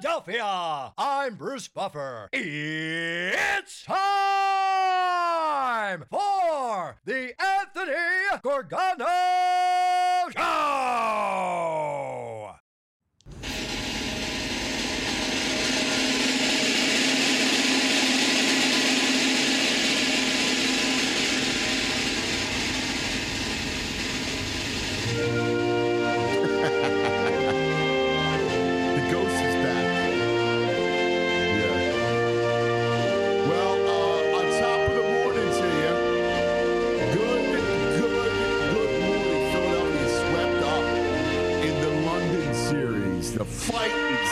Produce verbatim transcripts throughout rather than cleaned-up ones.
Philadelphia. I'm Bruce Buffer. It's time for the Anthony Gorgano Show. The fight is,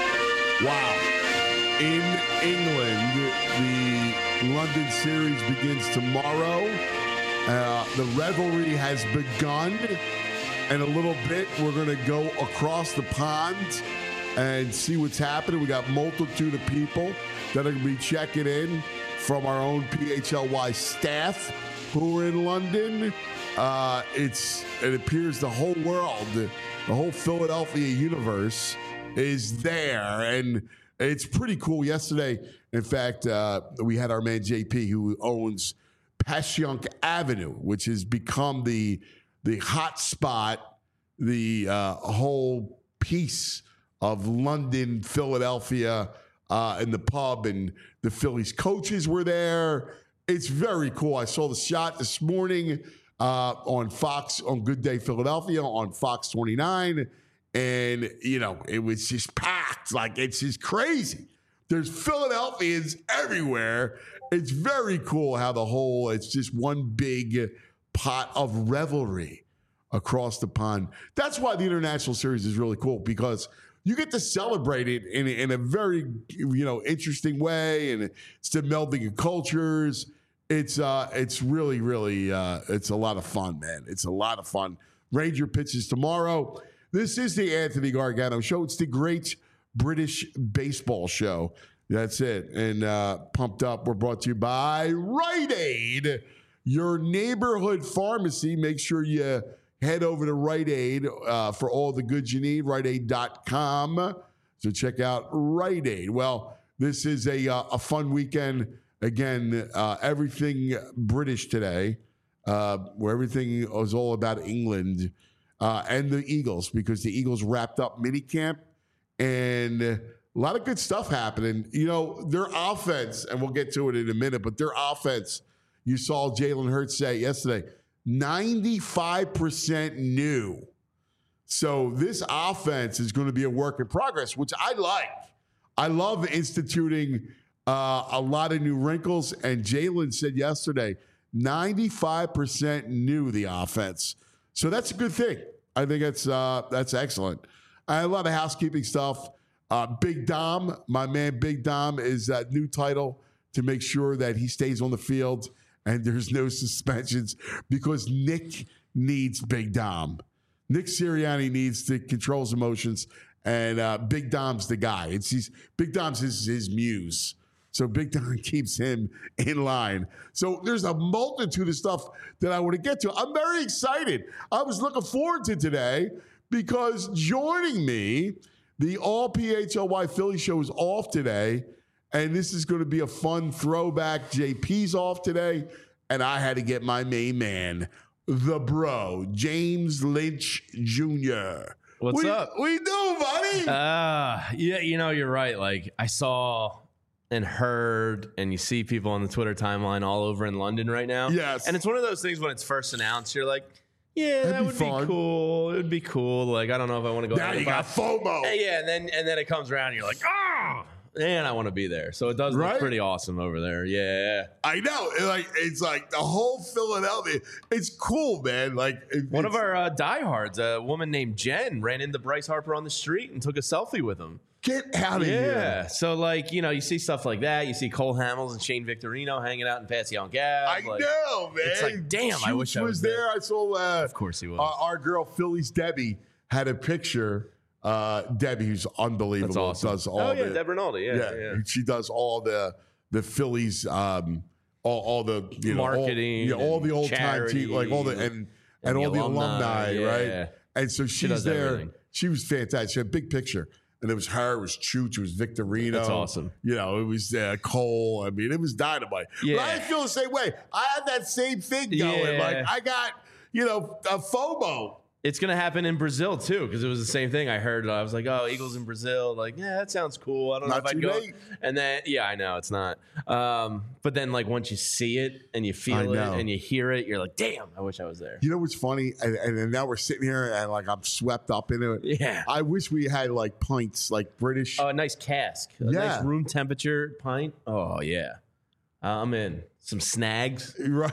wow. In England, the London series begins tomorrow. Uh, the revelry has begun. In a little bit, we're going to go across the pond and see what's happening. We got multitude of people that are going to be checking in from our own P H L Y staff who are in London. Uh, it's it appears the whole world, the whole Philadelphia universe is there, and it's pretty cool. Yesterday, in fact, uh, we had our man J P, who owns Passyunk Avenue, which has become the the hot spot, the uh, whole piece of London, Philadelphia, uh, and the pub, and the Phillies coaches were there. It's very cool. I saw the shot this morning uh, on Fox, on Good Day Philadelphia, on Fox twenty-nine. And, you know, it was just packed. Like, it's just crazy. There's Philadelphians everywhere. It's very cool how the whole, it's just one big pot of revelry across the pond. That's why the International Series is really cool, because you get to celebrate it in, in a very, you know, interesting way. And it's the melding of cultures. It's uh, it's really, really, uh, it's a lot of fun, man. It's a lot of fun. Ranger pitches tomorrow. This is the Anthony Gargano Show. It's the great British baseball show. That's it. And uh, Pumped Up, we're brought to you by Rite Aid, your neighborhood pharmacy. Make sure you head over to Rite Aid uh, for all the goods you need, rite aid dot com. So check out Rite Aid. Well, this is a, uh, a fun weekend. Again, uh, everything British today, uh, where everything is all about England uh, and the Eagles, because the Eagles wrapped up minicamp, and a lot of good stuff happening. You know, their offense, and we'll get to it in a minute, but their offense, you saw Jalen Hurts say yesterday, ninety-five percent new. So this offense is going to be a work in progress, which I like. I love instituting uh, a lot of new wrinkles. And Jalen said yesterday, ninety-five percent new, the offense. So that's a good thing. I think that's uh, that's excellent. I have a lot of housekeeping stuff. Uh, Big Dom, my man Big Dom, is that new title to make sure that he stays on the field and there's no suspensions, because Nick needs Big Dom. Nick Sirianni needs to control his emotions, and uh, Big Dom's the guy. It's he's, Big Dom's his, his muse. So Big Dom keeps him in line. So there's a multitude of stuff that I want to get to. I'm very excited. I was looking forward to today, because joining me, the All P H L Y Philly show is off today, and this is going to be a fun throwback. J P's off today, and I had to get my main man, the bro, James Lynch Junior What's we, up? We do, buddy. Uh, yeah, you know, you're right. Like, I saw and heard, and you see people on the Twitter timeline all over in London right now. Yes. And it's one of those things when it's first announced, you're like, yeah, That'd that be would fun. be cool. It would be cool. Like, I don't know if I want to go. Now out you but- got FOMO. Yeah, and then and then it comes around, and you're like, ah, man, I want to be there. So it does Right? look pretty awesome over there. Yeah. I know. It, like it's like the whole Philadelphia. It's cool, man. Like it, One of it's- our uh, diehards, a woman named Jen, ran into Bryce Harper on the street and took a selfie with him. Get out of Yeah. here. So, like, you know, you see stuff like that. You see Cole Hamels and Shane Victorino hanging out in Passyunk Ave. I like, know, man. it's like, damn, I Chooch wish I was there. I saw. Uh, Of course he was. uh, our girl Philly's Debbie had a picture. Uh, Debbie, who's unbelievable, That's awesome. does all oh, yeah, the Deb Rinaldi. Yeah, yeah, yeah. She does all the the Phillies, um, all, all the you know, Marketing all, yeah, all the and old time team, like all the and and, and all the the alumni, alumni, yeah. right? And so she's does there. everything. She was fantastic. She had a big picture. And it was her, it was Chooch, it was Victorino. That's awesome. You know, it was uh, Cole. I mean, it was dynamite. Yeah. But I feel the same way. I had that same thing going. Yeah. Like, I got, you know, a FOMO. It's going to happen in Brazil, too, because it was the same thing. I heard, I was like, oh, Eagles in Brazil. Like, yeah, that sounds cool. I don't Not know if I'd too go. late. And then, yeah, I know, it's not. Um, but then, like, once you see it and you I feel it know. and you hear it, you're like, damn, I wish I was there. You know what's funny? And, and now we're sitting here and, like, I'm swept up into it. Yeah. I wish we had, like, pints, like British. Oh, a nice cask. A Yeah. nice room temperature pint. Oh, yeah. I'm in. Some snags, Right.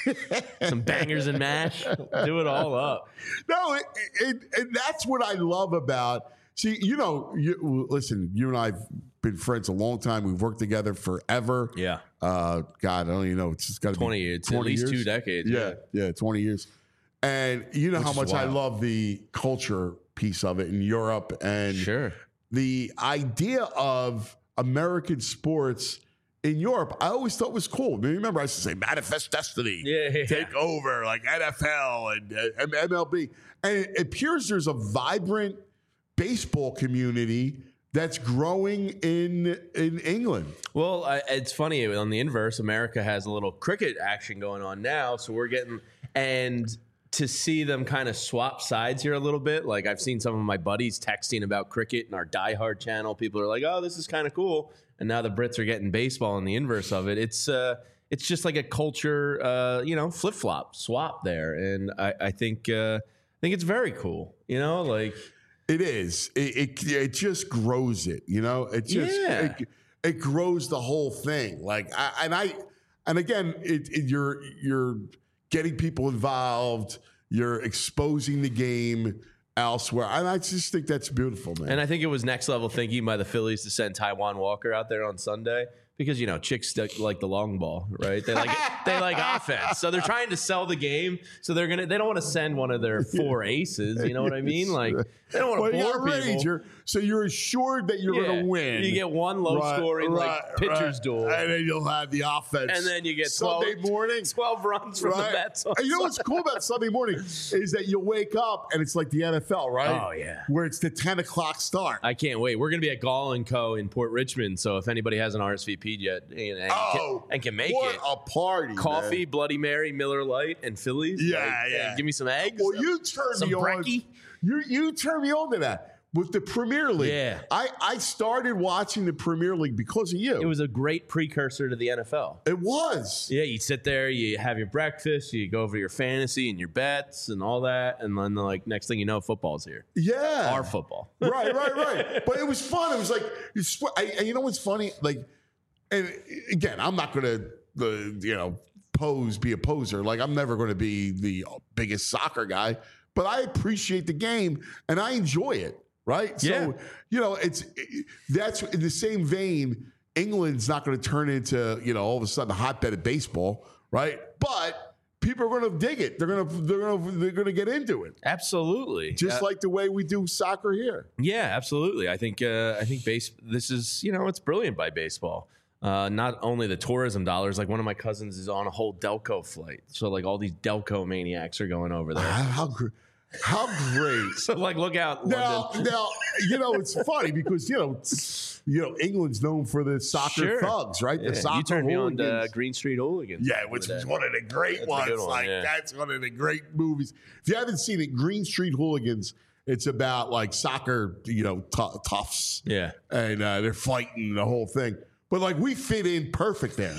some bangers and mash. Do it all up. No, it, it, and that's what I love about. See, you know, you, listen, you and I have been friends a long time. We've worked together forever. Yeah. Uh, God, I don't even know. It's just got to be twenty years. At least two decades. Yeah, Yeah. yeah, twenty years. And you know Which how is much I wild. love the culture piece of it in Europe and Sure. the idea of American sports in Europe. I always thought was cool. I mean, remember, I used to say Manifest Destiny, Yeah, yeah, take over, like N F L and uh, M L B. And it appears there's a vibrant baseball community that's growing in in England. Well, I, it's funny on the inverse. America has a little cricket action going on now, so we're getting and to see them kind of swap sides here a little bit. Like I've seen some of my buddies texting about cricket in our Die Hard channel. People are like, "Oh, this is kind of cool," and now the Brits are getting baseball and the inverse of it. It's uh, it's just like a culture, uh, you know, flip flop swap there, and I, I think uh, I think it's very cool. You know, like. It is. It, it it just grows it. You know. It just Yeah. it, it grows the whole thing. Like I, and I and again, it, it, you're you're getting people involved. You're exposing the game elsewhere, and I just think that's beautiful, man. And I think it was next level thinking by the Phillies to send Taiwan Walker out there on Sunday because you know chicks stick like the long ball, right? They like they like offense, so they're trying to sell the game. So they're gonna they don't want to send one of their four aces. You know what I mean? Like they don't want well, to you got bore a people. Ranger, so you're assured that you're Yeah. going to win. You get one low Right, scoring right, like pitcher's right. duel, and then you'll have the offense, and then you get twelve, Sunday morning. twelve runs from Right? the Mets. on And you know what's Sunday. cool about Sunday morning is that you'll wake up and it's like the N F L, right? Oh, yeah. Where it's the ten o'clock start. I can't wait. We're going to be at Gall and Co. in Port Richmond. So if anybody hasn't R S V P'd yet and, and, oh, can, and can make what it, a party! coffee, man. Bloody Mary, Miller Lite, and Phillies. Yeah, Like, yeah. Give me some eggs. Well, you turned some me on. brekkie. You you turned me on to that with the Premier League. Yeah. I I started watching the Premier League because of you. It was a great precursor to the N F L. It was. Yeah, you sit there, you have your breakfast, you go over your fantasy and your bets and all that, and then like next thing you know, football's here. Yeah. Our football. right, right, right. But it was fun. It was like, you, swear, I, and you know what's funny? Like, and again, I'm not going to, the you know, pose, be a poser. Like, I'm never going to be the biggest soccer guy, but I appreciate the game and I enjoy it. Right. Yeah. So, you know, it's, it, that's in the same vein. England's not going to turn into, you know, all of a sudden a hotbed of baseball. Right. But people are going to dig it. They're going to, they're going to, they're going to get into it. Absolutely. Just Uh, like the way we do soccer here. Yeah, absolutely. I think uh, I think base. This is you know it's brilliant by baseball. Uh, not only the tourism dollars. Like one of my cousins is on a whole Delco flight, so like all these Delco maniacs are going over there. How, how, gr- how great. So like look out, Now, London. now, you know, it's funny because, you know, you know, England's known for the soccer Sure. thugs, right? Yeah, The soccer you turned me on to uh, hooligans. Green Street Hooligans. Yeah, which over is there. one of the great That's a ones. good one, like, yeah. that's one of the great movies. If you haven't seen it, Green Street Hooligans, it's about like soccer, you know, t- toughs. Yeah. And uh, they're fighting the whole thing. But like we fit in perfect there.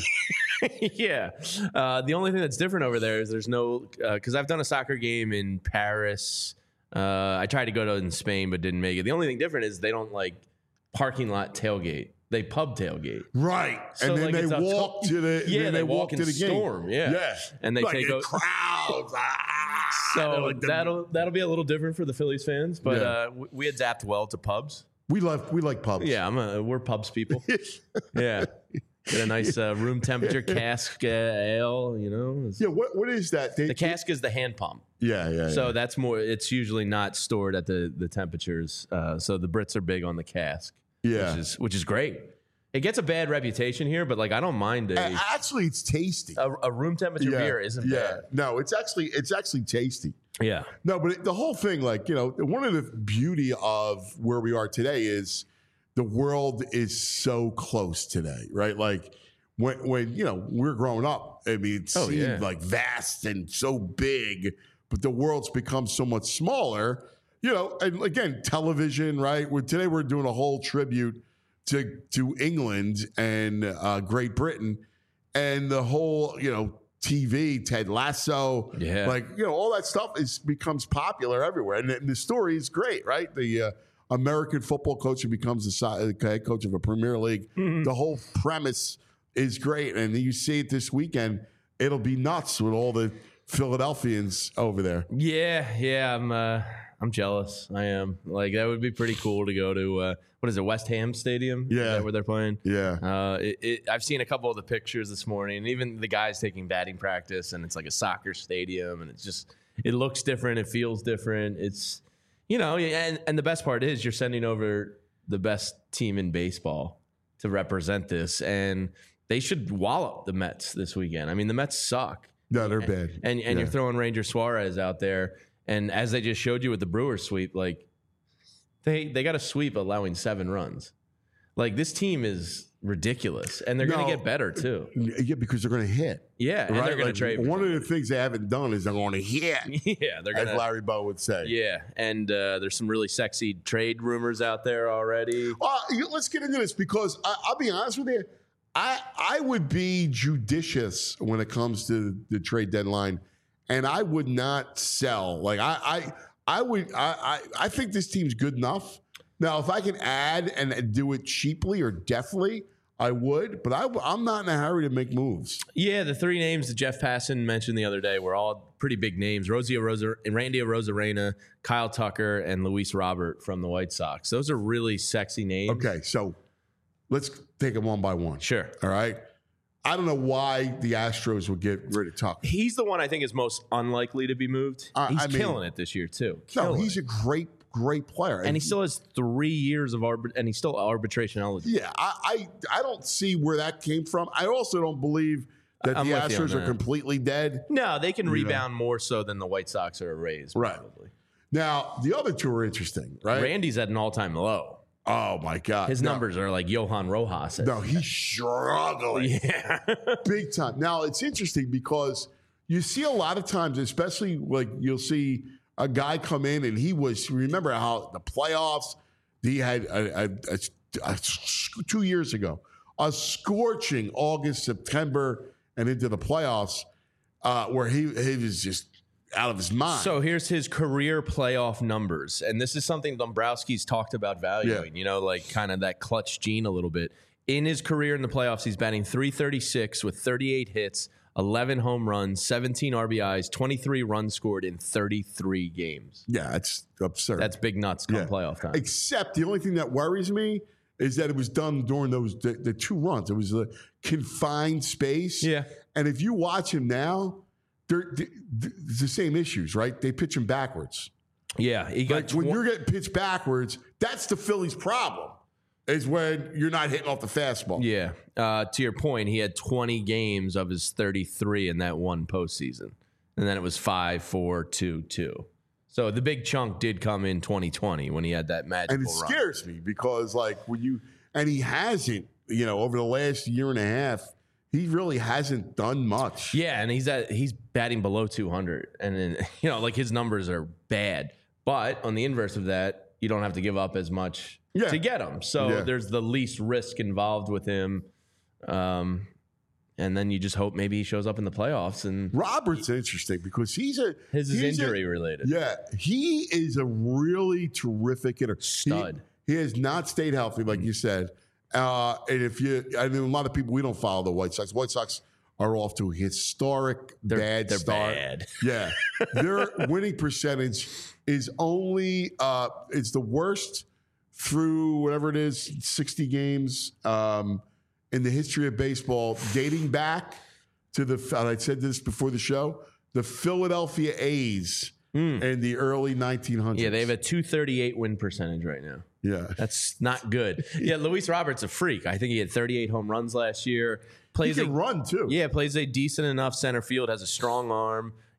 yeah. Uh, the only thing that's different over there is there's no because I've done a soccer game in Paris. Uh, I tried to go to in Spain but didn't make it. The only thing different is they don't like parking lot tailgate. They pub tailgate. Right. So, and then like, they it's a walk to- to the Yeah, then they they walk walk to and the game. storm, yeah. Yeah. And they like take the o- crowds. Ah, So they're like the- that'll that'll be a little different for the Phillies fans, but Yeah. uh, we, we adapt well to pubs. we love we like pubs. Yeah, I'm a, we're pubs people. Yeah, get a nice uh, room temperature cask uh, ale. You know, It's- Yeah, what what is that? They, the cask is the hand pump. Yeah, yeah. So yeah. that's more. It's usually not stored at the the temperatures. Uh, so the Brits are big on the cask. Yeah. which is which is great. It gets a bad reputation here, but like I don't mind a A- actually, it's tasty. a, a room temperature yeah, beer isn't yeah. bad. No, it's actually it's actually tasty. Yeah. No, but it, the whole thing, like, you know, one of the beauty of where we are today is the world is so close today, right? Like when, when you know, we're growing up, I mean, it Oh, seemed yeah. like vast and so big, but the world's become so much smaller, you know, and again, television, right? We're, today we're doing a whole tribute to, to England and uh, Great Britain and the whole, you know, T V, Ted Lasso, Yeah. like, you know, all that stuff is becomes popular everywhere. And, and the story is great, right? The uh, American football coach who becomes the si- uh, head coach of a Premier League. Mm-hmm. The whole premise is great. And you see it this weekend. It'll be nuts with all the Philadelphians over there. Yeah, yeah, I'm uh, I'm jealous. I am. Like that would be pretty cool to go to. Uh, what is it, West Ham Stadium? Is Yeah. that where they're playing? Yeah. Uh, it, it, I've seen a couple of the pictures this morning, and even the guys taking batting practice, and it's like a soccer stadium, and it's just it looks different, it feels different. It's you know, and and the best part is you're sending over the best team in baseball to represent this, and they should wallop the Mets this weekend. I mean, the Mets suck. No, they're bad. And and Yeah. you're throwing Ranger Suarez out there, and as they just showed you with the Brewers sweep, like they they got a sweep allowing seven runs. Like this team is ridiculous, and they're going No. to get better too. Yeah, because they're going to hit. Yeah, and Right? they're going Like, to trade. for one of somebody. the things they haven't done is they're going to hit, yeah, they're as going to. Larry Bow would say. Yeah, and uh, there's some really sexy trade rumors out there already. Uh, you- let's get into this because I, I'll be honest with you. I I would be judicious when it comes to the trade deadline, and I would not sell. Like I I, I would I, I I think this team's good enough. Now, if I can add and do it cheaply or deftly, I would. But I, I'm not in a hurry to make moves. Yeah, the three names that Jeff Passan mentioned the other day were all pretty big names: Rosie Rosa, Randy Arozarena, Kyle Tucker, and Luis Robert from the White Sox. Those are really sexy names. Okay, so let's take them one by one. Sure. All right. I don't know why the Astros would get rid of Tucker. He's the one I think is most unlikely to be moved. Uh, he's I mean- killing it this year too. No, Killing he's it. a great, great player, and he still has three years of arbit, and he's still arbitration eligible. Yeah, I, I I don't see where that came from. I also don't believe that I'm the with you on Astros are that. completely dead. No, they can know. rebound more so than the White Sox or Rays, Right. probably. Now, the other two are interesting, right? Randy's at an all-time low. Oh my God, His No, numbers are like Johan Rojas. No, he's struggling Yeah. big time. Now it's interesting because you see a lot of times, especially like you'll see a guy come in and he was. Remember how the playoffs? He had a, a, a, a, two years ago a scorching August, September, and into the playoffs uh, where he he was just out of his mind. So here's his career playoff numbers. And this is something Dombrowski's talked about valuing, Yeah. you know, like kind of that clutch gene a little bit. In his career in the playoffs, he's batting three thirty-six with thirty-eight hits, eleven home runs, seventeen R B Is, twenty-three runs scored in thirty-three games. yeah, it's absurd. That's big nuts come Yeah. playoff time. Except the only thing that worries me is that it was done during those the, the two runs. It was a confined space. Yeah. And if you watch him now, they're, they it's the same issues, right? They pitch him backwards. Yeah, he got Like when tw- you're getting pitched backwards, that's the Phillies' problem. Is when you're not hitting off the fastball. Yeah. Uh, to your point, he had twenty games of his thirty-three in that one postseason. And then it was five, four, two, two. So the big chunk did come in twenty twenty when he had that magical And it run. scares me because, like, when you and he hasn't, you know, over the last year and a half, he really hasn't done much. Yeah, and he's at he's batting below two hundred. And then, you know, like his numbers are bad. But on the inverse of that, you don't have to give up as much Yeah. to get him. So Yeah. there's the least risk involved with him. Um, and then you just hope maybe he shows up in the playoffs. And Robert's interesting because he's a his is he's a- injury related. Yeah, he is a really terrific hitter. Stud. He, he has not stayed healthy, like you said. Uh, and if you, I mean, a lot of people, we don't follow the White Sox. White Sox are off to a historic They're, bad they're start. bad. Yeah, their winning percentage is only uh, it's the worst through whatever it is, sixty games um, in the history of baseball, dating back to the. And I said this before the show. The Philadelphia A's in the early nineteen hundreds. Yeah, they have a two thirty-eight win percentage right now. yeah. That's not good. Yeah, Luis Robert's a freak. I think he had thirty-eight home runs last year. He Plays can a, run too. yeah, plays a decent enough center field. Has a strong arm.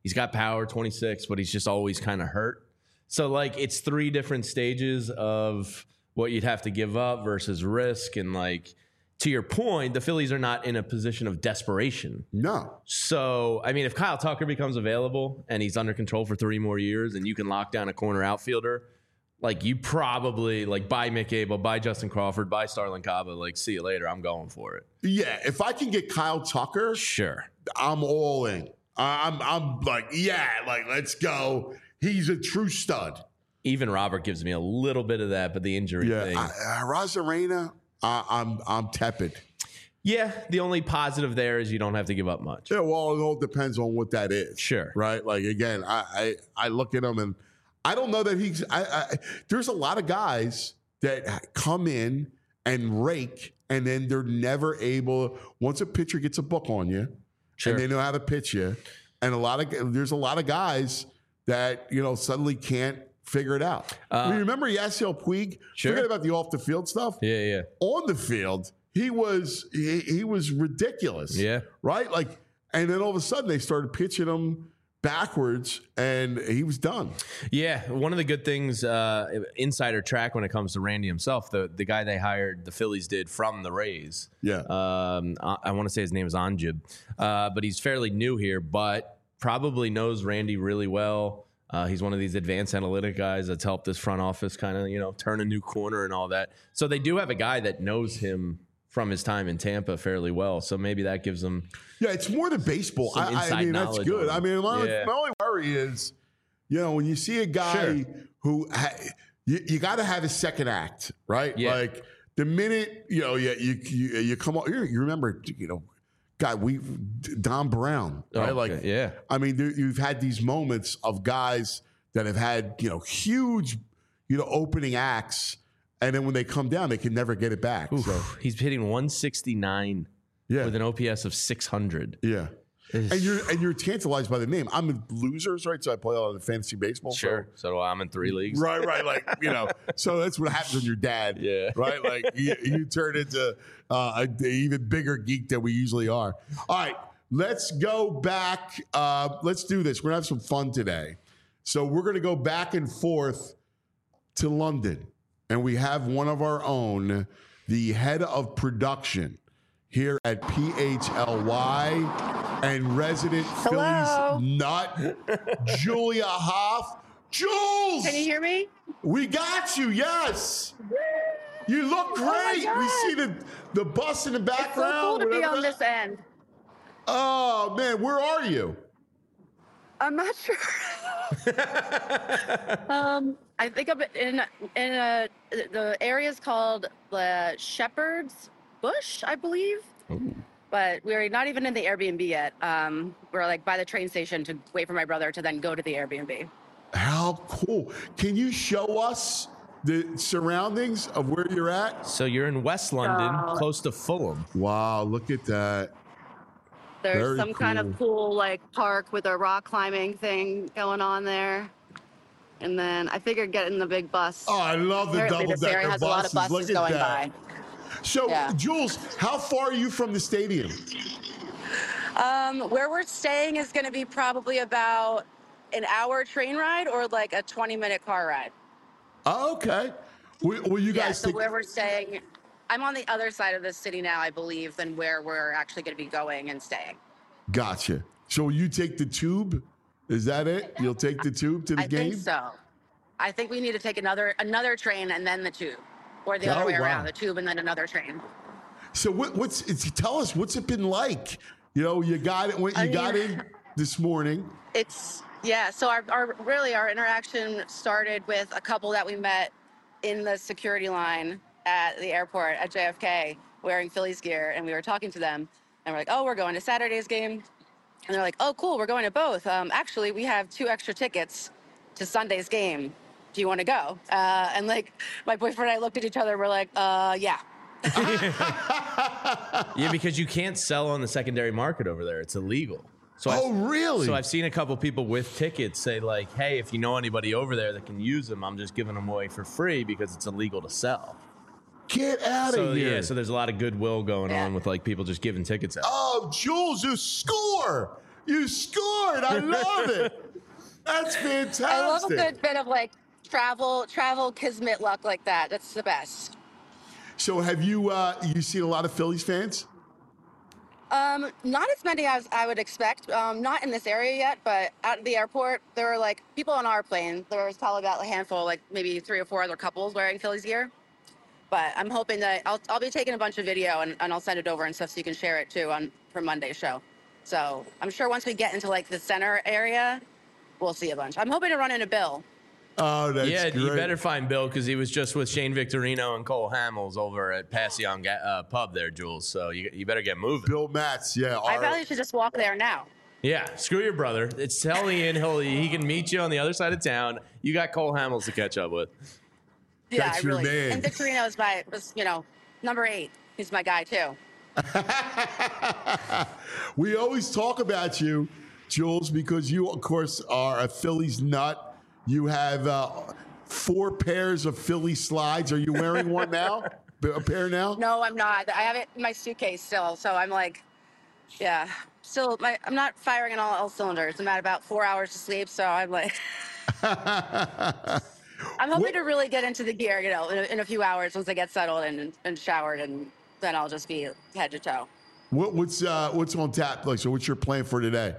He's got power, twenty-six, but he's just always kind of hurt. So, like, it's three different stages of what you'd have to give up versus risk. And, like, to your point, the Phillies are not in a position of desperation. No. So, I mean, if Kyle Tucker becomes available and he's under control for three more years and you can lock down a corner outfielder, like, you probably, like, buy Mick Abel, buy Justin Crawford, buy Starlin Caba, like, see you later. I'm going for it. Yeah, if I can get Kyle Tucker, sure, I'm all in. I'm, I'm like, yeah, like, let's go. He's a true stud. Even Robert gives me a little bit of that, but the injury yeah, thing. I, uh, Rosarena, uh, I'm, I'm tepid. Yeah, the only positive there is you don't have to give up much. Yeah, well, it all depends on what that is. Sure. Right? Like, again, I, I, I look at him and I don't know that he's. I, I, there's a lot of guys that come in and rake, and then they're never able. Once a pitcher gets a book on you, sure, and they know how to pitch you, and a lot of there's a lot of guys that you know suddenly can't figure it out. Uh, I mean, remember Yasiel Puig? Sure. Forget about the off the field stuff. Yeah, yeah. On the field, he was he, he was ridiculous. Yeah. Right. Like, and then all of a sudden they started pitching him backwards, and he was done. Yeah, one of the good things, uh, insider track when it comes to Randy himself, the the guy they hired, the Phillies did from the Rays. Yeah, um, I, I want to say his name is Anjib, uh, but he's fairly new here, but probably knows Randy really well. Uh, he's one of these advanced analytic guys that's helped this front office kind of you know turn a new corner and all that. So they do have a guy that knows him from his time in Tampa fairly well. So maybe that gives them. Yeah, it's more the baseball. I, I mean, that's good. I mean, my, yeah. my only worry is, you know, when you see a guy sure. who ha- you, you got to have a second act, right? Yeah. Like the minute you know, yeah, you you, you come on. You remember, you know, God, we Don Brown, right? Oh, like, okay. yeah. I mean, there, you've had these moments of guys that have had you know huge, you know, opening acts. And then when they come down, they can never get it back. Oof, so. He's hitting one sixty-nine yeah. with an O P S of six hundred. Yeah. And you're and you're tantalized by the name. I'm in losers, right? So I play a lot of fantasy baseball. Sure. So, so I'm in three leagues. Right, right. Like, you know, so that's what happens when you're dad. Yeah. Right? Like you, you turn into uh, an even bigger geek than we usually are. All right. Let's go back. Uh, let's do this. We're going to have some fun today. So we're going to go back and forth to London. And we have one of our own, the head of production here at P H L Y and resident Hello. Phillies nut, Julia Hoff. Jules! Can you hear me? We got you, yes. You look great. Oh we see the, the bus in the background. It's so cool to be on that. this end. Oh, man, where are you? I'm not sure. um, I think I'm in in a the area is called the Shepherd's Bush, I believe. Ooh. But we're not even in the Airbnb yet. Um, we're like by the train station to wait for my brother to then go to the Airbnb. How cool! Can you show us the surroundings of where you're at? So you're in West London, uh, close to Fulham. Wow, look at that. There's Very some cool. kind of cool like park with a rock climbing thing going on there. And then I figured getting the big bus. Oh, I love the Apparently double this area decker has buses. a lot of buses Look at going that. by. So, Yeah. Jules, how far are you from the stadium? Um, where we're staying is going to be probably about an hour train ride or like a twenty minute car ride. Oh, okay. Will, will you Yeah, guys so take- where we're staying, I'm on the other side of the city now, I believe, than where we're actually going to be going and staying. Gotcha. So will you take the tube? Is that it? You'll take the tube to the I game? think so. I think we need to take another another train and then the tube, or the Oh, other way wow. around, the tube and then another train. So what, what's it's, tell us what's it been like? You know, you got it. When you I got mean- in this morning. It's yeah. So our, our really our interaction started with a couple that we met in the security line at the airport at J F K wearing Phillies gear, and we were talking to them, and we're like, "Oh, we're going to Saturday's game," and they're like, "Oh, cool, we're going to both. Um, actually, we have two extra tickets to Sunday's game. Do you want to go?" Uh, and like my boyfriend and I looked at each other. We're like, "Uh, yeah." Yeah, because you can't sell on the secondary market over there. It's illegal. So Oh, I've, really? So I've seen a couple people with tickets say like, hey, if you know anybody over there that can use them, I'm just giving them away for free because it's illegal to sell. Get out So of here. yeah, so there's a lot of goodwill going Yeah. on with like people just giving tickets out. Oh, Jules, you score. You scored. I love it. That's fantastic. I love a good bit of like travel, travel kismet luck like that. That's the best. So have you uh, you seen a lot of Phillies fans? Um, not as many as I would expect. Um, not in this area yet, but at the airport, there were like people on our plane. There was probably about a handful, like maybe three or four other couples wearing Phillies gear. But I'm hoping that I'll I'll be taking a bunch of video and, and I'll send it over and stuff so you can share it too on for Monday's show. So I'm sure once we get into like the center area, we'll see a bunch. I'm hoping to run into Bill. Oh, that's yeah, great. you better find Bill because he was just with Shane Victorino and Cole Hamels over at Passion uh, Pub there, Jules. So you, you better get moving. Bill Matz, yeah. I our- probably should just walk there now. Yeah, screw your brother. It's tell Ian he'll he can meet you on the other side of town. You got Cole Hamels to catch up with. Yeah, That's I your really. man. And Victorino is my, was, you know, number eight. He's my guy too. We always talk about you, Jules, because you, of course, are a Phillies nut. You have uh, four pairs of Philly slides. Are you wearing one now? A pair now? No, I'm not. I have it in my suitcase still. So I'm like, yeah, still, my, I'm not firing on all, all cylinders. I'm at about four hours of sleep. So I'm like, I'm hoping What- to really get into the gear, you know, in a, in a few hours once I get settled and, and showered, and then I'll just be head to toe. What, what's uh, what's on tap? Like, so what's your plan for today?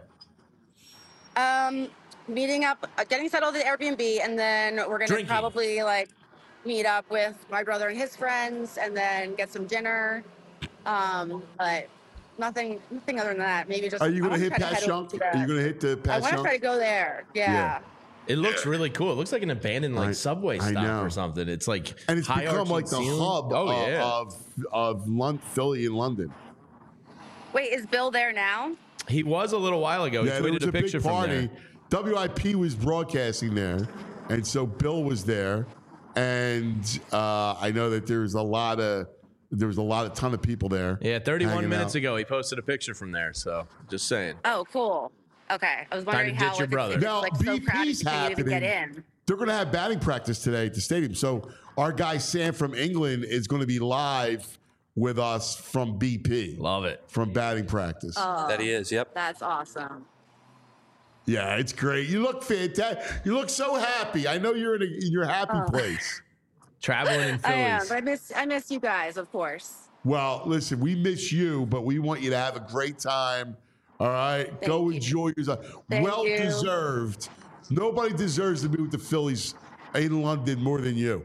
Um, meeting up, uh, getting settled at Airbnb, and then we're gonna Drinking. probably like meet up with my brother and his friends, and then get some dinner. Um, but nothing, nothing other than that. Maybe just. Are you I going to wanna hit try head over Passyunk? to the- Are you going to hit the I want to try to Passyunk? go there. Yeah. Yeah. It looks really cool. It looks like an abandoned like I- subway I stop know. or something. It's like And it's high become arching like the ceiling. hub Oh, of, yeah. of, of Lon- Philly in London. Wait, is Bill there now? He was a little while ago. He Yeah, there tweeted was a a picture big from party. there. W I P was broadcasting there, and so Bill was there, and uh, I know that there was a lot of there was a lot of ton of people there. Yeah, thirty-one hanging minutes out. ago, he posted a picture from there. So just saying. Oh, cool. Okay, I was wondering ditch how your if brother. it's, Now, like so B P's crowded you can't even get happening. in. They're going to have batting practice today at the stadium. So our guy Sam from England is going to be live with us from B P Love it. from batting practice. Oh, That he is, yep. that's awesome. Yeah, it's great. You look fantastic. You look so happy. I know you're in, a, in your happy Oh. place. Traveling in I am. Phillies. But I miss, I miss you guys, of course. Well, listen, we miss you, but we want you to have a great time. All right, go you. enjoy yourself. Thank well you. deserved. Nobody deserves to be with the Phillies in London more than you.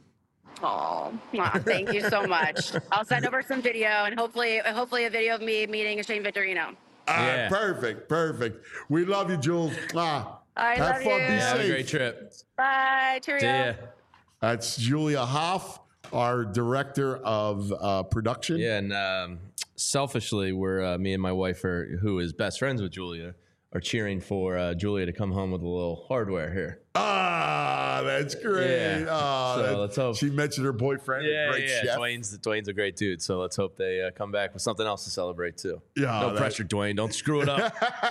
Oh, thank you so much. I'll send over some video and hopefully, hopefully a video of me meeting Shane Victorino. All right, Yeah. perfect, perfect. We love you, Jules. Ah, I have love fun. you. Be Yeah, have a safe. great trip. Bye. Cheerio. See ya. That's Julia Hoff, our director of uh, production. Yeah, and um, selfishly, we're uh, me and my wife, are, who is best friends with Julia, are cheering for uh, Julia to come home with a little hardware here. Ah, that's great. Yeah. Ah, So that- let's hope- She mentioned her boyfriend, a Yeah, great yeah. chef. Dwayne's Dwayne's a great dude, so let's hope they uh, come back with something else to celebrate too. Yeah, no that- pressure, Dwayne. Don't screw it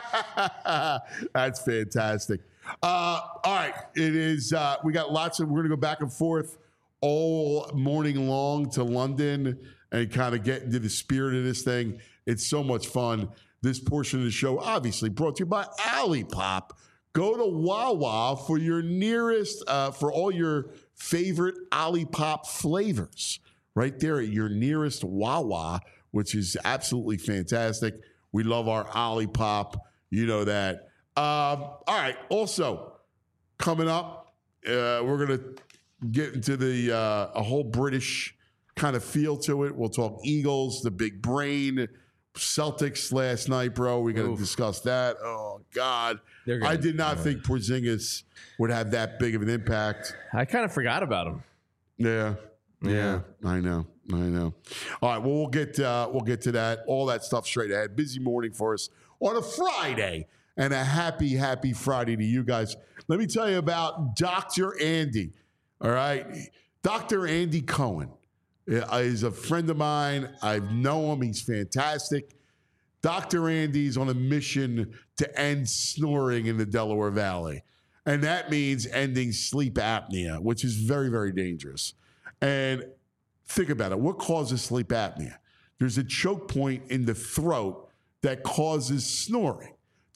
up. That's fantastic. Uh, all right, it is. Uh, we got lots of. We're going to go back and forth all morning long to London and kind of get into the spirit of this thing. It's so much fun. This portion of the show, obviously, brought to you by Olipop. Go to Wawa for your nearest, uh, for all your favorite Olipop flavors. Right there at your nearest Wawa, which is absolutely fantastic. We love our Olipop. You know that. Um, all right. Also, coming up, uh, we're going to get into the uh, a whole British kind of feel to it. We'll talk Eagles, the big brain, Celtics last night, bro. We're going to discuss that. Oh, God. They're gonna- I did not think Porzingis would have that big of an impact. I kind of forgot about him. Yeah. Yeah, Yeah. I know, I know. All right, well, we'll get uh, we'll get to that, all that stuff straight ahead. Busy morning for us on a Friday, and a happy, happy Friday to you guys. Let me tell you about Doctor Andy. All right, Doctor Andy Cohen is a friend of mine. I know him; he's fantastic. Doctor Andy's on a mission to end snoring in the Delaware Valley, and that means ending sleep apnea, which is very, very dangerous. And think about it. What causes sleep apnea? There's a choke point in the throat that causes snoring.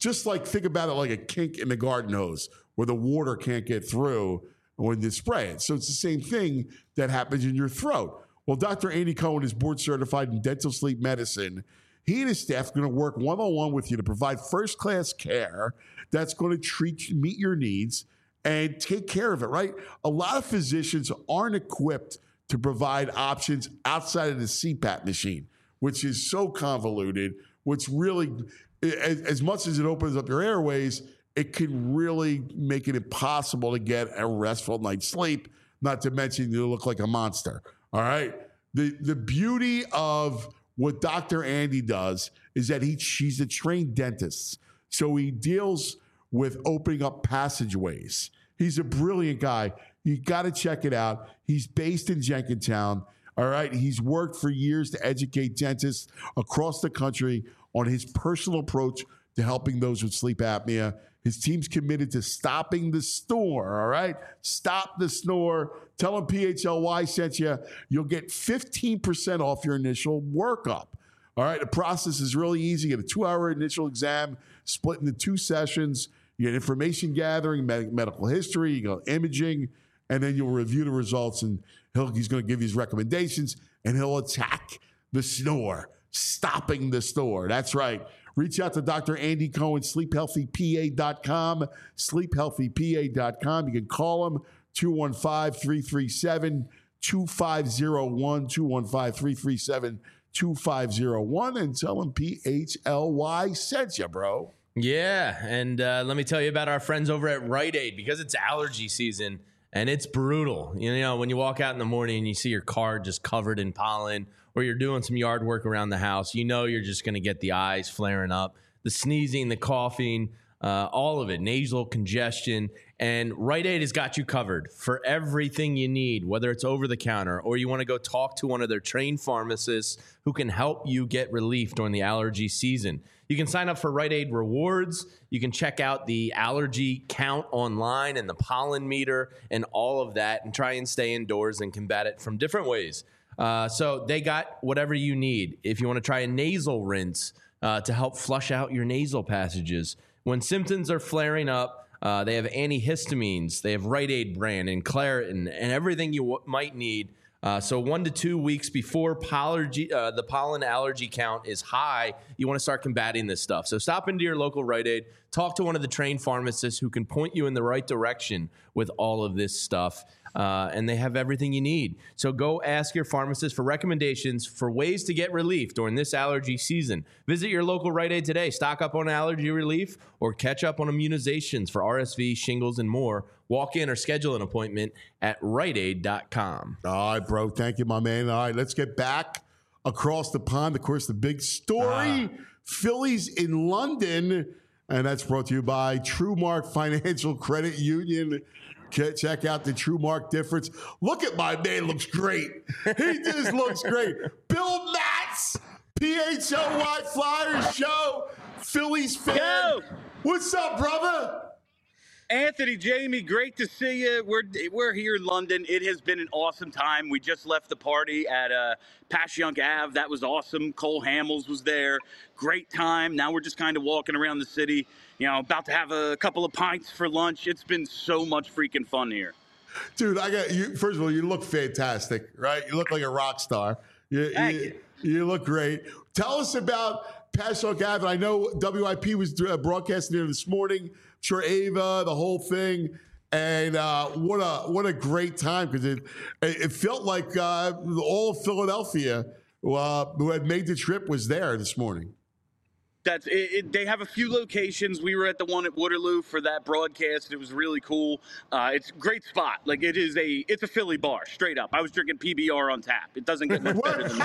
Just like, think about it like a kink in the garden hose where the water can't get through when you spray it. So it's the same thing that happens in your throat. Well, Doctor Andy Cohen is board certified in dental sleep medicine. He and his staff are going to work one-on-one with you to provide first-class care that's going to treat, meet your needs and take care of it, right? A lot of physicians aren't equipped to provide options outside of the C PAP machine, which is so convoluted, which really, as, as much as it opens up your airways, it can really make it impossible to get a restful night's sleep, not to mention you look like a monster, all right? The, the beauty of what Doctor Andy does is that he she's a trained dentist. So he deals with opening up passageways. He's a brilliant guy. You got to check it out. He's based in Jenkintown. All right. He's worked for years to educate dentists across the country on his personal approach to helping those with sleep apnea. His team's committed to stopping the snore, all right? Stop the snore. Tell him P H L Y sent you. You'll get fifteen percent off your initial workup, all right? The process is really easy. You get a two-hour initial exam split into two sessions. You get information gathering, med- medical history, you go imaging, and then you'll review the results, and he'll, he's going to give you his recommendations, and he'll attack the snore, stopping the snore. That's right. Reach out to Doctor Andy Cohen, sleep healthy P A dot com, sleep healthy P A dot com. You can call him, two one five, three three seven, two five zero one, two one five, three three seven, two five zero one, and tell him P H L Y sent you, bro. Yeah, and uh, let me tell you about our friends over at Rite Aid, because it's allergy season, and it's brutal. You know, when you walk out in the morning and you see your car just covered in pollen, or you're doing some yard work around the house, you know you're just going to get the eyes flaring up, the sneezing, the coughing, uh, all of it, nasal congestion. And Rite Aid has got you covered for everything you need, whether it's over the counter or you want to go talk to one of their trained pharmacists who can help you get relief during the allergy season. You can sign up for Rite Aid Rewards. You can check out the allergy count online and the pollen meter and all of that, and try and stay indoors and combat it from different ways. Uh, so they got whatever you need. If you want to try a nasal rinse uh, to help flush out your nasal passages. When symptoms are flaring up, uh, they have antihistamines. They have Rite Aid brand and Claritin and everything you w- might need. Uh, so one to two weeks before pollergy, uh, the pollen allergy count is high, you want to start combating this stuff. So stop into your local Rite Aid, talk to one of the trained pharmacists who can point you in the right direction with all of this stuff. Uh, and they have everything you need. So go ask your pharmacist for recommendations for ways to get relief during this allergy season. Visit your local Rite Aid today. Stock up on allergy relief or catch up on immunizations for R S V, shingles, and more. Walk in or schedule an appointment at rite aid dot com. All right, bro. Thank you, my man. All right, let's get back across the pond. Of course, the big story, ah. Phillies in London, and that's brought to you by TrueMark Financial Credit Union. Check out the TrueMark difference. Look at my man, looks great. He just looks great. Bill Matz, P H L Y Flyers Show, Phillies fan. Yo. What's up, brother? Anthony, Jamie, great to see you. We're we're here in London. It has been an awesome time. We just left the party at uh, Passyunk Avenue. That was awesome. Cole Hamels was there. Great time. Now we're just kind of walking around the city, you know, about to have a couple of pints for lunch. It's been so much freaking fun here. Dude, I got you. First of all, you look fantastic, right? You look like a rock star. You, Thank you, you. you look great. Tell us about Passyunk Avenue. I know W I P was broadcasting there this morning. Sure, Ava, the whole thing, and uh, what a what a great time, because it it felt like uh, all of Philadelphia uh, who had made the trip was there this morning. That's it, it, they have a few locations. We were at the one at Waterloo for that broadcast. It was really cool. Uh, it's a great spot. Like, it is a it's a Philly bar, straight up. I was drinking P B R on tap. It doesn't get much better than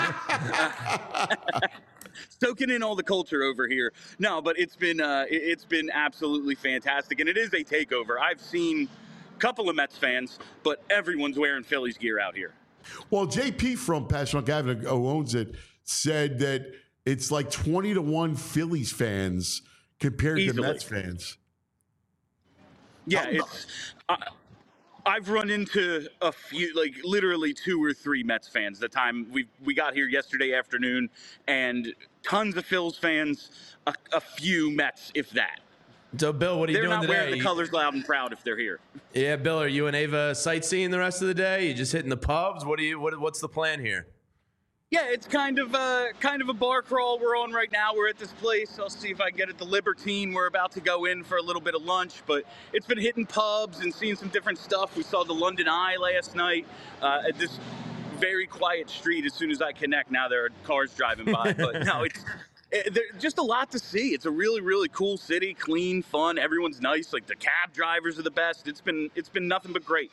that. Soaking in all the culture over here. No, but it's been uh, it, it's been absolutely fantastic, and it is a takeover. I've seen a couple of Mets fans, but everyone's wearing Phillies gear out here. Well, J P from Passyunk Avenue, who owns it, said that it's like twenty to one Phillies fans compared Easily. to Mets fans. Yeah, How, it's. Uh, I've run into a few, like literally two or three Mets fans. The time we we got here yesterday afternoon, and tons of Phils fans, a, a few Mets, if that. So, Bill, what are you They're doing not today? wearing the colors loud and proud if they're here. Yeah, Bill, are you and Ava sightseeing the rest of the day? You just hitting the pubs? What do you? What, what's the plan here? Yeah, it's kind of a kind of a bar crawl we're on right now. We're at this place. I'll see if I can get at the Libertine. We're about to go in for a little bit of lunch, but it's been hitting pubs and seeing some different stuff. We saw the London Eye last night uh, at this very quiet street. As soon as I connect, now there are cars driving by. But no, it's it, there's just a lot to see. It's a really, really cool city, clean, fun. Everyone's nice. Like the cab drivers are the best. It's been it's been nothing but great.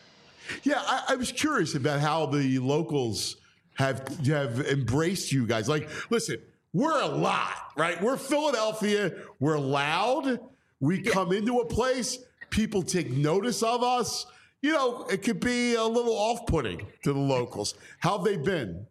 Yeah, I, I was curious about how the locals have have embraced you guys. Like, listen, we're a lot, right? We're Philadelphia. We're loud. We yeah. come into a place, people take notice of us. You know, it could be a little off-putting to the locals. How have they been?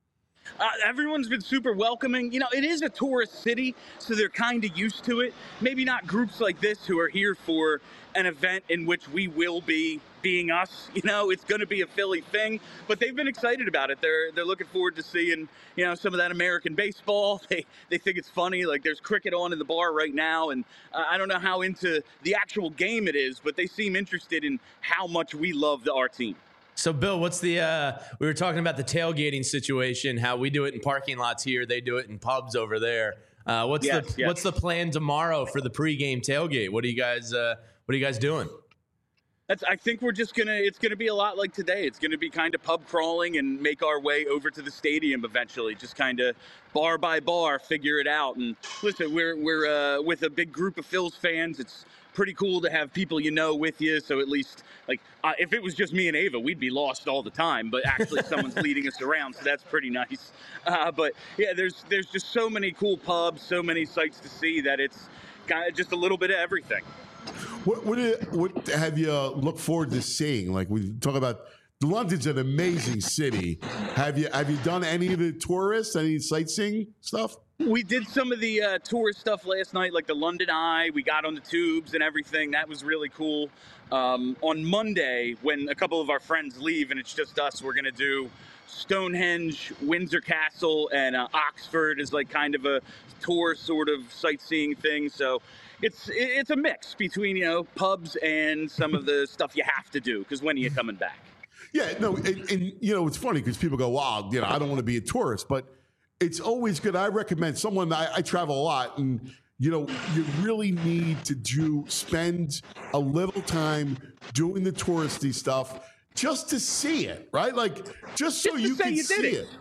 Uh, everyone's been super welcoming. You know, it is a tourist city, so they're kind of used to it. Maybe not groups like this who are here for an event in which we will be being us. You know, it's going to be a Philly thing, but they've been excited about it. They're they're looking forward to seeing, you know, some of that American baseball. They they think it's funny. Like there's cricket on in the bar right now, and uh, I don't know how into the actual game it is, but they seem interested in how much we love the, our team. So, Bill, what's the, uh, we were talking about the tailgating situation, how we do it in parking lots here. They do it in pubs over there. Uh, what's yes, the, yes. what's the plan tomorrow for the pregame tailgate? What are you guys, uh, what are you guys doing? That's, I think we're just going to, it's going to be a lot like today. It's going to be kind of pub crawling and make our way over to the stadium eventually, just kind of bar by bar, figure it out. And listen, we're, we're uh, with a big group of Phils fans. It's pretty cool to have people you know with you. So at least, like, uh, if it was just me and Ava, we'd be lost all the time. But actually, someone's leading us around, so that's pretty nice. Uh, but yeah, there's there's just so many cool pubs, so many sights to see that it's kind of just a little bit of everything. What what, what have you uh, looked forward to seeing? Like we talk about, London's an amazing city. Have you have you done any of the tourists, any sightseeing stuff? We did some of the uh, tourist stuff last night, like the London Eye. We got on the tubes and everything. That was really cool. Um, on Monday, when a couple of our friends leave and it's just us, we're going to do Stonehenge, Windsor Castle, and uh, Oxford is like kind of a tour sort of sightseeing thing. So it's it's a mix between, you know, pubs and some of the stuff you have to do, because when are you coming back? Yeah, no, and, and you know, it's funny because people go, wow, you know, I don't want to be a tourist, but it's always good. I recommend someone, I, I travel a lot, and, you know, you really need to do, spend a little time doing the touristy stuff just to see it, right? Like, just so Just to you say can you did see it. it.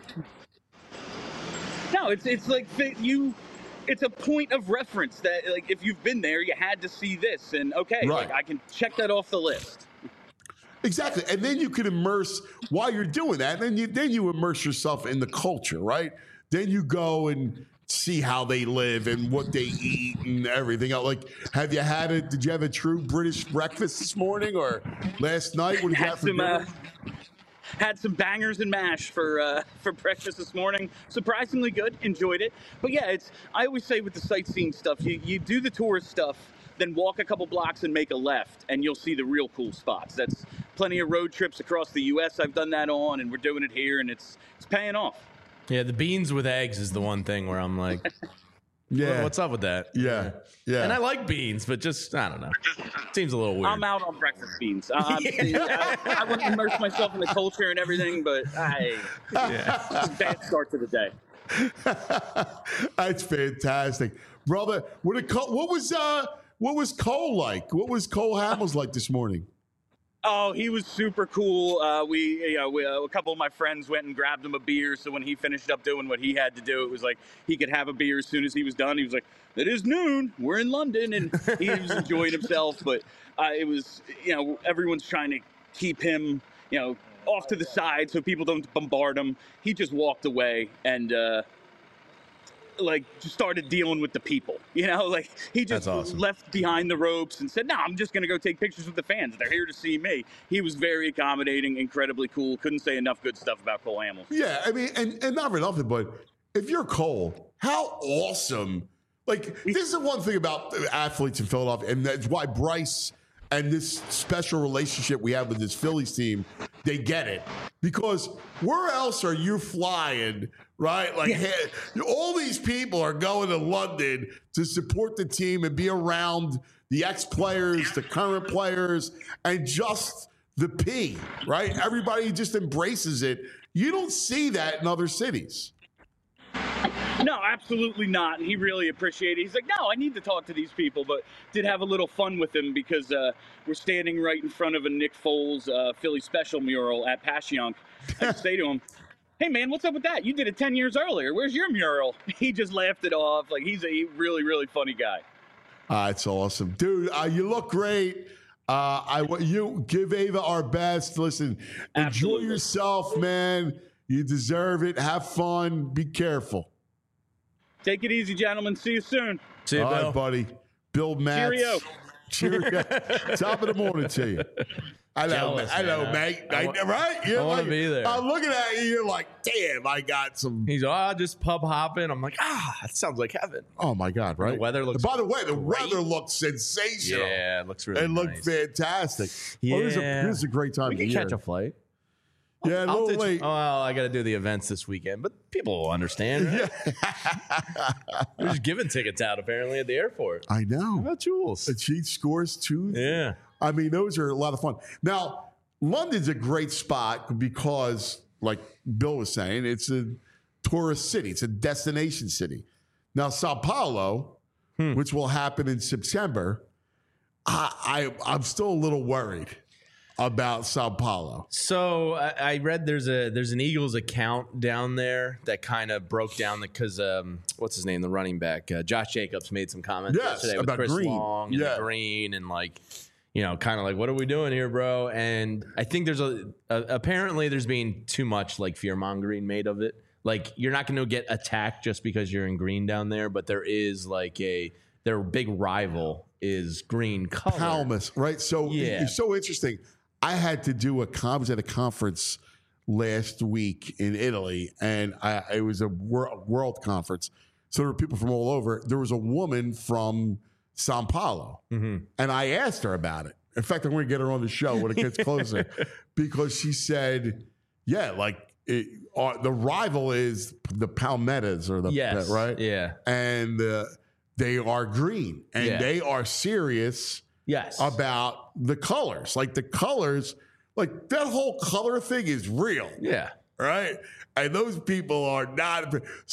No, it's it's like that you, it's a point of reference that, like, if you've been there, you had to see this, and okay, Right. like I can check that off the list. Exactly, and then you can immerse while you're doing that. Then you then you immerse yourself in the culture, right? Then you go and see how they live and what they eat and everything else. Like, have you had a? Did you have a true British breakfast this morning or last night? What did you have Had for some uh, dinner? had some bangers and mash for uh, for breakfast this morning. Surprisingly good. Enjoyed it. But yeah, it's I always say with the sightseeing stuff, you you do the tourist stuff, then walk a couple blocks and make a left, and you'll see the real cool spots. That's plenty of road trips across the U S I've done that on, and we're doing it here, and it's it's paying off. Yeah, the beans with eggs is the one thing where I'm like, Yeah, what's up with that? Yeah, yeah. And I like beans, but just, I don't know. Seems a little weird. I'm out on breakfast beans. Uh, I'm- I, I wouldn't immerse myself in the culture and everything, but I Yeah. bad start to the day. That's fantastic, brother. What did Cole, what was uh what was Cole like? What was Cole Hamels like this morning? Oh, he was super cool. Uh, we, you know, we, uh, a couple of my friends went and grabbed him a beer. So when he finished up doing what he had to do, it was like he could have a beer as soon as he was done. He was like, "It is noon. We're in London," and he was enjoying himself. But uh, it was, you know, everyone's trying to keep him, you know, off to the side so people don't bombard him. He just walked away and. Uh, like just started dealing with the people, you know, like he just That's awesome. left behind the ropes and said, no, I'm just going to go take pictures with the fans. They're here to see me. He was very accommodating, incredibly cool. Couldn't say enough good stuff about Cole Hamels. Yeah, I mean, and, and not for nothing, but if you're Cole, how awesome. Like, this is the one thing about athletes in Philadelphia, and that's why Bryce and this special relationship we have with this Phillies team they get it. Because where else are you flying, right? Like, hey, all these people are going to London to support the team and be around the ex-players, the current players, and just the P, right? Everybody just embraces it. You don't see that in other cities. No, absolutely not. And he really appreciated it. He's like, no, I need to talk to these people, but did have a little fun with him because uh, we're standing right in front of a Nick Foles uh, Philly Special mural at Passyunk. I just say to him, hey, man, what's up with that? You did it ten years earlier. Where's your mural? He just laughed it off. Like, he's a really, really funny guy. Uh, it's awesome. Dude, uh, you look great. Uh, I want you give Ava our best. Listen, Absolutely. Enjoy yourself, man. You deserve it. Have fun. Be careful. Take it easy, gentlemen. See you soon. See you, All Bill. right, buddy. Bill Matz. Cheerio. Cheerio. Top of the morning to you. I know, Jealous, I know, man. mate. I I, wa- right? You're I wanna like, be there. I'm looking at you. You're like, damn, I got some. He's oh, just pub hopping. I'm like, ah, that sounds like heaven. Oh my God! Right. The weather looks By the way, the great. weather looks sensational. Yeah, it looks really It looked nice. fantastic. Well, this, is a, Yeah. this is a great time We of can year. catch a flight. Yeah, a I'll little ditch- late. Oh, well, I got to do the events this weekend, but people will understand. Right? We're just giving tickets out apparently at the airport. I How know. about Jules? The cheat scores too. Yeah. I mean, those are a lot of fun. Now, London's a great spot because, like Bill was saying, it's a tourist city. It's a destination city. Now, Sao Paulo, Hmm. which will happen in September, I, I I'm still a little worried about Sao Paulo. So I, I read there's a there's an Eagles account down there that kind of broke down the because um what's his name the running back uh, Josh Jacobs made some comments Yes, yesterday with about Chris Green. Long and Yeah. the Green and like you know kind of like what are we doing here, bro? And I think there's a, a apparently there's being too much like fear mongering made of it. Like you're not going to get attacked just because you're in green down there, but there is like a their big rival is green color. Palmas, right? So Yeah. it's so interesting. I had to do a con- I was at a conference last week in Italy, and I, it was a wor- world conference. So there were people from all over. There was a woman from Sao Paulo, Mm-hmm. and I asked her about it. In fact, I'm going to get her on the show when it gets closer because she said, "Yeah, like it, uh, the rival is the Palmettas or the Yes. right, Yeah. and uh, they are green and Yeah. they are serious." Yes. About the colors. Like the colors, like that whole color thing is real, Yeah. right? And those people are not.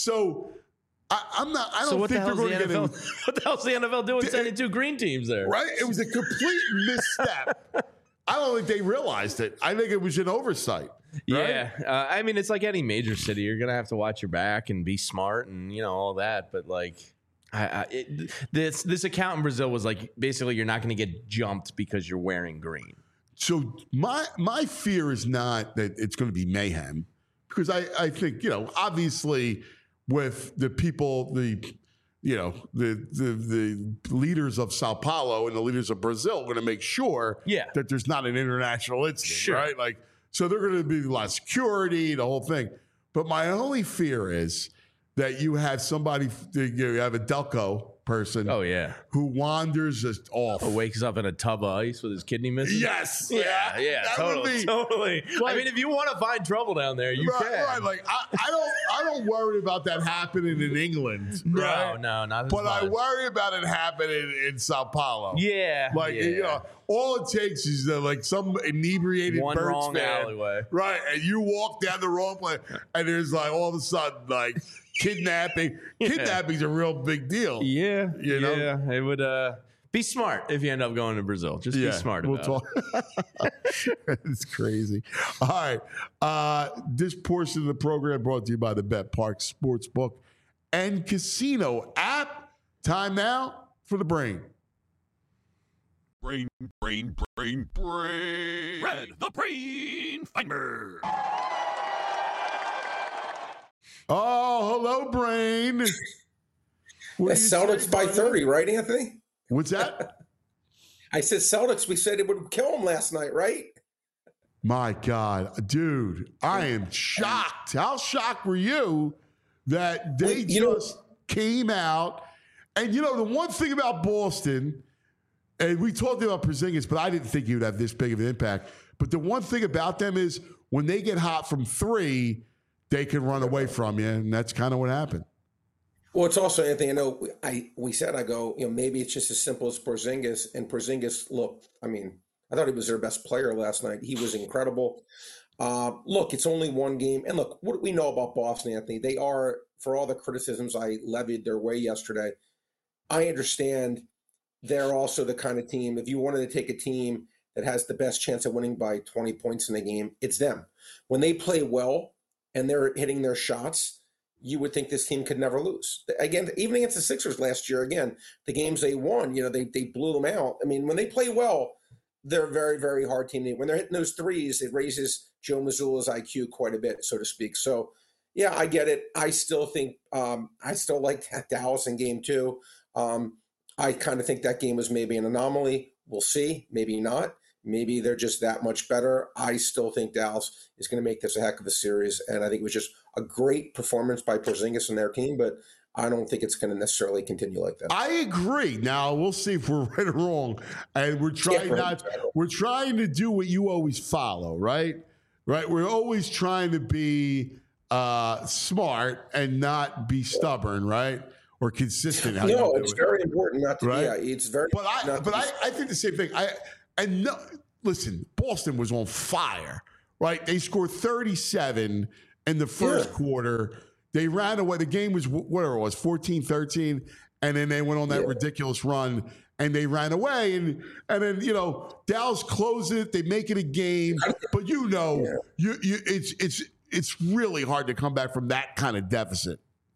So I, I'm not, I don't So what the think they're hell's the going to N get F L? in, What the hell's the N F L doing sending two green teams there? right? It was a complete misstep. I don't think they realized it. I think it was an oversight. Right? Yeah, uh, I mean it's like any major city. You're gonna have to watch your back and be smart and you know all that. But like, I, I, it, this this account in Brazil was like basically you're not gonna get jumped because you're wearing green. So my my fear is not that it's going to be mayhem, because I, I think, you know, obviously with the people, the you know, the the the leaders of Sao Paulo and the leaders of Brazil are going to make sure Yeah. that there's not an international incident, Sure. right? Like, so they're going to be a lot of security, the whole thing. But my only fear is that you have somebody, you have a Delco person Oh yeah, who wanders just off. or wakes up in a tub of ice with his kidney missing. Yes. Yeah, yeah, That would totally, be- totally. Like- I mean, if you want to find trouble down there, you right, can. right. Like I, I don't, I don't worry about that happening in England. no, right? no, not as But I much. worry about it happening in Sao Paulo. Yeah, Like yeah. you know, all it takes is uh, like some inebriated One Birds wrong fan, alleyway. right? And you walk down the wrong place, and there's like all of a sudden like kidnapping. Kidnapping's a real big deal. Yeah, You know? yeah. It would uh, be smart if you end up going to Brazil. Just be smart we'll about it. talk. It's crazy. All right. Uh, this portion of the program brought to you by the Bet Park Sportsbook and Casino app. Time now for the brain. Brain, brain, brain, brain. Red, the brain finder. Oh, hello, brain. What The do you Celtics say, by brother? thirty, right, Anthony? What's that? I said Celtics. We said it would kill them last night, right? My God, dude, I am shocked. How shocked were you that they Well, you know- just came out? And you know, the one thing about Boston, And we talked about Porzingis, but I didn't think he would have this big of an impact. But the one thing about them is when they get hot from three, they can run away from you, and that's kind of what happened. Well, it's also, Anthony, I know I we said, I go, you know, maybe it's just as simple as Porzingis. And Porzingis, look, I mean, I thought he was their best player last night. He was incredible. Uh, look, it's only one game. And look, what do we know about Boston, Anthony? They are, for all the criticisms I levied their way yesterday, I understand they're also the kind of team, if you wanted to take a team that has the best chance of winning by twenty points in the game, it's them. When they play well and they're hitting their shots, you would think this team could never lose. Again, even against the Sixers last year, again, the games they won, you know, they they blew them out. I mean, when they play well, they're a very, very hard team. When they're hitting those threes, it raises Joe Mazzulla's I Q quite a bit, so to speak. So, yeah, I get it. I still think um, I still like Dallas in game two. Um, I kind of think that game was maybe an anomaly. We'll see. Maybe not. Maybe they're just that much better. I still think Dallas is going to make this a heck of a series, and I think it was just a great performance by Porzingis and their team, but I don't think it's going to necessarily continue like that. I agree. Now we'll see if we're right or wrong, and we're trying Yeah, not. We're trying to do what you always follow, right? Right. We're always trying to be uh, smart and not be stubborn, right? Or consistent. How No, you do it's it. very important not to. Right? Yeah, it's very. But I, not to but be- I, I think the same thing. I and no, listen, Boston was on fire, right? They scored thirty-seven in the first Yeah. quarter. They ran away. The game was whatever it was, fourteen thirteen, and then they went on that Yeah. ridiculous run and they ran away. And and then you know Dallas closed it. They make it a game, but you know, Yeah. you you it's it's it's really hard to come back from that kind of deficit.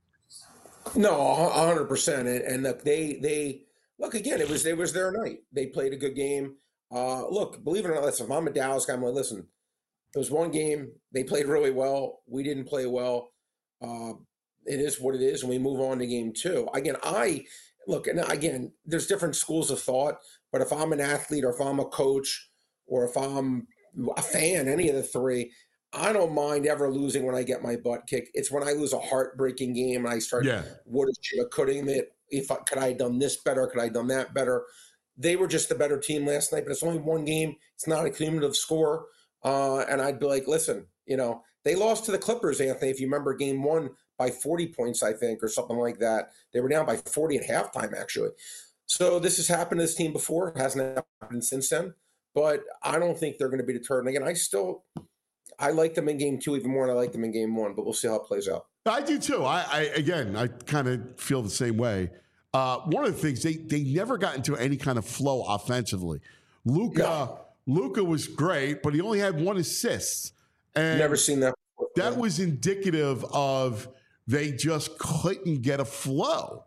No, a hundred percent. And, and look, they they look again. It was it was their night. They played a good game. Uh, look, believe it or not, listen. If I'm a Dallas guy, I'm like, listen. It was one game. They played really well. We didn't play well. Uh, it is what it is, and we move on to game two. Again, I look, and again, there's different schools of thought. But if I'm an athlete, or if I'm a coach, or if I'm a fan, any of the three, I don't mind ever losing when I get my butt kicked. It's when I lose a heartbreaking game and I start, Yeah. what should have, could have, if I, could I have done this better? Could I have done that better? They were just the better team last night, but it's only one game. It's not a cumulative score. Uh, and I'd be like, listen, you know, they lost to the Clippers, Anthony, if you remember game one by forty points, I think, or something like that. They were down by forty at halftime, actually. So this has happened to this team before. It hasn't happened since then. But I don't think they're going to be deterred. And again, I still – I like them in game two even more than I like them in game one, but we'll see how it plays out. I do too. I, I again, I kind of feel the same way. Uh, one of the things they they never got into any kind of flow offensively. Luka No. Luka was great, but he only had one assist, and Never seen that before. that Yeah. was indicative of they just couldn't get a flow.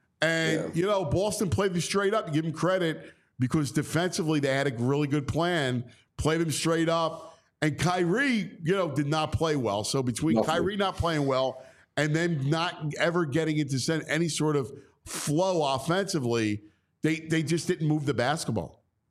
And Yeah. you know, Boston played them straight up. To give them credit because defensively they had a really good plan. Played them straight up. And Kyrie, you know, did not play well. So between Nothing. Kyrie not playing well and then not ever getting into sen- any sort of flow offensively, they they just didn't move the basketball.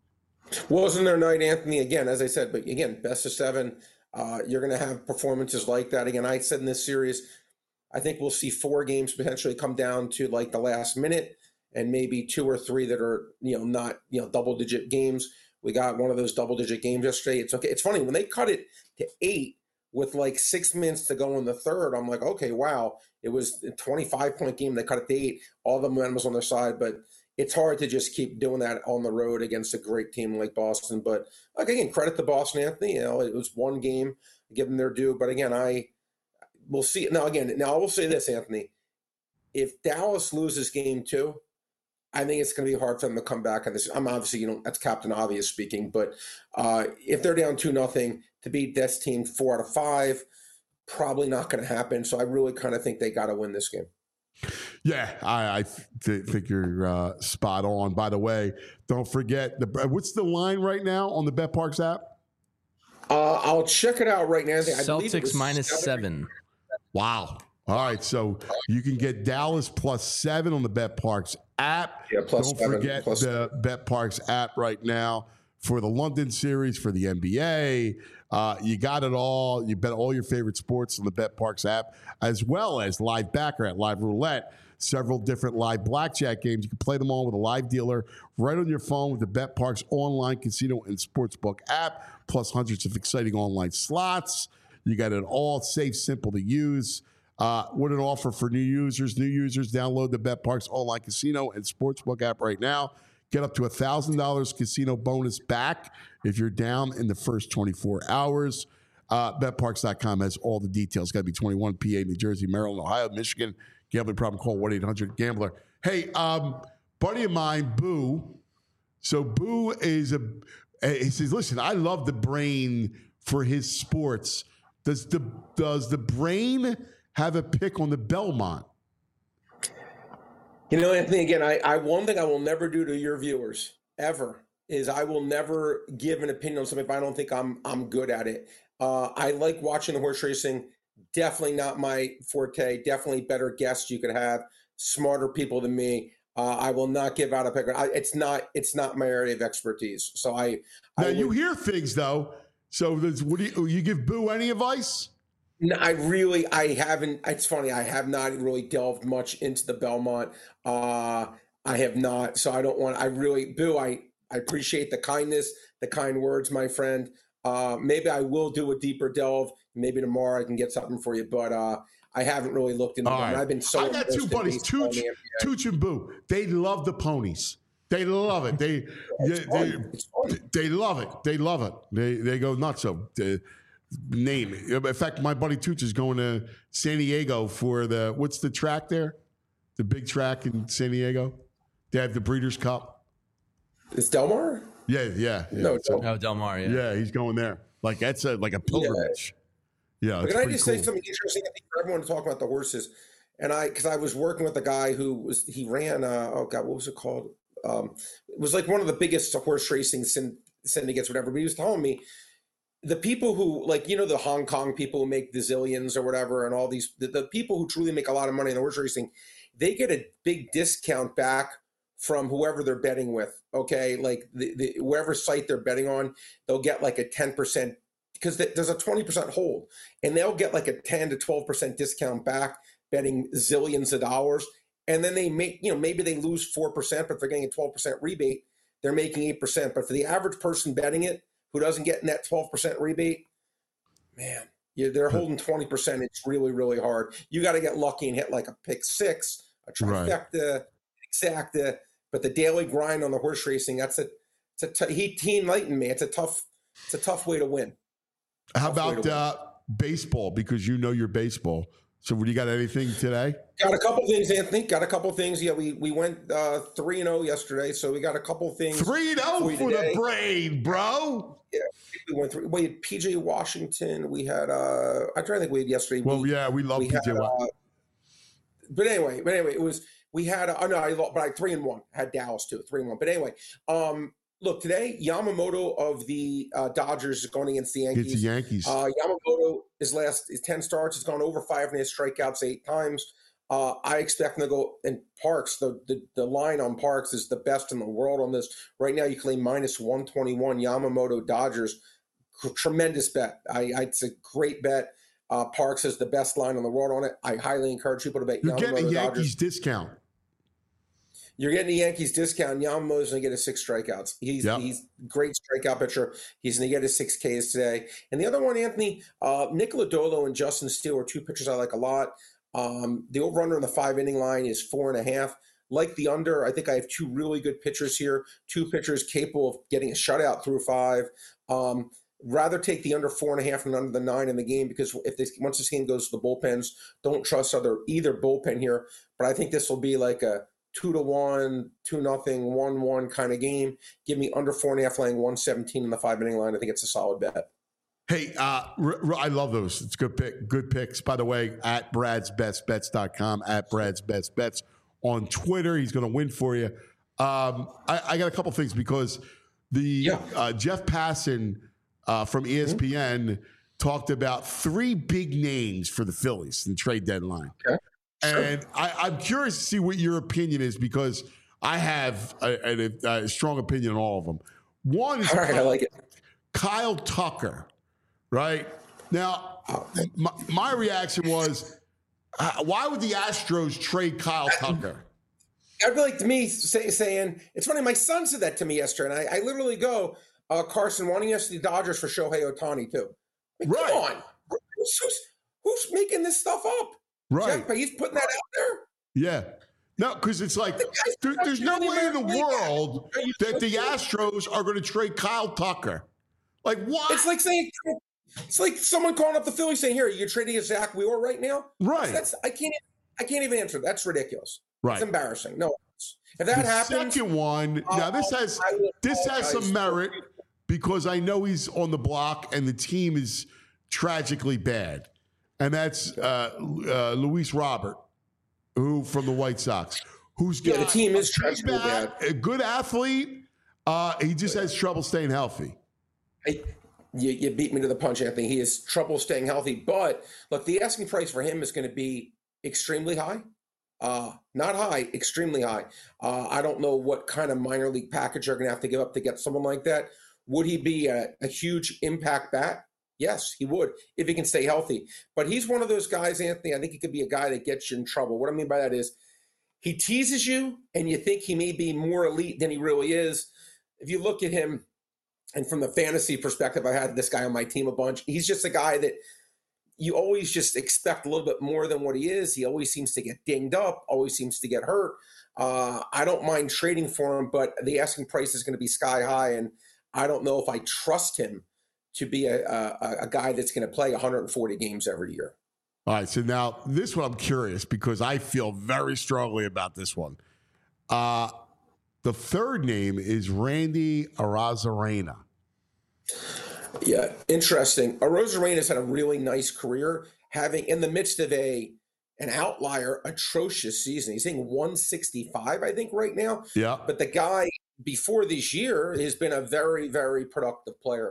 Wasn't their night, Anthony, again, as I said, but again, best of seven. Uh, you're going to have performances like that. Again, I said in this series, I think we'll see four games potentially come down to like the last minute and maybe two or three that are, you know, not, you know, double digit games. We got one of those double digit games yesterday. It's okay. It's funny when they cut it to eight with like six minutes to go in the third. I'm like, okay, wow. It was a twenty-five point game. They cut it to eight. All the momentum was on their side, but it's hard to just keep doing that on the road against a great team like Boston. But like, again, credit to Boston, Anthony. You know, it was one game, give them their due. But again, I we'll see. Now, again, now I will say this, Anthony. If Dallas loses game two, I think it's going to be hard for them to come back on this. I'm obviously, you know, that's Captain Obvious speaking, but uh, if they're down two nothing to beat this team four out of five, probably not going to happen. So I really kind of think they got to win this game. Yeah, I, I th- think you're uh, spot on. By the way, don't forget the what's the line right now on the BetParks app? Uh, I'll check it out right now. I believe it Celtics was minus seven. seven. Wow. All right, so you can get Dallas plus seven on the BetParks app. Yeah, plus Don't seven, forget plus the BetParks app right now for the London series, for the N B A. Uh, you got it all. You bet all your favorite sports on the BetParx app, as well as live baccarat, live roulette, several different live blackjack games. You can play them all with a live dealer right on your phone with the BetParx online casino and sportsbook app, plus hundreds of exciting online slots. You got it all safe, simple to use. Uh, what an offer for new users. New users, download the BetParx online casino and sportsbook app right now. Get up to one thousand dollars casino bonus back if you're down in the first twenty-four hours. Uh, Bet Parx dot com has all the details. Got to be twenty-one, P A, New Jersey, Maryland, Ohio, Michigan. Gambling problem, call one eight hundred gambler. Hey, um, buddy of mine, Boo. So Boo is a, he says, listen, I love the brain for his sports. Does the, does the brain have a pick on the Belmont? You know, Anthony, again, I, I one thing I will never do to your viewers ever is I will never give an opinion on something if I don't think I'm I'm good at it. Uh, I like watching the horse racing. Definitely not my forte. Definitely better guests you could have. Smarter people than me. Uh, I will not give out a pick. I, it's not it's not my area of expertise. So I. Now I you would, hear things though. So what do you, you give Boo any advice? No, I really, I haven't. It's funny. I have not really delved much into the Belmont. Uh, I have not. So I don't want, I really, Boo, I, I appreciate the kindness, the kind words, my friend. Uh, maybe I will do a deeper delve. Maybe tomorrow I can get something for you, but uh, I haven't really looked into All them. right. I've been so I got two buddies, Tooch, Tooch and Boo. They love the ponies. They love it. They, they, they, they love it. They love it. They, they go nuts. So, they, name it. In fact, my buddy Tooch is going to San Diego for the, what's the track there? The big track in San Diego? They have the Breeders' Cup. Is Del Mar? Yeah, yeah. yeah. No, so, Oh, Del Mar, yeah. yeah, he's going there. Like, that's a, like a pilgrimage. Yeah. But can I just cool. say something interesting for everyone to talk about the horses? And I, because I was working with a guy who was, he ran, uh, oh God, what was it called? Um, it was like one of the biggest horse racing syndicates, whatever. But he was telling me, the people who, like, you know, the Hong Kong people who make the zillions or whatever, and all these, the, the people who truly make a lot of money in the horse racing, they get a big discount back from whoever they're betting with. Okay. Like the, the whoever site they're betting on, they'll get like a ten percent, because there's a twenty percent hold, and they'll get like a ten to twelve percent discount back betting zillions of dollars. And then they make, you know, maybe they lose four percent, but if they're getting a twelve percent rebate, they're making eight percent. But for the average person betting it, who doesn't get in that twelve percent rebate, man, yeah, they're holding twenty percent. It's really, really hard. You got to get lucky and hit like a pick six, a trifecta, right. exacta. But the daily grind on the horse racing, that's a, it's a t- he, he enlightened me. It's a tough, it's a tough way to win. How tough about uh, baseball? Because you know your baseball. So, what do you got? Anything today? Got a couple things, Anthony. Got a couple things. Yeah, we we went uh, three and zero yesterday, so we got a couple things. Three and zero for, for the brain, bro. Yeah, we went through. We had P J Washington. We had. Uh, I try to think we had yesterday. Well, we, yeah, we love we P J had, Washington. Uh, but anyway, but anyway, it was we had. Uh, no, I but I three and one. I had Dallas too, three and one. But anyway, um, look today, Yamamoto of the uh, Dodgers is going against the Yankees. It's the Yankees. Uh, Yamamoto, his last his ten starts, has gone over five and his strikeouts eight times. Uh, I expect him to go in Parx. The, the the line on Parx is the best in the world on this. Right now, you claim minus one twenty-one. Yamamoto Dodgers, tremendous bet. I, I it's a great bet. Uh, Parx has the best line on the world on it. I highly encourage people to bet You're Yamamoto getting a Yankees Dodgers. discount. You're getting the Yankees discount. Yamamoto's going to get his six strikeouts. He's yep. he's great strikeout pitcher. He's going to get his six Ks today. And the other one, Anthony, uh, Nick Lodolo and Justin Steele are two pitchers I like a lot. Um, the over-under on the five-inning line is four and a half. Like the under, I think I have two really good pitchers here, two pitchers capable of getting a shutout through five. Um, rather take the under four and a half than under the nine in the game, because if this once this game goes to the bullpens, don't trust other either bullpen here. But I think this will be like a two to one, two nothing, one one kind of game. Give me under four and a half, laying one seventeen in the five-inning line. I think it's a solid bet. Hey, uh, r- r- I love those. It's good pick, good picks. By the way, at Brad's Best Bets dot com, at Brad's Best Bets on Twitter. He's going to win for you. Um, I, I got a couple things because the yeah. uh, Jeff Passan uh, from E S P N mm-hmm. talked about three big names for the Phillies in trade deadline. Okay. Sure. And I, I'm curious to see what your opinion is, because I have a, a, a strong opinion on all of them. One is All right, I like it. Kyle Tucker, right? Now, my, my reaction was, uh, why would the Astros trade Kyle Tucker? I'd be like to me say, saying, it's funny, my son said that to me yesterday, and I, I literally go, uh, Carson, why don't you ask the Dodgers for Shohei Ohtani too? I mean, Right. Come on. Who's, who's, who's making this stuff up? Right. Jeff, he's putting that out there. Yeah. No, because it's like, there, there's no way in the world that the Astros are going to trade Kyle Tucker. Like, what? It's like saying, it's like someone calling up the Phillies saying, here, you're trading a Zach Wheeler right now? Right. That's, I can't I can't even answer. That's ridiculous. Right. It's embarrassing. No. If that the happens. second one, now this has this has some merit because I know he's on the block and the team is tragically bad, and that's uh, uh, Luis Robert, who from the White Sox, who's got Yeah, the team is a big tragically bat, bad. a good athlete. Uh, he just has trouble staying healthy. I, you, you beat me to the punch, Anthony. He has trouble staying healthy. But look, the asking price for him is going to be extremely high. Uh, not high, extremely high. Uh, I don't know what kind of minor league package they're going to have to give up to get someone like that. Would he be a, a huge impact bat? Yes, he would, if he can stay healthy. But he's one of those guys, Anthony, I think he could be a guy that gets you in trouble. What I mean by that is he teases you and you think he may be more elite than he really is. If you look at him, and from the fantasy perspective, I had this guy on my team a bunch. He's just a guy that you always just expect a little bit more than what he is. He always seems to get dinged up, always seems to get hurt. Uh, I don't mind trading for him, but the asking price is going to be sky high, and I don't know if I trust him to be a, a, a guy that's going to play one hundred forty games every year. All right, so now this one I'm curious because I feel very strongly about this one. Uh, the third name is Randy Arozarena. Yeah, interesting. Arozarena's had a really nice career, having in the midst of a an outlier, atrocious season. He's hitting one sixty-five, I think, right now. Yeah. But the guy before this year has been a very, very productive player.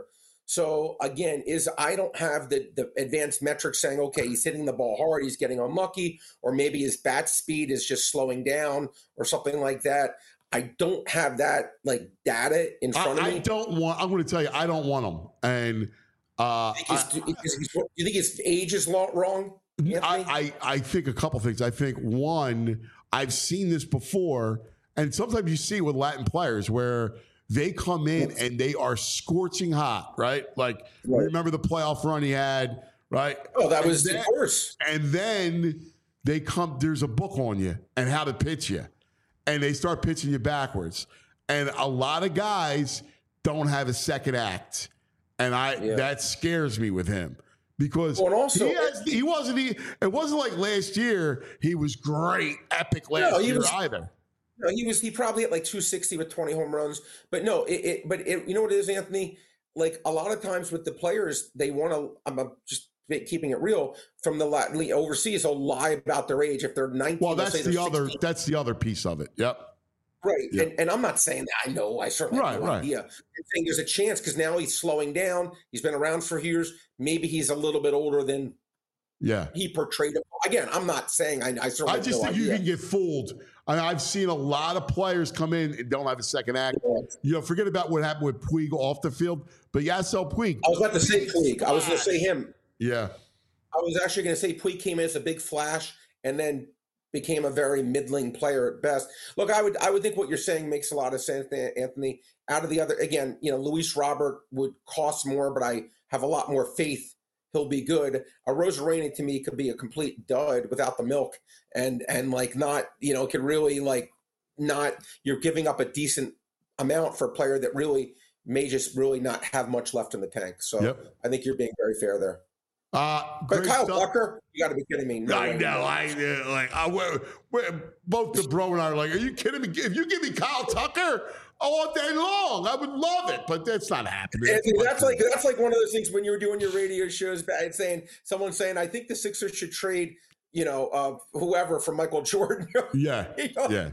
So again, is I don't have the the advanced metrics saying, okay, he's hitting the ball hard, he's getting unlucky, or maybe his bat speed is just slowing down or something like that. I don't have that like data in front I, of me. I don't want. I'm going to tell you, I don't want him. And uh, Is, I, is, is, do you think his age is lo- wrong? Anthony? I, I I think a couple things. I think one, I've seen this before, and sometimes you see with Latin players where they come in and they are scorching hot, right? Like Right. remember the playoff run he had, right? Oh, that was And the then- worst. And then they come. There's a book on you and how to pitch you. And they start pitching you backwards. And a lot of guys don't have a second act. And I Yeah. that scares me with him. Because Well, and also- he, has, he wasn't he, it wasn't like last year he was great, epic last No, he year was- either. No, he was he probably hit like two sixty with twenty home runs. But no, it, it but it, you know what it is, Anthony? Like a lot of times with the players, they want to. I'm uh, just keeping it real from the Latin league overseas. They'll lie about their age if they're nineteen. Well, they'll that's say the they're other sixteen. that's the other piece of it. Yep. Right. Yeah. And, and I'm not saying that. I know. I certainly have Right, no right. idea. I'm saying there's a chance because now he's slowing down. He's been around for years. Maybe he's a little bit older than Yeah. he portrayed him. Again, I'm not saying I, I certainly I have just no think idea. you can get fooled. I I've seen a lot of players come in and don't have a second act. You know, forget about what happened with Puig off the field, but Yasiel Puig. I was about to say Puig. I was going to say him. Yeah. I was actually going to say Puig came in as a big flash and then became a very middling player at best. Look, I would I would think what you're saying makes a lot of sense, Anthony. Out of the other, again, you know, Luis Robert would cost more, but I have a lot more faith he'll be good. A Arozarena to me could be a complete dud without the milk, and and like not, you know, could really like not. You're giving up a decent amount for a player that really may just really not have much left in the tank. So Yep. I think you're being very fair there. Uh, But great Kyle stuff. Tucker, you got to be kidding me. No I way. know. I uh, like. I we're, we're, both the bro and I are like, "Are you kidding me? If you give me Kyle Tucker all day long, I would love it." But that's not happening. Anthony, that's like that's like one of those things when you were doing your radio shows, back saying someone saying, "I think the Sixers should trade, you know, uh, whoever for Michael Jordan." yeah, You know? yeah,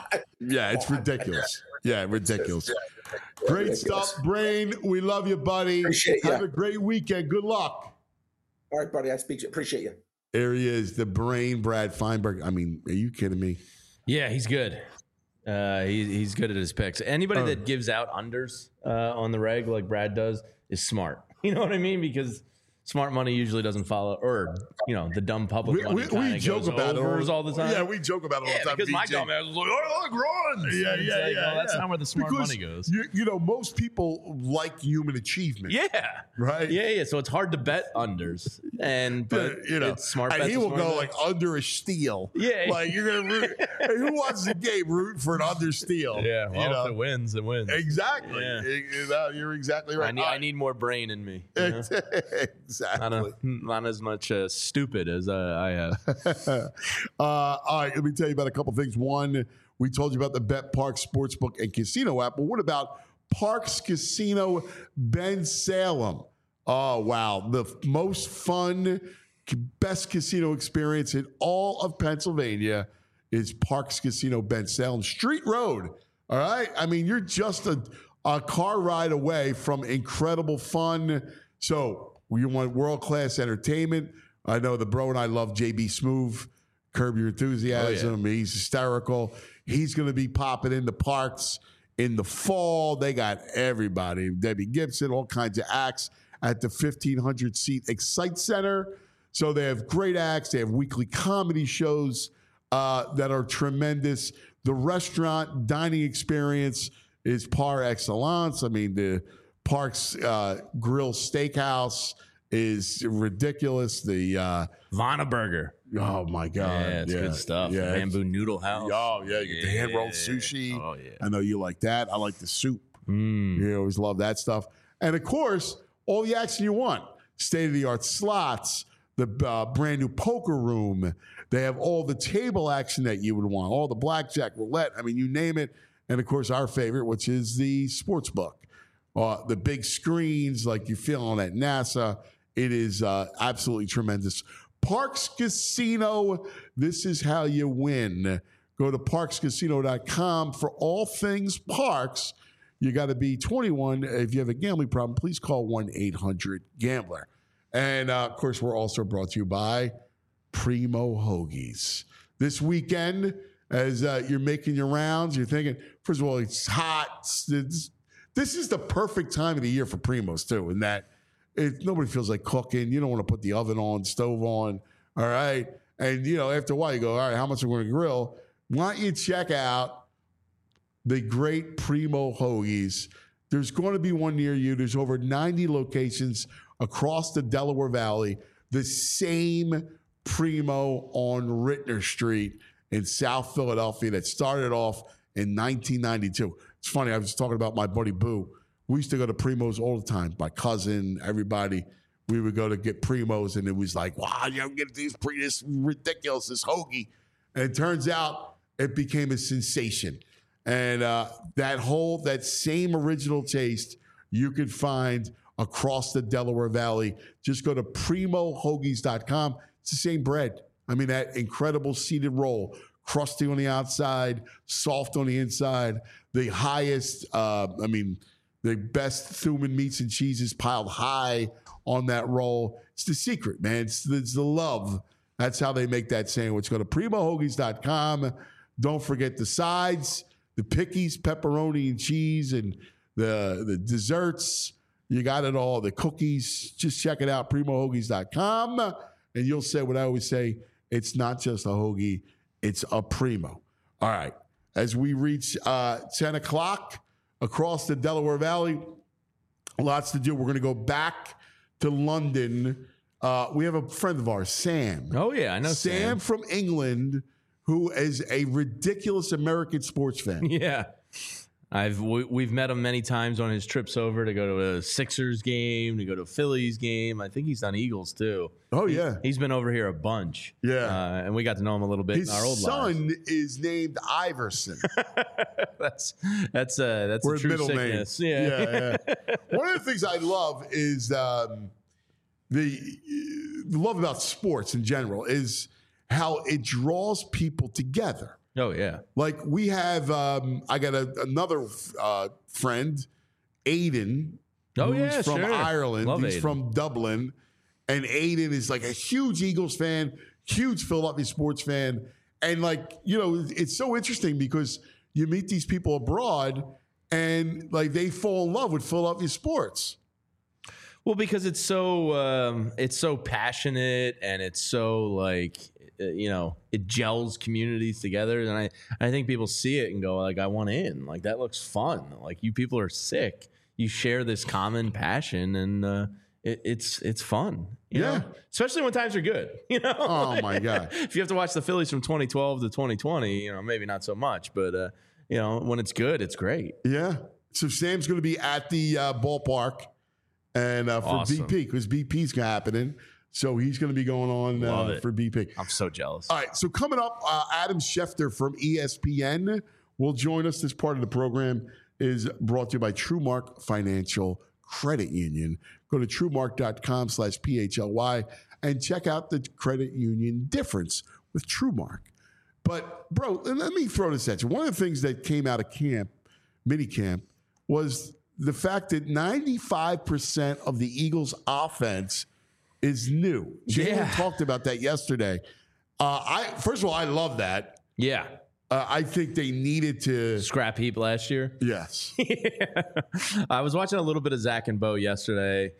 yeah. It's ridiculous. Yeah, ridiculous. Great Ridiculous. stuff, Brain. We love you, buddy. Appreciate Have ya. a great weekend. Good luck. All right, buddy. I speak. Appreciate you. There he is, the Brain, Brad Feinberg. I mean, are you kidding me? Yeah, he's good. Uh, he, he's good at his picks. Anybody Oh. that gives out unders uh, on the reg like Brad does is smart. You know what I mean? Because smart money usually doesn't follow, or you know, the dumb public We, money we, kinda we joke goes about overs it all the time. Yeah, we joke about it all Yeah, the time. because my D J. dumb ass was like, "Oh, look, runs." Yeah, And it's yeah, like, yeah. well, that's yeah. not where the smart Because money goes. You, you know, most people like human achievement. Yeah. Right? Yeah, yeah. So it's hard to bet unders, and but you know, it's smart. and bets he are will smart go bets. like under a steal. Yeah. like you're gonna root. Hey, who wants the game? Root for an under steal. yeah. Well, you know? if it wins, it wins. Exactly. Yeah. You know, you're exactly right. I need, I need more brain in me. You know? exactly. Not, a, not as much uh, stupid as uh, I have. uh, all right, let me tell you about a couple things. One, we told you about the Bet Parks Sportsbook and Casino app, but what about Parks Casino Ben Salem? Oh, wow. The f- most fun, best casino experience in all of Pennsylvania is Parks Casino Ben Salem Street Road. All right? I mean, you're just a, a car ride away from incredible fun. So you want world-class entertainment. I know the bro and I love J B Smoove, Curb Your Enthusiasm. He's hysterical. He's going to be popping into Parks in the fall. They got everybody. Debbie Gibson, all kinds of acts at the fifteen hundred seat Excite Center. So they have great acts. They have weekly comedy shows uh, that are tremendous. The restaurant dining experience is par excellence. I mean, the Parks uh, Grill Steakhouse is ridiculous. The uh, Vana Burger. oh my god, Yeah, it's good stuff. Yeah, Bamboo Noodle House. Oh yeah, you get the hand rolled Yeah. sushi. Oh, yeah. I know you like that. I like the soup. Mm. You always love that stuff. And of course, all the action you want. State of the art slots, the uh, brand new poker room. They have all the table action that you would want, all the blackjack, roulette. I mean, you name it. And of course, our favorite, which is the sports book. Uh, the big screens like you feel on at NASA. It is uh, absolutely tremendous. Parks Casino, this is how you win. Go to parks casino dot com for all things parks. You got to be twenty-one. If you have a gambling problem, please call one eight hundred gambler. And uh, of course, we're also brought to you by Primo Hoagies. This weekend, as uh, you're making your rounds, you're thinking, first of all, it's hot. It's, this is the perfect time of the year for Primos, too, in that it, nobody feels like cooking. You don't want to put the oven on, stove on, all right? And, you know, after a while, you go, all right, how much am I going to grill? Why don't you check out the great Primo Hoagies? There's going to be one near you. There's over ninety locations across the Delaware Valley. The same Primo on Rittner Street in South Philadelphia that started off in nineteen ninety-two. It's funny, I was talking about my buddy Boo. We used to go to Primo's all the time. My cousin, everybody, we would go to get Primos, and it was like, wow, you don't get these pre this ridiculous, this hoagie. And it turns out it became a sensation. And uh, that whole, that same original taste you could find across the Delaware Valley. Just go to primo hoagies dot com. It's the same bread. I mean, that incredible seeded roll, crusty on the outside, soft on the inside, the highest, uh, I mean, the best Thuman meats and cheeses piled high on that roll. It's the secret, man. It's the, it's the love. That's how they make that sandwich. Go to primo hoagies dot com. Don't forget the sides, the pickies, pepperoni and cheese, and the, the desserts. You got it all. The cookies. Just check it out, primo hoagies dot com. And you'll say what I always say, it's not just a hoagie, it's a Primo. All right. As we reach uh, ten o'clock across the Delaware Valley, lots to do. We're going to go back to London. Uh, we have a friend of ours, Sam. Oh, yeah, I know Sam. Sam. from England, who is a ridiculous American sports fan. Yeah. I've we, we've met him many times on his trips over to go to a Sixers game, to go to a Phillies game. I think he's done Eagles too. Oh, yeah. He's been over here a bunch. Yeah. uh, and we got to know him a little bit His in our old son lives. is named Iverson. that's that's uh that's We're a true middle sickness. name. Yeah. yeah, yeah. One of the things I love is um, the, the love about sports in general is how it draws people together. Oh yeah. Like we have, um, I got a, another uh, friend, Aiden, Oh, who's yeah, from sure. Ireland. Love He's Aiden. from Dublin, and Aiden is like a huge Eagles fan, huge Philadelphia sports fan, and like you know, it's so interesting because you meet these people abroad, and like they fall in love with Philadelphia sports. Well, because it's so um, it's so passionate and it's so like uh, you know it gels communities together, and I I think people see it and go like I want in, like that looks fun, like you people are sick, you share this common passion, and uh, it, it's it's fun, you Yeah. know? Especially when times are good, you know. Oh my God! If you have to watch the Phillies from twenty twelve to twenty twenty, you know maybe not so much, but uh, you know when it's good, it's great. Yeah. So Sam's going to be at the uh, ballpark. And uh, for Awesome. B P, because B P's happening. So he's going to be going on Love uh, it. for B P. I'm so jealous. All right. So coming up, uh, Adam Schefter from E S P N will join us. This part of the program is brought to you by TrueMark Financial Credit Union. Go to truemark.com slash P H L Y and check out the credit union difference with TrueMark. But, bro, let me throw this at you. One of the things that came out of camp, mini camp, was the fact that ninety-five percent of the Eagles' offense is new. Jalen Yeah. talked about that yesterday. Uh, I first of all, I love that. Yeah. Uh, I think they needed to. Scrap heap last year. Yes. I was watching a little bit of Zach and Bo yesterday.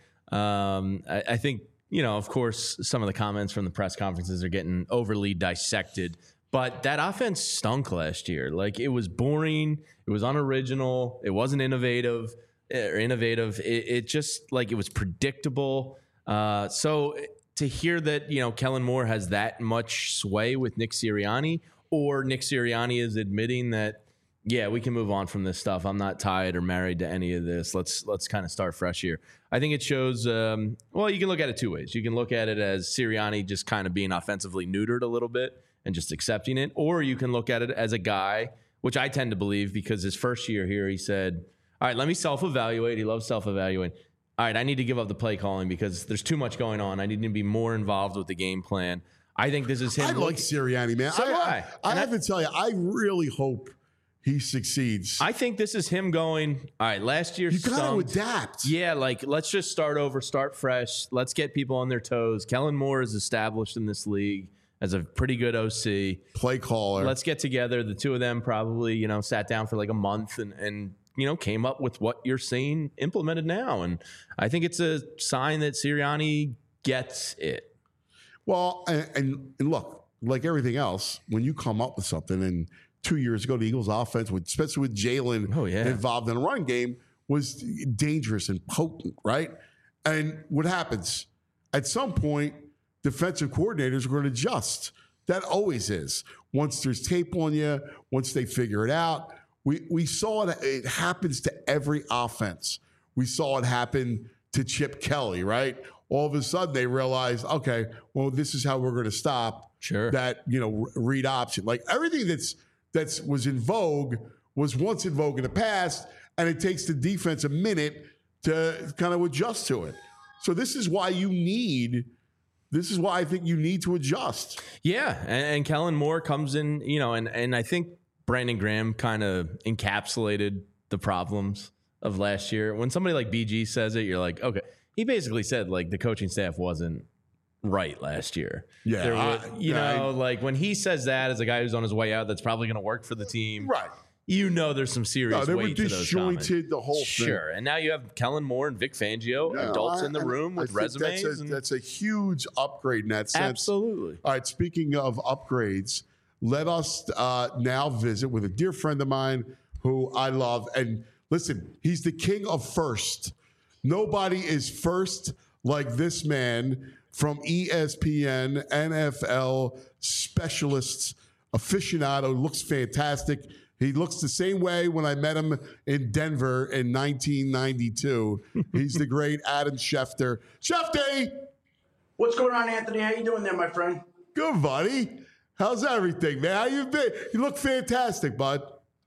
Um, I, I think, you know, of course, some of the comments from the press conferences are getting overly dissected, but that offense stunk last year. Like, it was boring. It was unoriginal. It wasn't innovative or innovative. It, it just, like, it was predictable. Uh, so to hear that, you know, Kellen Moore has that much sway with Nick Sirianni, or Nick Sirianni is admitting that, yeah, we can move on from this stuff. I'm not tied or married to any of this. Let's let's kind of start fresh here. I think it shows, um, well, you can look at it two ways. You can look at it as Sirianni just kind of being offensively neutered a little bit and just accepting it, or you can look at it as a guy, which I tend to believe, because his first year here, he said, all right, let me self-evaluate. He loves self-evaluating. All right, I need to give up the play calling because there's too much going on. I need to be more involved with the game plan. I think this is him. I like Sirianni, man. So I, do I, I. I And have I- to tell you, I really hope he succeeds. I think this is him going, all right, last year you got to stunk. adapt. Yeah, like, let's just start over, start fresh. Let's get people on their toes. Kellen Moore is established in this league as a pretty good O C. Play caller. Let's get together. The two of them probably, you know, sat down for like a month and, and you know, came up with what you're seeing implemented now. And I think it's a sign that Sirianni gets it. Well, and, and, and look, like everything else, when you come up with something, and two years ago, the Eagles' offense, with, especially with Jalen Oh, yeah. involved in a run game, was dangerous and potent, right? And what happens? At some point, defensive coordinators are going to adjust. That always is. Once there's tape on you, once they figure it out. We we saw it. It happens to every offense. We saw it happen to Chip Kelly, right? All of a sudden, they realized, okay, well, this is how we're going to stop Sure. that, you know, read option. Like everything that's that's was in vogue was once in vogue in the past, and it takes the defense a minute to kind of adjust to it. So this is why you need. This is why I think you need to adjust. Yeah, and, and Kellen Moore comes in, you know, and, and I think Brandon Graham kind of encapsulated the problems of last year. When somebody like B G says it, you're like, okay. He basically said, like, the coaching staff wasn't right last year. Yeah, There I- was, you I- know, like when he says that as a guy who's on his way out, that's probably going to work for the team. Right. You know, there's some serious No, they were weight to those comments. disjointed, the whole thing. Sure, and now you have Kellen Moore and Vic Fangio, Yeah, adults I- in the I- room I with think resumes. That's a, and- that's a huge upgrade in that sense. absolutely. All right, speaking of upgrades, let us uh, now visit with a dear friend of mine who I love. And listen, he's the king of first. Nobody is first like this man from E S P N, N F L specialists, aficionado, looks fantastic. He looks the same way when I met him in Denver in nineteen ninety-two. He's the great Adam Schefter. Shefty! What's going on, Anthony? How you doing there, my friend? Good, buddy. How's everything, man? How you been? You look fantastic, bud.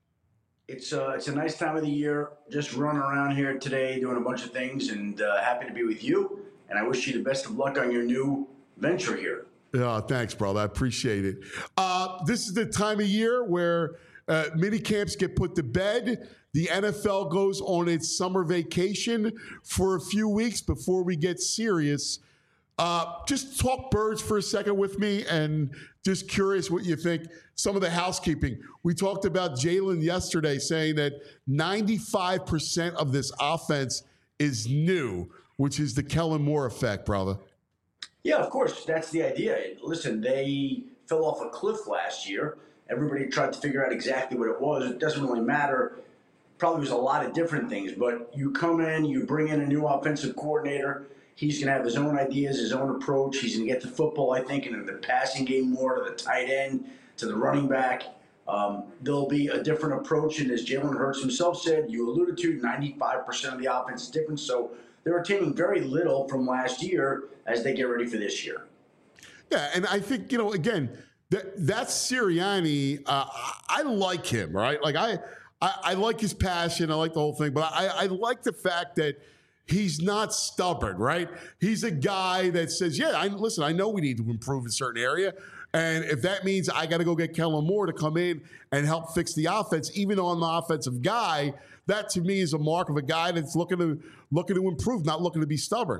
It's uh, it's a nice time of the year. Just running around here today, doing a bunch of things, and uh, happy to be with you. And I wish you the best of luck on your new venture here. Yeah, thanks, brother. I appreciate it. Uh, this is the time of year where uh, mini camps get put to bed. The N F L goes on its summer vacation for a few weeks before we get serious. Uh, just talk birds for a second with me, and just curious what you think. Some of the housekeeping. We talked about Jalen yesterday, saying that ninety-five percent of this offense is new, which is the Kellen Moore effect, brother. Yeah, of course. That's the idea. Listen, they fell off a cliff last year. Everybody tried to figure out exactly what it was. It doesn't really matter. Probably was a lot of different things, but you come in, you bring in a new offensive coordinator. He's going to have his own ideas, his own approach. He's going to get the football, I think, into the passing game more, to the tight end, to the running back. Um, there'll be a different approach, and as Jalen Hurts himself said, you alluded to, ninety-five percent of the offense is different. So they're retaining very little from last year as they get ready for this year. Yeah, and I think, you know, again, that that's Sirianni. Uh, I like him, right? Like, I, I, I like his passion. I like the whole thing. But I, I like the fact that he's not stubborn, right? He's a guy that says, yeah, I, listen, I know we need to improve in a certain area. And if that means I got to go get Kellen Moore to come in and help fix the offense, even though I'm the offensive guy, that to me is a mark of a guy that's looking to looking to improve, not looking to be stubborn.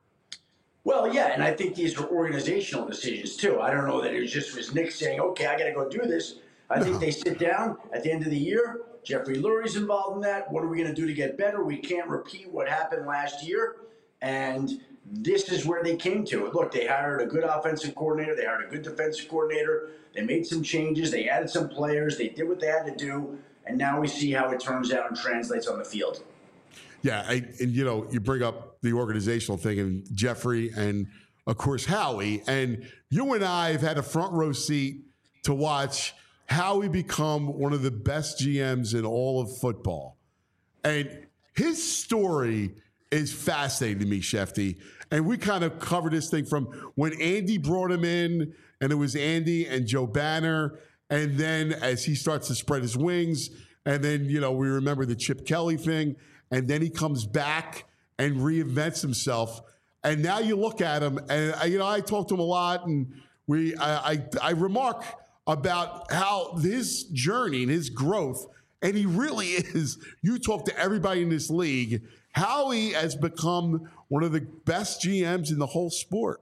Well, yeah, and I think these are organizational decisions too. I don't know that it was just was Nick saying, okay, I got to go do this. I think they sit down at the end of the year. Jeffrey Lurie's involved in that. What are we going to do to get better? We can't repeat what happened last year. And this is where they came to it. Look, they hired a good offensive coordinator. They hired a good defensive coordinator. They made some changes. They added some players. They did what they had to do. And now we see how it turns out and translates on the field. Yeah, I, and you know, you bring up the organizational thing, and Jeffrey and, of course, Howie. And you and I have had a front row seat to watch Howie become one of the best G Ms in all of football. And his story is fascinating to me, Shefty. And we kind of covered this thing from when Andy brought him in, and it was Andy and Joe Banner. And then as he starts to spread his wings, and then, you know, we remember the Chip Kelly thing. And then he comes back and reinvents himself. And now you look at him, and, you know, I talk to him a lot, and we, I, I, I remark about how his journey and his growth, and he really is, you talk to everybody in this league, how he has become one of the best G Ms in the whole sport.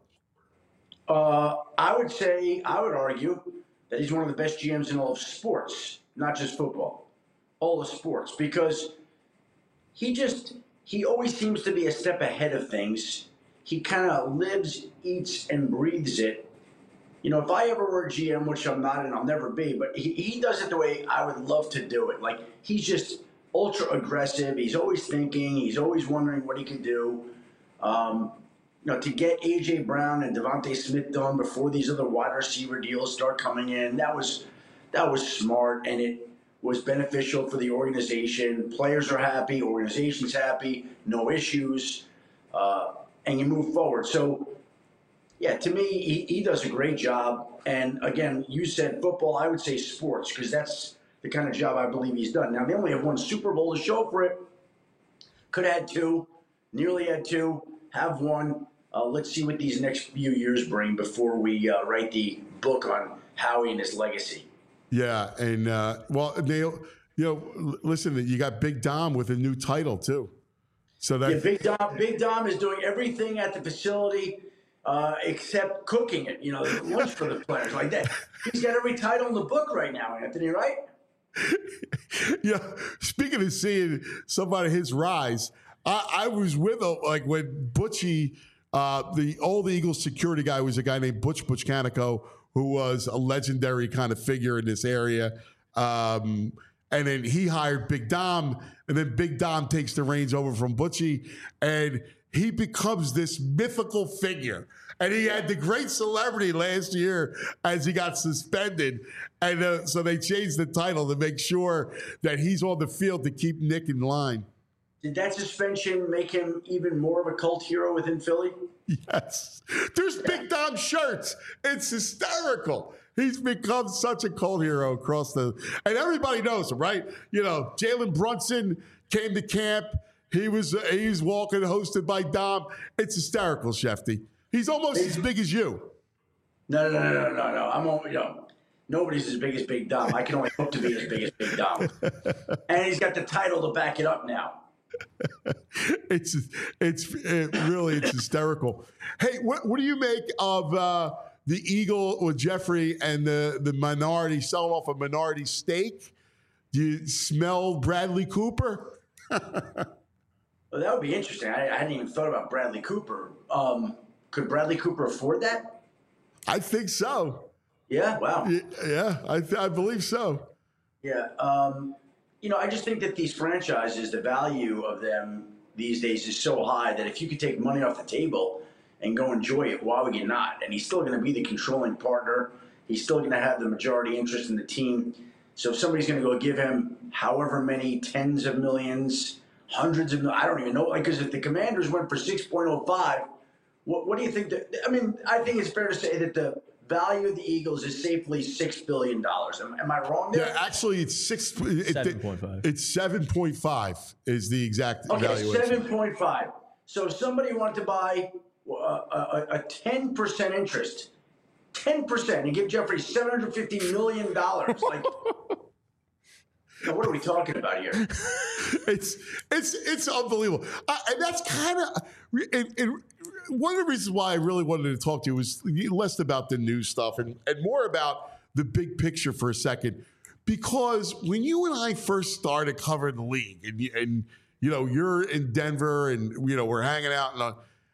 Uh, I would say, I would argue that he's one of the best G Ms in all of sports, not just football, all of sports, because he just, he always seems to be a step ahead of things. He kind of lives, eats, and breathes it. You know, if I ever were a G M, which I'm not and I'll never be, but he, he does it the way I would love to do it. Like, he's just ultra aggressive. He's always thinking. He's always wondering what he can do. Um, you know, to get A J Brown and Devontae Smith done before these other wide receiver deals start coming in, that was that was smart, and it was beneficial for the organization. Players are happy, organization's happy, no issues, uh, and you move forward. So, yeah, to me, he, he does a great job. And again, you said football, I would say sports, because that's the kind of job I believe he's done. Now, they only have one Super Bowl to show for it. Could have had two, nearly had two, have one. Uh, let's see what these next few years bring before we uh, write the book on Howie and his legacy. Yeah, and, uh, well, Neil, you know, listen, you got Big Dom with a new title, too. So that yeah, Big Dom, Big Dom is doing everything at the facility uh, except cooking it, you know, lunch for the players like that. He's got every title in the book right now, Anthony, right? Yeah, speaking of seeing somebody his rise, I, I was with him, like, when Butchie, uh, the old Eagles security guy, was a guy named Butch Butchcanico, who was a legendary kind of figure in this area. Um, and then he hired Big Dom, and then Big Dom takes the reins over from Butchie, and he becomes this mythical figure. And he had the great celebrity last year as he got suspended. And uh, so they changed the title to make sure that he's on the field to keep Nick in line. Did that suspension make him even more of a cult hero within Philly? Yes. There's Big Dom shirts. It's hysterical. He's become such a cult hero across the – and everybody knows him, right? You know, Jalen Brunson came to camp. He was uh, he's walking, hosted by Dom. It's hysterical, Shefty. He's almost as big as you. No, no, no, no, no, no. I'm only, you know, nobody's as big as Big Dom. I can only hope to be as big as Big Dom. And he's got the title to back it up now. it's it's it really it's hysterical. Hey, what what do you make of uh, the Eagle with Jeffrey and the the minority selling off a minority stake? Do you smell Bradley Cooper? Well, that would be interesting. I, I hadn't even thought about Bradley Cooper. Um, could Bradley Cooper afford that? I think so. Yeah. Wow. Yeah, I th- I believe so. Yeah. Um, you know, I just think that these franchises, the value of them these days is so high that if you could take money off the table and go enjoy it, why would you not? And he's still going to be the controlling partner. He's still going to have the majority interest in the team. So if somebody's going to go give him however many tens of millions, hundreds of millions, I don't even know. Because if the Commanders went for six point oh five, what, what do you think? That, I mean, I think it's fair to say that the value of the Eagles is safely six billion dollars. Am, am I wrong there? Yeah, actually, it's six. It, seven point five. It's seven point five is the exact okay, valuation. seven point five. So if somebody wanted to buy uh, a, a ten percent interest, ten percent, and give Jeffrey seven hundred fifty million dollars, like, you know, what are we talking about here? It's it's it's unbelievable, uh, and that's kind of one of the reasons why I really wanted to talk to you was less about the news stuff and, and more about the big picture for a second, because when you and I first started covering the league, and, and you know you're in Denver, and you know we're hanging out, and, uh,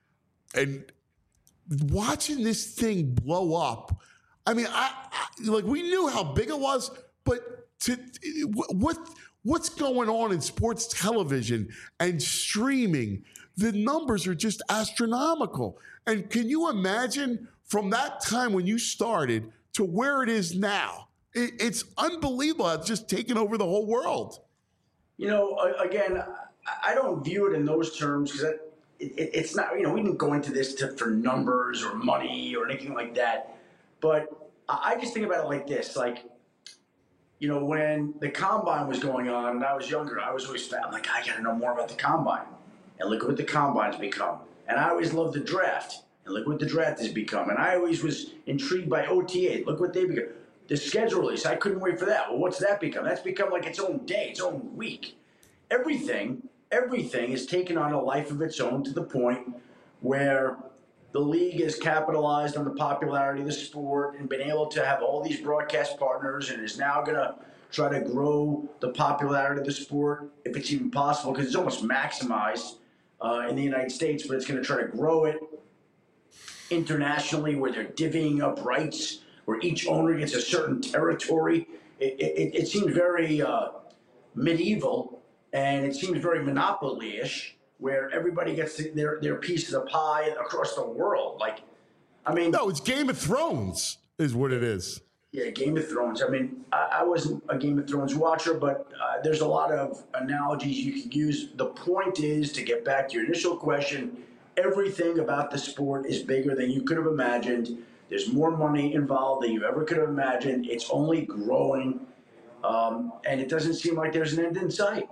and watching this thing blow up. I mean, I, I like we knew how big it was, but to what what's going on in sports television and streaming, the numbers are just astronomical. And can you imagine from that time when you started to where it is now? It, it's unbelievable. It's just taken over the whole world. You know, again, I don't view it in those terms because it, it, it's not, you know, we didn't go into this to, for numbers or money or anything like that. But I just think about it like this, like, you know, when the combine was going on and I was younger, I was always I'm like, I got to know more about the combine. And look what the combine's become. And I always loved the draft. And look what the draft has become. And I always was intrigued by O T A. Look what they become. The schedule release, I couldn't wait for that. Well, what's that become? That's become like its own day, its own week. Everything, everything is taken on a life of its own to the point where the league has capitalized on the popularity of the sport and been able to have all these broadcast partners and is now going to try to grow the popularity of the sport, if it's even possible, because it's almost maximized uh, in the United States, but it's going to try to grow it internationally where they're divvying up rights, where each owner gets a certain territory. It, it, it seems very uh, medieval, and it seems very monopoly-ish, where everybody gets their, their piece of the pie across the world. Like, I mean... No, it's Game of Thrones is what it is. Yeah, Game of Thrones. I mean, I, I wasn't a Game of Thrones watcher, but uh, there's a lot of analogies you could use. The point is, to get back to your initial question, everything about the sport is bigger than you could have imagined. There's more money involved than you ever could have imagined. It's only growing, um, and it doesn't seem like there's an end in sight.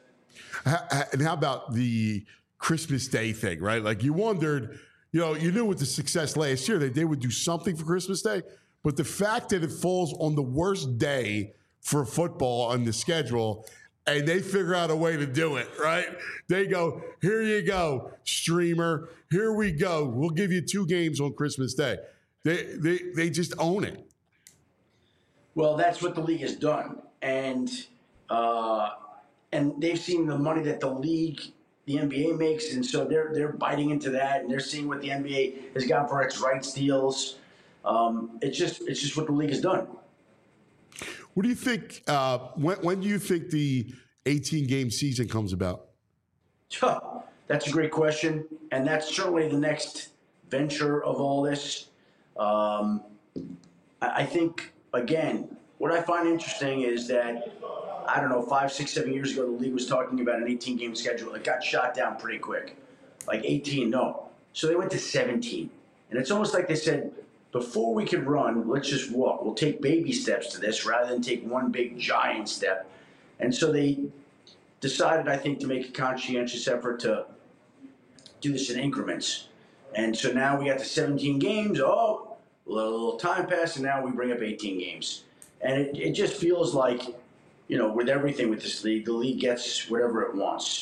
And how about the Christmas Day thing, right? Like you wondered, you know, you knew with the success last year that they would do something for Christmas Day, but the fact that it falls on the worst day for football on the schedule, and they figure out a way to do it, right? They go, here you go, streamer, here we go. We'll give you two games on Christmas Day. They they they just own it. Well, that's what the league has done, and uh, and they've seen the money that the league, the N B A makes, and so they're they're biting into that, and they're seeing what the N B A has got for its rights deals. Um, it's just it's just what the league has done. What do you think? Uh, when when do you think the eighteen game season comes about? Huh, that's a great question, and that's certainly the next venture of all this. Um, I, I think again, what I find interesting is that I don't know, five, six, seven years ago, the league was talking about an eighteen game schedule. It got shot down pretty quick, like eighteen, no. So they went to seventeen, and it's almost like they said, before we can run, let's just walk. We'll take baby steps to this rather than take one big giant step. And so they decided, I think, to make a conscientious effort to do this in increments. And so now we got to seventeen games. Oh, a little time passed, and now we bring up eighteen games. And it, it just feels like, you know, with everything with this league, the league gets whatever it wants.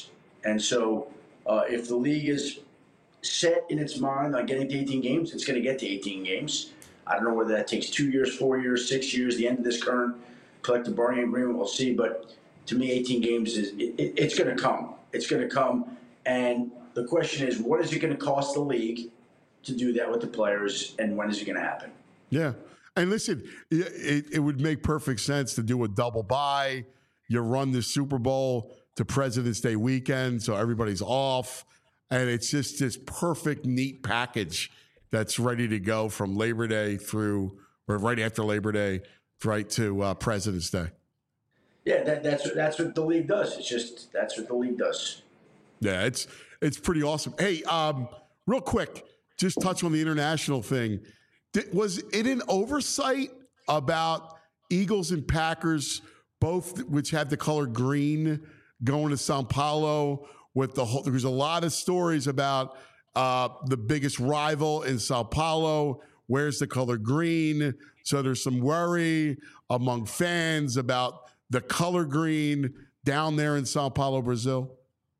And so uh, if the league is set in its mind on getting to eighteen games, it's going to get to eighteen games. I don't know whether that takes two years, four years, six years, the end of this current collective bargaining agreement, we'll see. But to me, eighteen games is it, it, it's going to come. It's going to come. And the question is, what is it going to cost the league to do that with the players, and when is it going to happen? Yeah. And listen, it, it would make perfect sense to do a double bye. You run the Super Bowl to President's Day weekend, so everybody's off. And it's just this perfect, neat package that's ready to go from Labor Day through, or right after Labor Day, right to uh, President's Day. Yeah, that, that's that's what the league does. It's just that's what the league does. Yeah, it's it's pretty awesome. Hey, um, real quick, just touch on the international thing. Did, was it an oversight about Eagles and Packers, both which have the color green, going to Sao Paulo with the whole? There's a lot of stories about uh, the biggest rival in Sao Paulo. Where's the color green? So there's some worry among fans about the color green down there in Sao Paulo, Brazil.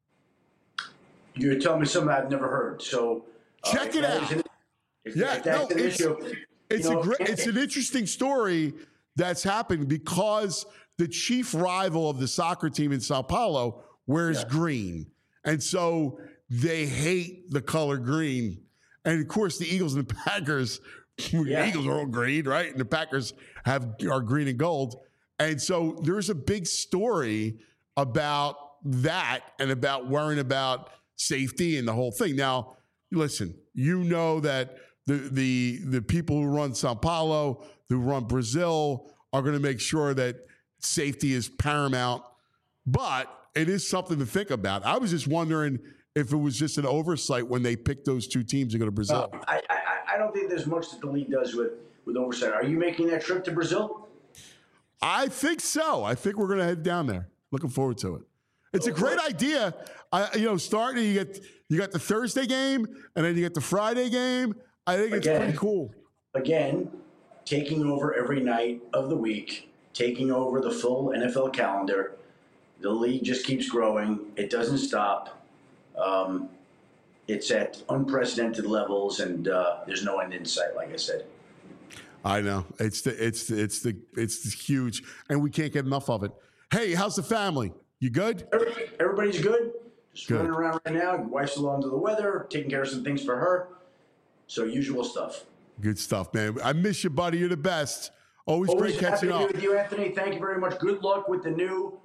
You're telling me something I've never heard. So uh, check it out. An, if, yeah, if that's no, an it's, issue, it's you know, a great, it's an interesting story that's happened because the chief rival of the soccer team in Sao Paulo wears yeah. green, and so they hate the color green. And of course, the Eagles and the Packers, yeah. the Eagles are all green, right? And the Packers have are green and gold. And so there's a big story about that and about worrying about safety and the whole thing. Now, listen, you know that the the the people who run Sao Paulo, who run Brazil, are going to make sure that safety is paramount. But it is something to think about. I was just wondering if it was just an oversight when they picked those two teams to go to Brazil. No, I, I I don't think there's much that the league does with with oversight. Are you making that trip to Brazil? I think so. I think we're going to head down there. Looking forward to it. It's a great idea. I, you know, starting you get you got the Thursday game and then you get the Friday game. I think it's again, pretty cool. Again, taking over every night of the week, taking over the full N F L calendar. The league just keeps growing. It doesn't stop. Um, it's at unprecedented levels, and uh, there's no end in sight. Like I said. I know it's the it's the, it's the it's the huge, and we can't get enough of it. Hey, how's the family? You good? Everybody's good. Just good. running around right now. Wife's a little under the weather, taking care of some things for her. So usual stuff. Good stuff, man. I miss you, buddy. You're the best. Always, Always great catching happy up. to be with you, Anthony. Thank you very much. Good luck with the new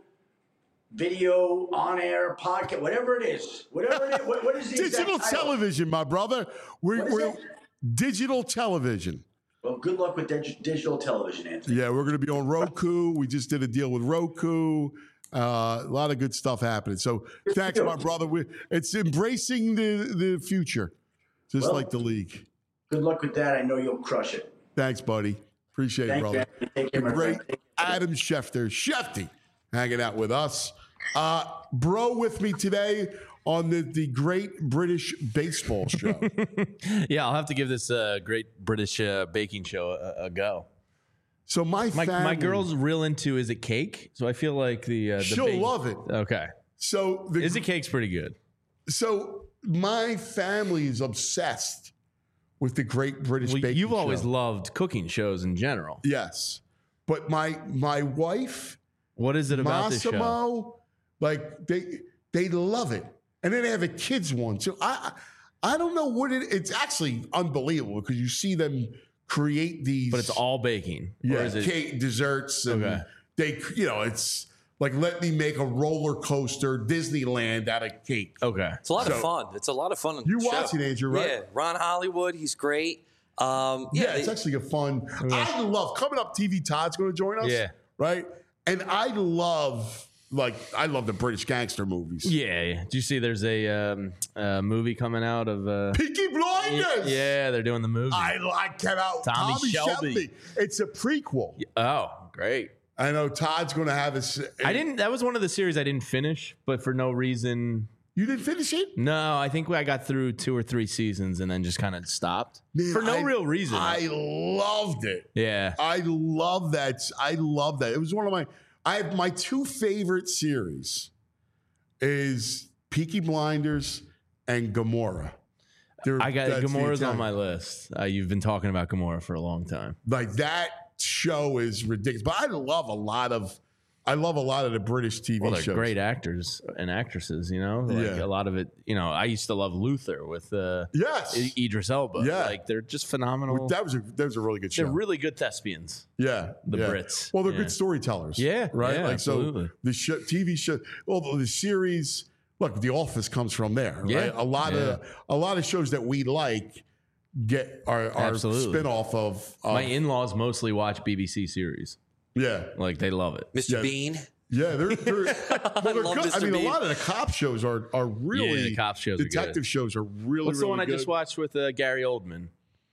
video on air podcast, whatever it is. Whatever it is. What, what is the digital exact title? television, my brother? We're, we're it? digital television. Well, good luck with dig- digital television, Anthony. Yeah, we're going to be on Roku. We just did a deal with Roku. Uh, a lot of good stuff happening. So thanks, my brother. We, it's embracing the, the future, just well, like the league. Good luck with that. I know you'll crush it. Thanks, buddy. Appreciate Thank it, brother. You, Take care, the great Adam Schefter. Shefty hanging out with us. Uh, bro with me today on the, the Great British Baseball Show. Yeah, I'll have to give this uh, Great British uh, Baking Show a, a go. So my my, family, my girl's real into Is It Cake? So I feel like the, uh, the she'll bake- love it. Okay. So the, Is It Cake's pretty good. So my family is obsessed with the Great British well, Baking You've Show. always loved cooking shows in general. Yes, but my my wife, what is it about Massimo, this show? Like they they love it, and then they have a kids one. So I I don't know what it. It's actually unbelievable because you see them create these, but it's all baking. Yeah, or is it, cake, desserts, and okay. they you know it's like let me make a roller coaster Disneyland out of cake. Okay, it's a lot so, of fun. It's a lot of fun. On you the watch show. it, Andrew, right? Yeah, Ron Hollywood, he's great. Um, yeah, yeah, it's they, actually a fun. Yeah. I love coming up. T V Todd's going to join us. Yeah, right. And I love. Like, I love the British gangster movies. Yeah, yeah. Do you see there's a um, uh, movie coming out of... Uh, Peaky Blinders! Yeah, they're doing the movie. I, I cannot... Tommy, Tommy Shelby. Shelby. It's a prequel. Oh, great. I know Todd's going to have a... I didn't... That was one of the series I didn't finish, but for no reason... You didn't finish it? No, I think I got through two or three seasons and then just kind of stopped. Man, for no I, real reason. I loved it. Yeah. I love that. I love that. It was one of my... I have my two favorite series is Peaky Blinders, and Gomorrah. They're, I got that's the Gamora's on Italian- my list. Uh, you've been talking about Gamora for a long time. Like that show is ridiculous. But I love a lot of, I love a lot of the British T V Well, they're shows. great actors and actresses, you know? Like Yeah. a lot of it, you know, I used to love Luther with uh, Yes. I- Idris Elba. Yeah. Like they're just phenomenal. That was a that was a really good show. They're really good thespians. yeah, the yeah. Brits. Well, they're Yeah. good storytellers. Yeah, right. yeah, like absolutely. so, the show, T V show, well, the series. Look, The Office comes from there. Right? Yeah, a lot yeah. of a lot of shows that we like get are, are Absolutely. spinoff of, of My in-laws mostly watch B B C series. yeah. Like they love it. Mister Yeah. Bean. Yeah, they're, they're, well, they're love good. I Mister mean, Bean. a lot of the cop shows are are really Yeah, the cop shows are good. detective shows are really. What's the really one I good. just watched with uh, Gary Oldman?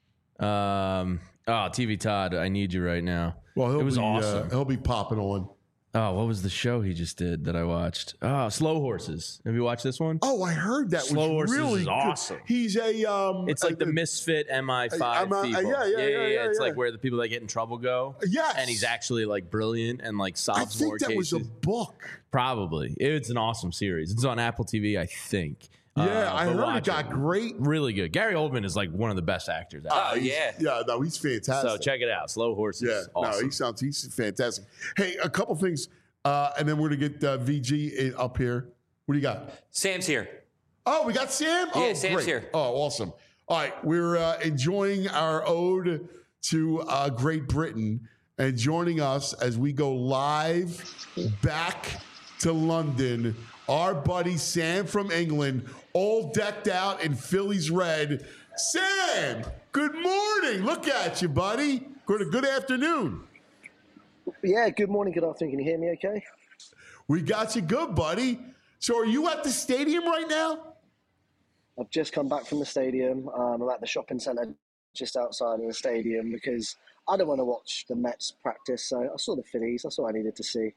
Um, oh, T V Todd, I need you right now. Well, he'll it was be, awesome. Uh, he'll be popping on. Oh, what was the show he just did that I watched? Oh, Slow Horses. Have you watched this one? Oh, I heard that Slow was Horses really is good. awesome. He's a um. It's like a- the misfit M I five I'm, uh, people. yeah, yeah, yeah, yeah, It's yeah. like where the people that get in trouble go. Yes. And he's actually like brilliant and like I solves more think that cases. was a book. Probably. It's an awesome series. It's on Apple T V, I think. Yeah, Uh, I but heard it watch got great. Really good. Gary Oldman is like one of the best actors out Oh, there. He's- yeah. yeah. No, he's fantastic. So check it out. Slow Horses. Yeah, Awesome. no, he sounds he's fantastic. Hey, a couple things, uh, and then we're gonna get uh, V G in- up here. What do you got? Sam's here. Oh, we got Sam. Yeah, oh, Sam's great. here. Oh, awesome. All right, we're uh, enjoying our ode to uh, Great Britain, and joining us as we go live back to London, our buddy Sam from England, all decked out in Phillies red. Sam, good morning. Look at you, buddy. Good, good afternoon. Yeah, good morning, good afternoon. Can you hear me okay? We got you good, buddy. So are you at the stadium right now? I've just come back from the stadium. Um, I'm at the shopping centre just outside of the stadium because I don't want to watch the Mets practice. So I saw the Phillies. That's all I needed to see.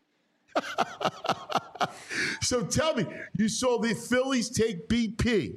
So tell me, you saw the Phillies take B P.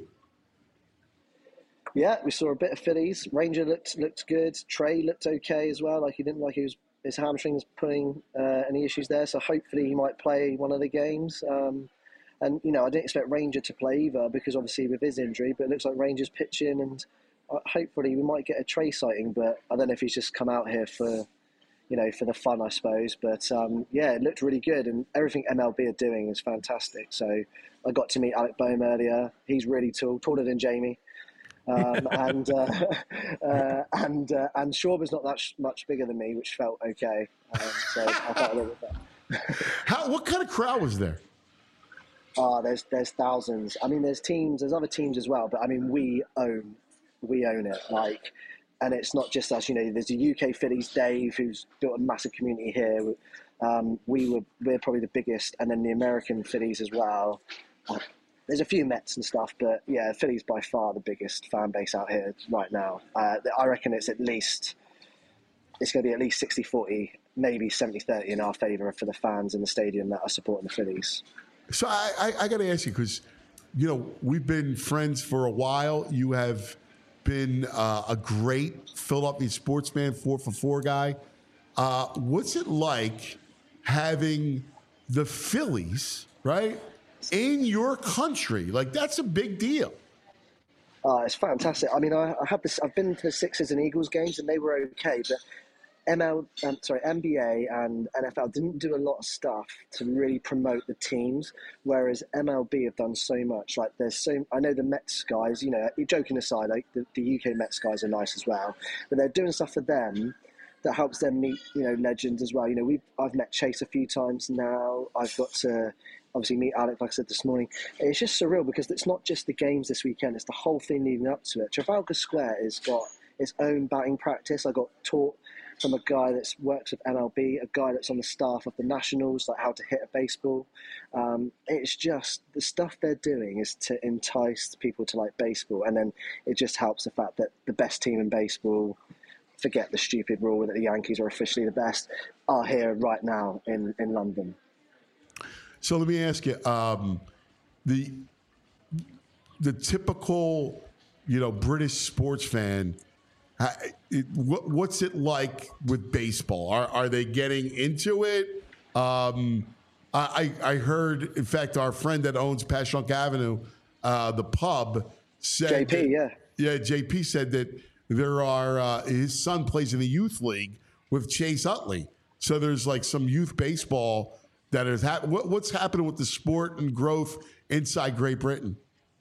Yeah, we saw a bit of Phillies. Ranger looked looked good. Trey looked okay as well. Like he didn't like he was his hamstring was putting uh, any issues there. So hopefully he might play one of the games. Um, and you know I didn't expect Ranger to play either because obviously with his injury. But it looks like Ranger's pitching, and uh, hopefully we might get a Trey sighting. But I don't know if he's just come out here for. You know, for the fun, I suppose. But um, yeah, it looked really good, and everything M L B are doing is fantastic. So I got to meet Alec Boehm earlier. He's really tall, taller than Jamie. Um, and uh, uh, and uh, and Schwarber's not that sh- much bigger than me, which felt okay. Um, so I felt a little bit better. How? What kind of crowd was there? Ah, there's there's thousands. I mean, there's teams, there's other teams as well. But I mean, we own we own it. Like. And it's not just us, you know, there's the U K Phillies, Dave, who's built a massive community here. Um, we were, we're probably the biggest, and then the American Phillies as well. Uh, there's a few Mets and stuff, but yeah, Phillies by far the biggest fan base out here right now. Uh, I reckon it's at least, it's going to be at least sixty forty, maybe seventy thirty in our favour for the fans in the stadium that are supporting the Phillies. So I, I, I got to ask you because, you know, we've been friends for a while. You have been uh, a great Philadelphia sportsman, four for four guy. Uh, what's it like having the Phillies, right, in your country? Like, that's a big deal. Uh, it's fantastic. I mean, I, I have this. I've been to the Sixers and Eagles games, and they were okay. But M L, um, sorry, N B A and N F L didn't do a lot of stuff to really promote the teams, whereas M L B have done so much. Like, there's so I know the Mets guys. You know, joking aside, like the, the U K Mets guys are nice as well, but they're doing stuff for them that helps them meet, you know, legends as well. You know, we I've met Chase a few times now. I've got to obviously meet Alec, like I said this morning. It's just surreal because it's not just the games this weekend; it's the whole thing leading up to it. Trafalgar Square has got its own batting practice. I got taught from a guy that works with N L B, a guy that's on the staff of the Nationals, like how to hit a baseball. Um, it's just the stuff they're doing is to entice people to like baseball, and then it just helps the fact that the best team in baseball, forget the stupid rule that the Yankees are officially the best, are here right now in, in London. So let me ask you, um, the the typical, you know, British sports fan. Uh, it, what, what's it like with baseball? Are are they getting into it? Um, I, I I heard, in fact, our friend that owns Passyunk Avenue, uh, the pub, said J P, that- yeah. Yeah, J P said that there are, uh, his son plays in the youth league with Chase Utley. So there's like some youth baseball that is hap- what, what's happening with the sport and growth inside Great Britain?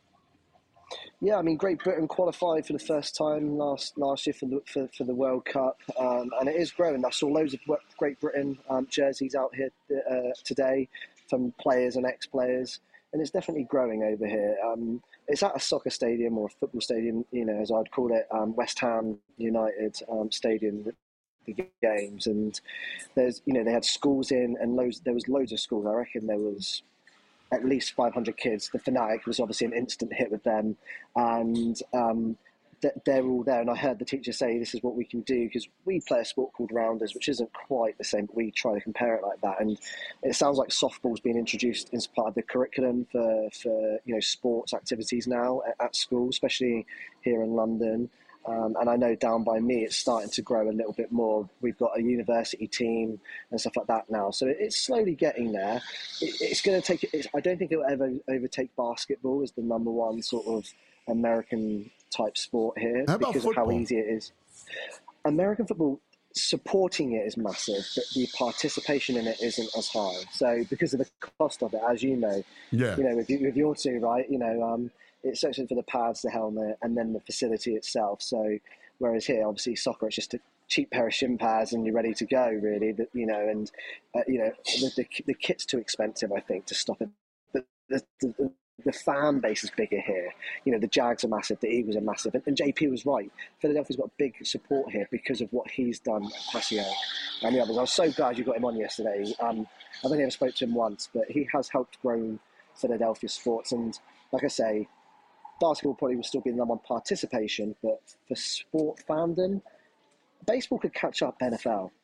Yeah, I mean, Great Britain qualified for the first time last last year for the for, for the World Cup, um, and it is growing. I saw loads of Great Britain um, jerseys out here uh, today from players and ex-players, and it's definitely growing over here. Um, it's at a soccer stadium or a football stadium, you know, as I'd call it, um, West Ham United um, Stadium. The games, and there's, you know, they had schools in, and loads. There was loads of schools. I reckon there was at least five hundred kids. The Fanatic was obviously an instant hit with them, and um, th- they're all there. And I heard the teacher say, "This is what we can do," because we play a sport called rounders, which isn't quite the same, but we try to compare it like that. And it sounds like softball's being introduced as part of the curriculum for, for you know, sports activities now at, at school, especially here in London. Um, and I know down by me, it's starting to grow a little bit more. We've got a university team and stuff like that now. So it's slowly getting there. It, it's going to take, it's, I don't think it'll ever overtake basketball as the number one sort of American type sport here. How about because football? of how easy it is. American football, supporting it is massive, but the participation in it isn't as high. So because of the cost of it, as you know, Yeah. you know, with, you, with your two, right, you know, um, it's actually for the pads, the helmet, and then the facility itself. So, whereas here, obviously, soccer, it's just a cheap pair of shin pads and you're ready to go, really. That, you know, and uh, you know, the, the the kit's too expensive, I think, to stop it. But the, the the fan base is bigger here. You know, the Jags are massive, the Eagles are massive, and, and J P was right. Philadelphia's got big support here because of what he's done at Passyunk and the others. I was so glad you got him on yesterday. Um, I've only ever spoke to him once, but he has helped grow Philadelphia sports, and like I say, basketball probably will still be the number one participation, but for sport fandom, baseball could catch up N F L.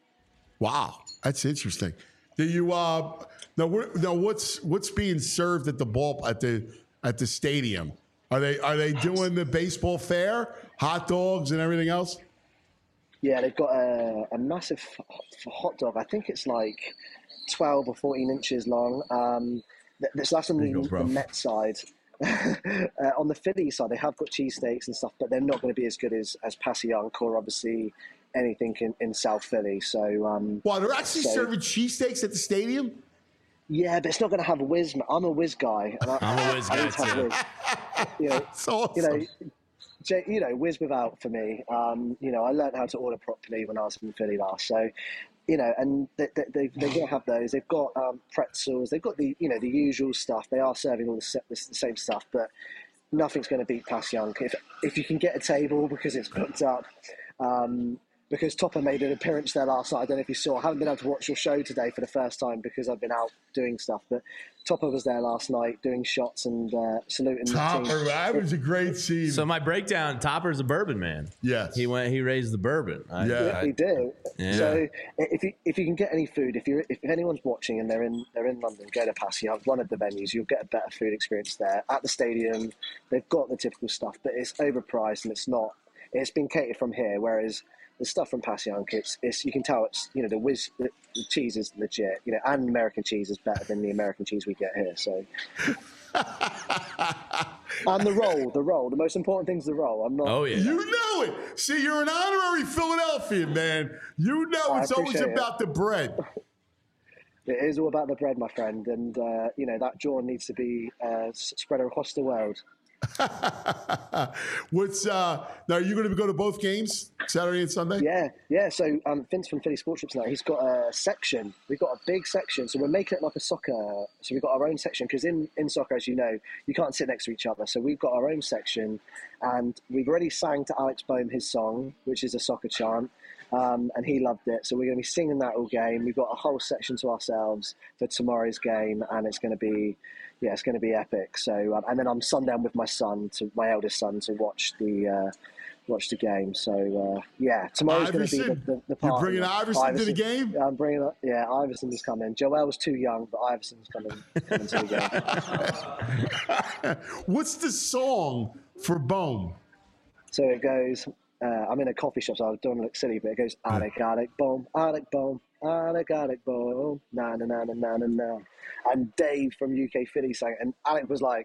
Wow, that's interesting. Do you uh now? What, now what's what's being served at the ball at the at the stadium? Are they are they doing the baseball fair, hot dogs and everything else? Yeah, they've got a, a massive hot dog. I think it's like twelve or fourteen inches long. Um, that's that's on the, go, the Met side. uh, on the Philly side, they have got cheesesteaks and stuff, but they're not going to be as good as as Passyunk or obviously anything in, in South Philly. So, um, Wow, they're actually so, serving cheesesteaks at the stadium? Yeah, but it's not going to have a whiz. I'm a whiz guy. And I, I'm a whiz I guy need to have too. whiz. You know, That's awesome. you know, J- you know, whiz without for me. Um, you know, I learned how to order properly when I was in Philly last. So, you know, and they, they, they, they're going to have those. They've got um, pretzels. They've got the, you know, the usual stuff. They are serving all the, se- the same stuff, but nothing's going to beat Passyunk. If if you can get a table because it's booked up. Um, because Topper made an appearance there last night. I don't know if you saw. I haven't been able to watch your show today for the first time because I've been out doing stuff. But Topper was there last night doing shots and uh, saluting the Topper, team. that was a great scene. So my breakdown: Topper's a bourbon man. Yes. he went. He raised the bourbon. I, Yeah. Yeah, we do. Yeah. So if you if you can get any food, if you if anyone's watching and they're in they're in London, go to Passyunk, one of the venues. You'll get a better food experience there. At the stadium, they've got the typical stuff, but it's overpriced and it's not. It's been catered from here, whereas the stuff from Passyunk, it's, it's you can tell it's, you know, the whiz, the, the cheese is legit, you know, and American cheese is better than the American cheese we get here. So, and the roll, the roll, the most important thing's the roll. I'm not. Oh yeah. You know it. See, you're an honorary Philadelphian, man. You know I it's always appreciate it. about the bread. It is all about the bread, my friend, and uh, you know that jaw needs to be uh, s- spread across the world. What's uh now? Are you going to go to both games, Saturday and Sunday? Yeah, yeah. So um, Vince from Philly Sports Trips now, he's got a section. We've got a big section. So we're making it like a soccer. So we've got our own section because in, in soccer, as you know, you can't sit next to each other. So we've got our own section, and we've already sang to Alex Boehm his song, which is a soccer chant. Um, and he loved it. So we're going to be singing that all game. We've got a whole section to ourselves for tomorrow's game, and it's going to be, yeah, it's going to be epic. So, um, and then I'm sundown with my son, to my eldest son, to watch the uh, watch the game. So, uh, yeah, tomorrow's going to be the, Iverson? the, the You're party. bringing Iverson to the game? Yeah, I'm bringing. Yeah, Iverson's coming. Joel's too young, but Iverson's coming, coming to the game. What's the song for Bohm? So it goes. Uh, I'm in a coffee shop, so I don't look silly, but it goes, Alec, Alec, boom, Alec, boom, Alec, Alec, boom, na na na na na na na. And Dave from U K Philly sang it, and Alec was like,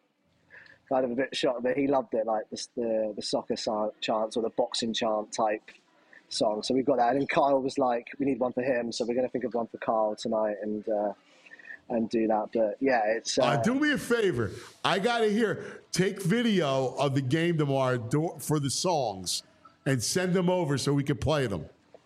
kind of a bit shocked, but he loved it, like the the, the soccer chants or the boxing chant type song. So we've got that. And then Kyle was like, we need one for him, so we're going to think of one for Kyle tonight and uh, and do that. But yeah, it's. Uh, uh, do me a favor. I got to hear. Take video of the game tomorrow do, for the songs and send them over so we can play them.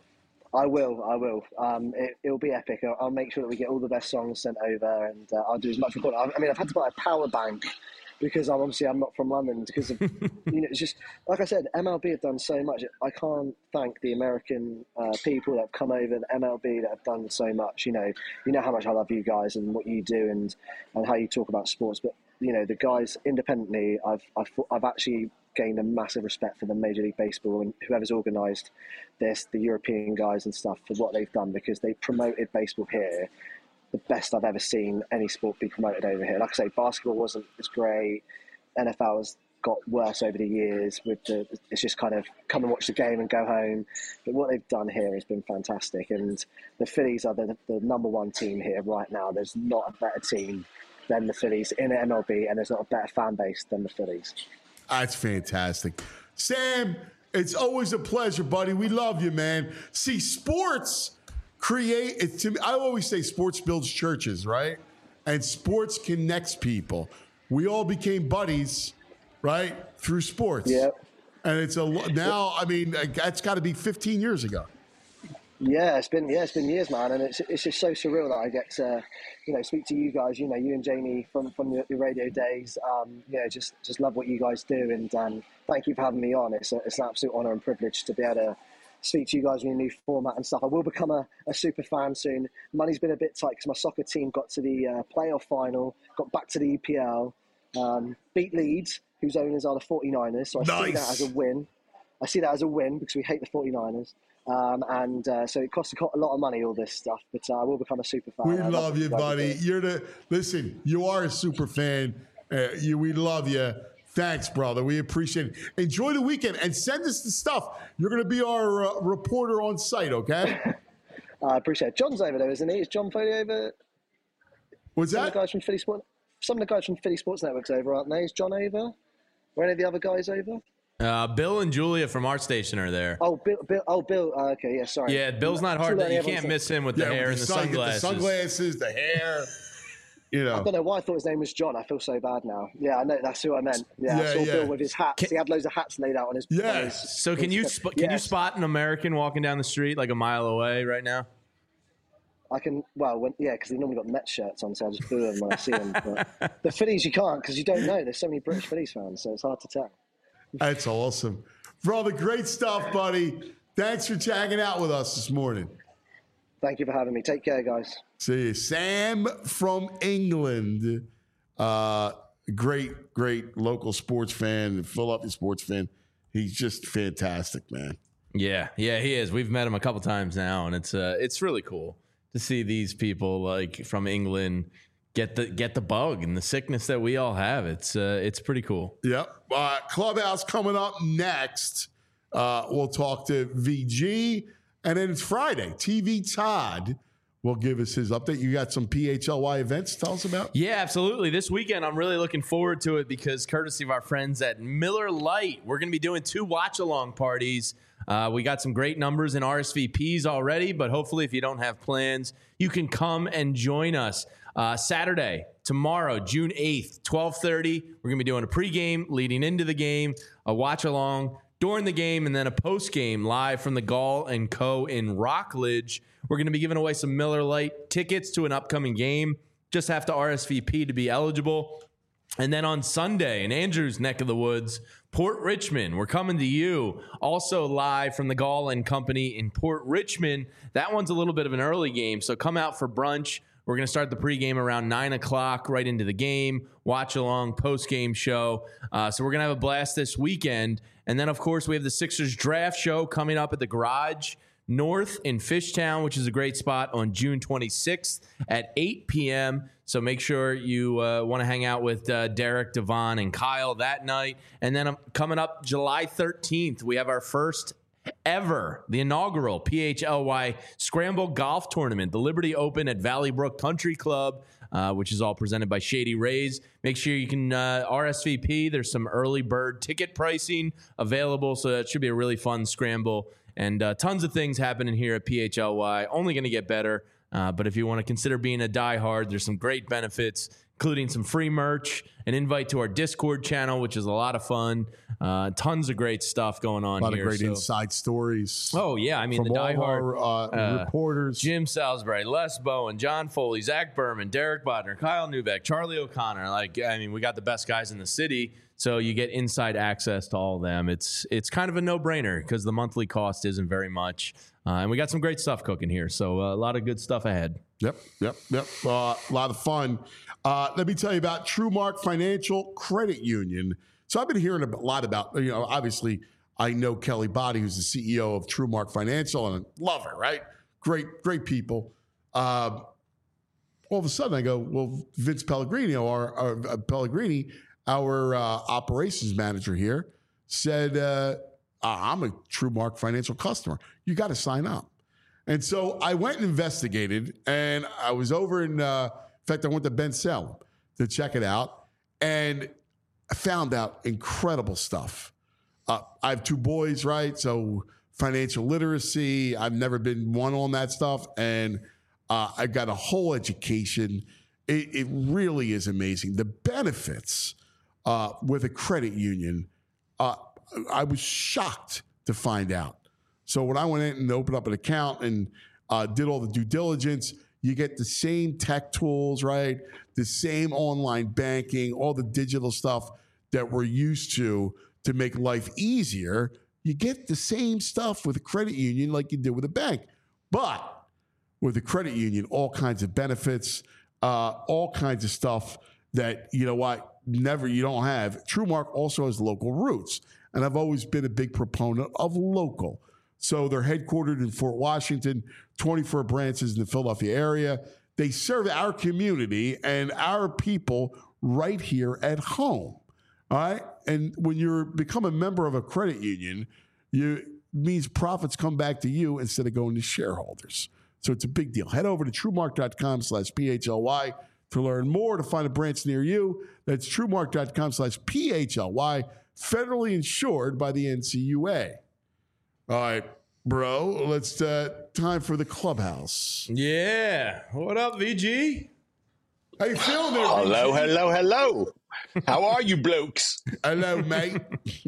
I will, I will. Um, it, it'll be epic. I'll, I'll make sure that we get all the best songs sent over, and uh, I'll do as much recording. I, I mean, I've had to buy a power bank because I'm obviously I'm not from London. Because of, you know, it's just like I said, M L B have done so much. I can't thank the American uh, people that have come over, the M L B that have done so much. You know, you know how much I love you guys and what you do, and and how you talk about sports. But you know, the guys independently, I've I've, I've actually gained a massive respect for the Major League Baseball and whoever's organised this, the European guys and stuff, for what they've done, because they promoted baseball here the best I've ever seen any sport be promoted over here. Like I say, basketball wasn't as great. N F L has got worse over the years. With the, it's just kind of come and watch the game and go home. But what they've done here has been fantastic. And the Phillies are the, the number one team here right now. There's not a better team than the Phillies in the M L B, and there's not a better fan base than the Phillies. That's fantastic. Sam, it's always a pleasure, buddy. We love you, man. See, sports create, it, to me, I always say sports builds churches, right? And sports connects people. We all became buddies, right, through sports. Yeah. And it's a now, I mean, that's got to be fifteen years ago. Yeah, it's been yeah, it's been years, man, and it's it's just so surreal that I get to, you know, speak to you guys. You know, you and Jamie from from the, the radio days. Um, you know, just just love what you guys do, and um, thank you for having me on. It's a, it's an absolute honour and privilege to be able to speak to you guys in a new format and stuff. I will become a, a super fan soon. Money's been a bit tight because my soccer team got to the uh, playoff final, got back to the E P L, um, beat Leeds, whose owners are the forty-niners. So I Nice. see that as a win. I see that as a win because we hate the forty-niners. Um, and uh, so it costs a lot of money, all this stuff, but uh, I will become a super fan. We I love you, what guys buddy. do. You're the listen. You are a super fan. Uh, you, we love you. Thanks, brother. We appreciate it. Enjoy the weekend and send us the stuff. You're going to be our uh, reporter on site, okay? I appreciate it. John's over there, isn't he? Is John Foley over? What's Some that? of the guys from Philly Sports. Some of the guys from Philly Sports Network's over, aren't they? Is John over? Or any of the other guys over? Uh, Bill and Julia from our station are there. Oh, Bill. Bill oh, Bill. Uh, okay, yeah. Sorry. Yeah, Bill's not hard. To, you can't miss him with the Yeah, hair with and the sun- sunglasses. The sunglasses, the hair. You know. I don't know why I thought his name was John. I feel so bad now. Yeah, I know. That's who I meant. Yeah, Yeah, I saw yeah. Bill with his hats. Can- he had loads of hats laid out on his. Yeah. on his- So can his- you sp- can you Yes. spot an American walking down the street like a mile away right now? I can, well, when, yeah, because they normally got Met shirts on, so I just boo them when I see them. But the Phillies, you can't, because you don't know. There's so many British Phillies fans, so it's hard to tell. That's awesome. Brother, great stuff, buddy. Thanks for hanging out with us this morning. Thank you for having me. Take care, guys. See you. Sam from England. Uh, great, great local sports fan, Philadelphia sports fan. He's just fantastic, man. Yeah, yeah, he is. We've met him a couple times now, and it's uh, it's really cool to see these people like from England get the get the bug and the sickness that we all have. It's uh, it's pretty cool. Yep. Uh, Clubhouse coming up next. Uh, we'll talk to V G. And then it's Friday. T V Todd will give us his update. You got some P H L Y events to tell us about? Yeah, absolutely. This weekend, I'm really looking forward to it because courtesy of our friends at Miller Lite, we're going to be doing two watch-along parties. Uh, we got some great numbers in R S V Ps already, but hopefully if you don't have plans, you can come and join us. Uh, Saturday, tomorrow, June eighth, twelve thirty, we're going to be doing a pregame leading into the game, a watch-along during the game, and then a post-game live from the Gall and Co. in Rockledge. We're going to be giving away some Miller Lite tickets to an upcoming game. Just have to R S V P to be eligible. And then on Sunday, in Andrew's neck of the woods, Port Richmond, we're coming to you. Also live from the Gall and Company in Port Richmond. That one's a little bit of an early game, so come out for brunch. We're going to start the pregame around nine o'clock, right into the game, watch along, post-game show. Uh, so we're going to have a blast this weekend. And then, of course, we have the Sixers draft show coming up at the Garage North in Fishtown, which is a great spot, on June twenty-sixth at eight p.m. So make sure you uh, want to hang out with uh, Derek, Devon, and Kyle that night. And then um, coming up July thirteenth, we have our first ever. The inaugural P H L Y Scramble Golf Tournament, the Liberty Open at Valley Brook Country Club, uh, which is all presented by Shady Rays. Make sure you can uh, R S V P. There's some early bird ticket pricing available, so that should be a really fun scramble. And uh, tons of things happening here at P H L Y. Only going to get better. Uh, but if you want to consider being a diehard, there's some great benefits, including some free merch, an invite to our Discord channel, which is a lot of fun. Uh, tons of great stuff going on A lot here. of great so. inside stories. Oh, yeah. I mean, from the all diehard our, uh, uh, reporters. Jim Salisbury, Les Bowen, John Foley, Zach Berman, Derek Bodner, Kyle Newbeck, Charlie O'Connor. Like, I mean, we got the best guys in the city, so you get inside access to all of them. It's it's kind of a no-brainer because the monthly cost isn't very much. Uh, and we got some great stuff cooking here, so uh, a lot of good stuff ahead. Yep, yep, yep. Uh, a lot of fun. Uh, let me tell you about TrueMark Financial Credit Union. So I've been hearing a lot about, you know, obviously I know Kelly Body, who's the C E O of TrueMark Financial, and I love her, right? Great, great people. Uh, all of a sudden I go, well, Vince Pellegrini, our, our uh, Pellegrini, our uh, operations manager here, said, uh, I'm a TrueMark Financial customer. You got to sign up. And so I went and investigated, and I was over in, uh, in fact, I went to Ben Salem to check it out, and I found out incredible stuff. Uh, I have two boys, right? So financial literacy, I've never been one on that stuff, and uh, I got a whole education. It, it really is amazing. The benefits uh, with a credit union, uh, I was shocked to find out. So when I went in and opened up an account and uh, did all the due diligence, you get the same tech tools, right? The same online banking, all the digital stuff that we're used to to make life easier. You get the same stuff with a credit union like you do with a bank. But with a credit union, all kinds of benefits, uh, all kinds of stuff that, you know what, never you don't have. TrueMark also has local roots. And I've always been a big proponent of local. So they're headquartered in Fort Washington, twenty-four branches in the Philadelphia area. They serve our community and our people right here at home. All right. And when you become a member of a credit union, you means profits come back to you instead of going to shareholders. So it's a big deal. Head over to truemark.com slash PHLY to learn more, to find a branch near you. That's truemark.com slash PHLY, federally insured by the N C U A. All right, bro, let's, uh, time for the clubhouse. Yeah. What up, V G? How you feeling there, Hello, V G? hello, hello. How are you blokes? Hello, mate.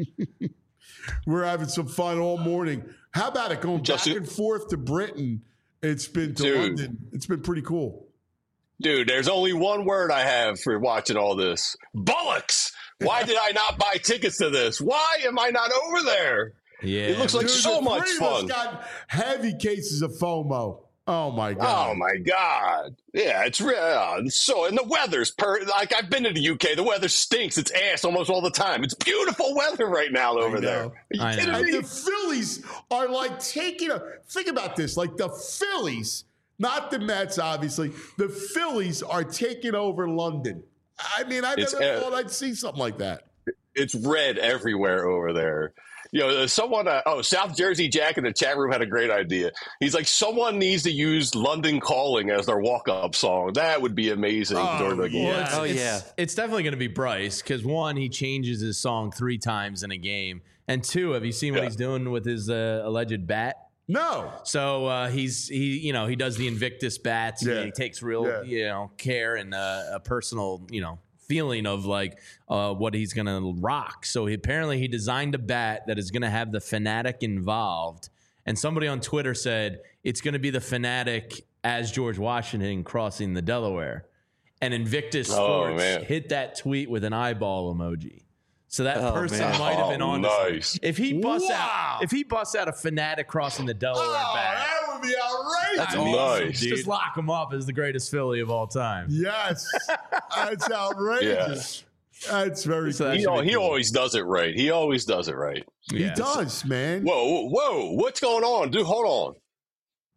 We're having some fun all morning. How about it going Just back a- and forth to Britain? It's been to Dude. London. It's been pretty cool. Dude, there's only one word I have for watching all this. Bollocks! Why did I not buy tickets to this? Why am I not over there? Yeah. It looks like Dude, so the much three of us fun. got heavy cases of FOMO. Oh, my God. Oh my God! Yeah, it's real. Uh, so, and the weather's per. Like I've been to the U K, the weather stinks. It's ass almost all the time. It's beautiful weather right now over there. know. Are you I kidding know. And me? the Phillies are like taking a think about this. Like the Phillies, not the Mets, obviously. The Phillies are taking over London. I mean, I It's, never uh, thought I'd see something like that. It's red everywhere over there. You know, someone, uh, oh, South Jersey Jack in the chat room had a great idea. He's like, someone needs to use London Calling as their walk-up song. That would be amazing Oh, during the game. Well, it's, Oh, it's, yeah. It's definitely going to be Bryce because, one, he changes his song three times in a game. And two, have you seen what Yeah. he's doing with his uh, alleged bat? No. So uh, he's he you know he does the Invictus bats. Yeah. He takes real Yeah. you know care and uh, a personal you know feeling of like uh, what he's gonna rock. So he, apparently he designed a bat that is gonna have the Fanatic involved. And somebody on Twitter said it's gonna be the Fanatic as George Washington crossing the Delaware. And Invictus Oh, Sports man. hit that tweet with an eyeball emoji. So that Oh, person man. might have been Oh, on. nice. If he busts Wow. out, if he busts out a Fanatic crossing the Delaware Oh, bat, that would be outrageous. that's I awesome, mean, nice. dude. Just lock him up as the greatest Philly of all time. Yes. That's outrageous. That's very So cool. that He, should al- be he cool. always does it right. He always does it right. He Yeah. does, man. Whoa, whoa, whoa. What's going on? Dude, hold on.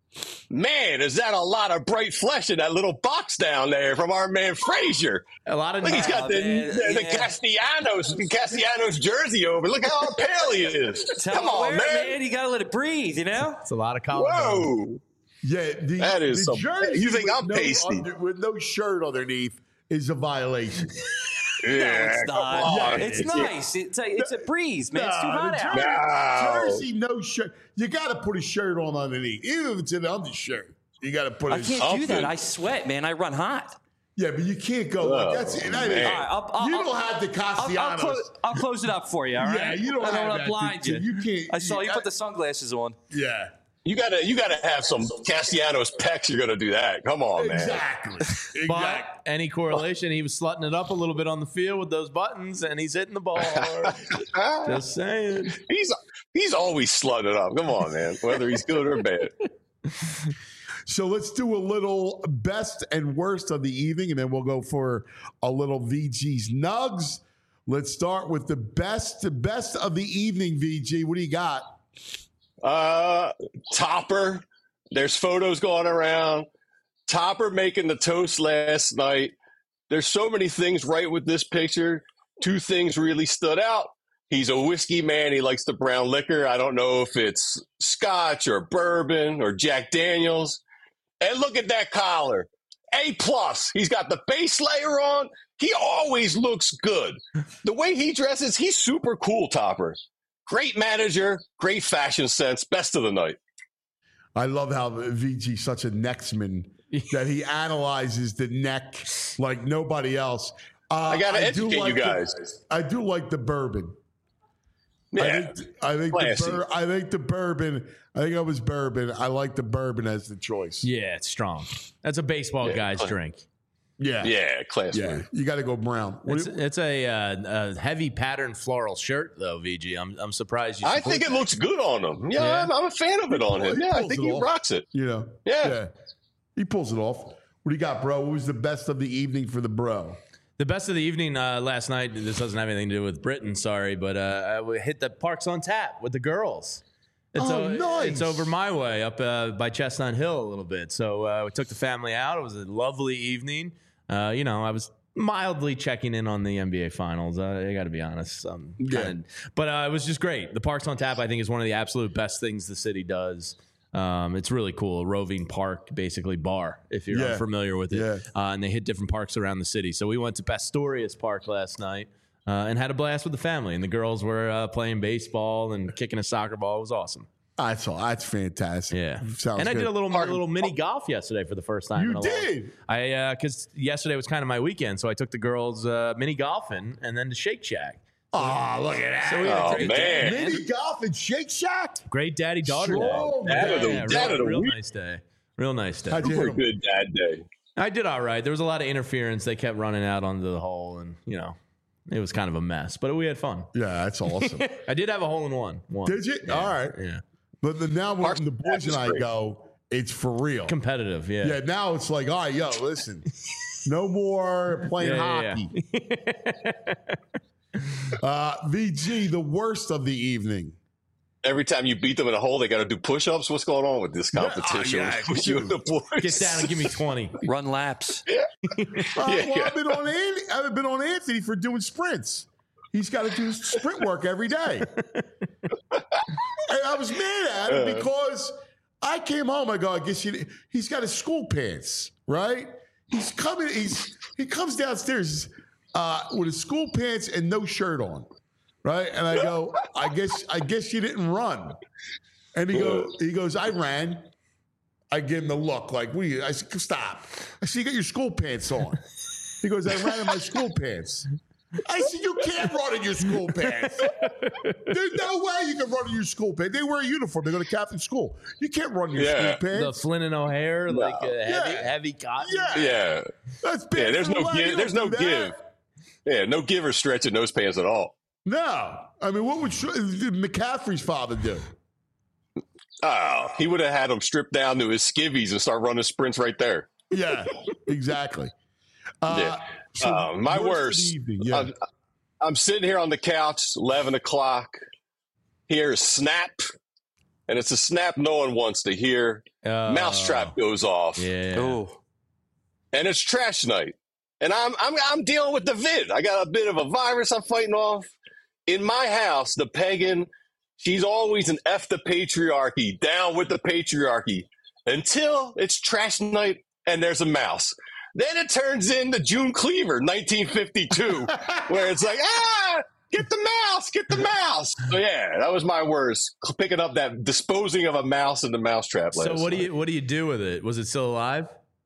Man, is that a lot of bright flesh in that little box down there from our man Frazier? A lot of Look, he's got Oh, the, man, the, the yeah. Castellanos Castellanos jersey over. Look how pale he is. Tell Come him on, where, man. man. You got to let it breathe, you know? It's a lot of college. Whoa. Yeah, the, That is the some- jersey you think with I'm no pasty. under- with no shirt underneath is a violation. Yeah, It's come not. on. It's nice. It's a, it's a breeze, man. It's too Nah, hot the out. jer- No. Jersey, no shirt. You got to put a shirt on underneath, even if it's an undershirt. You got to put. I a can't do that. I sweat, man. I run hot. Yeah, but you can't go. like, Oh, that's that is, man. All right, I'll, I'll, you I'll, don't have the I'll, Castellanos. I'll, close, I'll close it up for you, all right? Yeah, you don't I have don't want that, to blind dude. you. You can't- I saw you you- put the sunglasses on. Yeah, You gotta, you gotta have some Castellanos pecs. You're gonna do that. Come on, man. exactly. exactly. But any correlation, he was slutting it up a little bit on the field with those buttons, and he's hitting the ball hard. Just saying. He's he's always slutting it up. Come on, man. Whether he's good or bad. So let's do a little best and worst of the evening, and then we'll go for a little V G's Nugs. Let's start with the best, the best of the evening, V G. What do you got? Uh, Topper. There's photos going around. Topper making the toast last night. There's so many things right with this picture. Two things really stood out. He's a whiskey man. He likes the brown liquor. I don't know if it's Scotch or bourbon or Jack Daniels. And look at that collar. A plus. He's got the base layer on. He always looks good. The way he dresses, he's super cool, Topper. Great manager, great fashion sense. Best of the night. I love how V G's such a necksman that he analyzes the neck like nobody else. Uh, I got to do educate like you guys. The, I do like the bourbon. Yeah. I think, I think the Classy. bur- I think the bourbon. I think I was bourbon. I like the bourbon as the choice. Yeah, it's strong. That's a baseball Yeah, guy's fine. drink. Yeah, Yeah, class. yeah. move. You got to go brown. What It's, do you- it's a, uh, a heavy pattern floral shirt, though, V G. I'm, I'm surprised you I support think it that. looks good on him. Yeah, Yeah. I'm, I'm a fan of it on him. He Yeah, I pulls think it he off. rocks it. You know. Yeah. He pulls it off. What do you got, bro? What was the best of the evening for the bro? The best of the evening uh, last night, this doesn't have anything to do with Britain, sorry, but uh, we hit the Parks on Tap with the girls. It's Oh, o- nice. It's over my way, up uh, by Chestnut Hill a little bit. So uh, we took the family out. It was a lovely evening. Uh, you know, I was mildly checking in on the N B A Finals. Uh, I got to be honest. Um, Yeah. kinda- but uh, it was just great. The Parks on Tap, I think, is one of the absolute best things the city does. Um, it's really cool. A roving park, basically bar, if you're Yeah. unfamiliar with it. Yeah. Uh, and they hit different parks around the city. So we went to Pastorius Park last night uh, and had a blast with the family. And the girls were uh, playing baseball and kicking a soccer ball. It was awesome. That's all. That's fantastic. Yeah. Sounds and I good. did a little a little mini golf yesterday for the first time. You in a did? Long, I because yesterday was kind of my weekend, so I took the girls uh, mini golfing and then to Shake Shack. Oh, look at that. So we had a Oh, great man. day, Mini golf and Shake Shack. Great daddy daughter Strong day. Dad of the- Yeah, dad real, of the real week. nice day. Real nice day. How'd you hit Super 'em? good dad day. I did all right. There was a lot of interference. They kept running out onto the hole, and you know, it was kind of a mess. But we had fun. Yeah, that's awesome. I did have a hole in one. one. Did you? Yeah, All right. Yeah. But the, now when Parks the on boys Tap is and I great. go, it's for real. Competitive. Yeah. Yeah, now it's like, all right, yo, listen, no more playing Yeah, yeah, hockey. uh, V G, the worst of the evening. Every time you beat them in a hole, they got to do push-ups. What's going on with this competition yeah, with you and the boys? Get down and give me twenty. Run laps. Uh, well, yeah. I've been on Andy, I've been on Anthony for doing sprints. He's got to do sprint work every day. And I was mad at him because I came home. I go, I guess you, he's got his school pants, right? He's coming. He's he comes downstairs uh, with his school pants and no shirt on, right? And I go, I guess I guess you didn't run. And he goes, he goes, I ran. I give him the look like, we. I said, stop. I said, you got your school pants on. He goes, I ran in my school pants. I said, you can't run in your school pants. There's no way you can run in your school pants. They wear a uniform. They go to Catholic school. You can't run in your Yeah. school The pants. Flynn and O'Hare, like uh, heavy, Yeah. heavy cotton. Yeah. Yeah. That's bad Yeah, there's for the no leg. You give. There's no don't do give. that. Yeah, no give or stretch in those pants at all. No. I mean, what would Sh- McCaffrey's father do? Oh, he would have had them stripped down to his skivvies and start running sprints right there. Yeah, exactly. Uh, Yeah. so Uh, my worst of the worst. evening, yeah. I'm, I'm sitting here on the couch, eleven o'clock. Here's Snap and it's a snap no one wants to hear. Uh, Mousetrap goes off. Yeah. Oh, And it's trash night. And I'm I'm I'm dealing with the vid. I got a bit of a virus I'm fighting off. In my house, the pagan, she's always an F the patriarchy, down with the patriarchy, until it's trash night and there's a mouse. Then it turns into June Cleaver, nineteen fifty-two, where it's like, ah, get the mouse, get the mouse. So yeah, that was my worst, picking up that, disposing of a mouse in the mousetrap last So what do night. you what do you do with it? Was it still alive?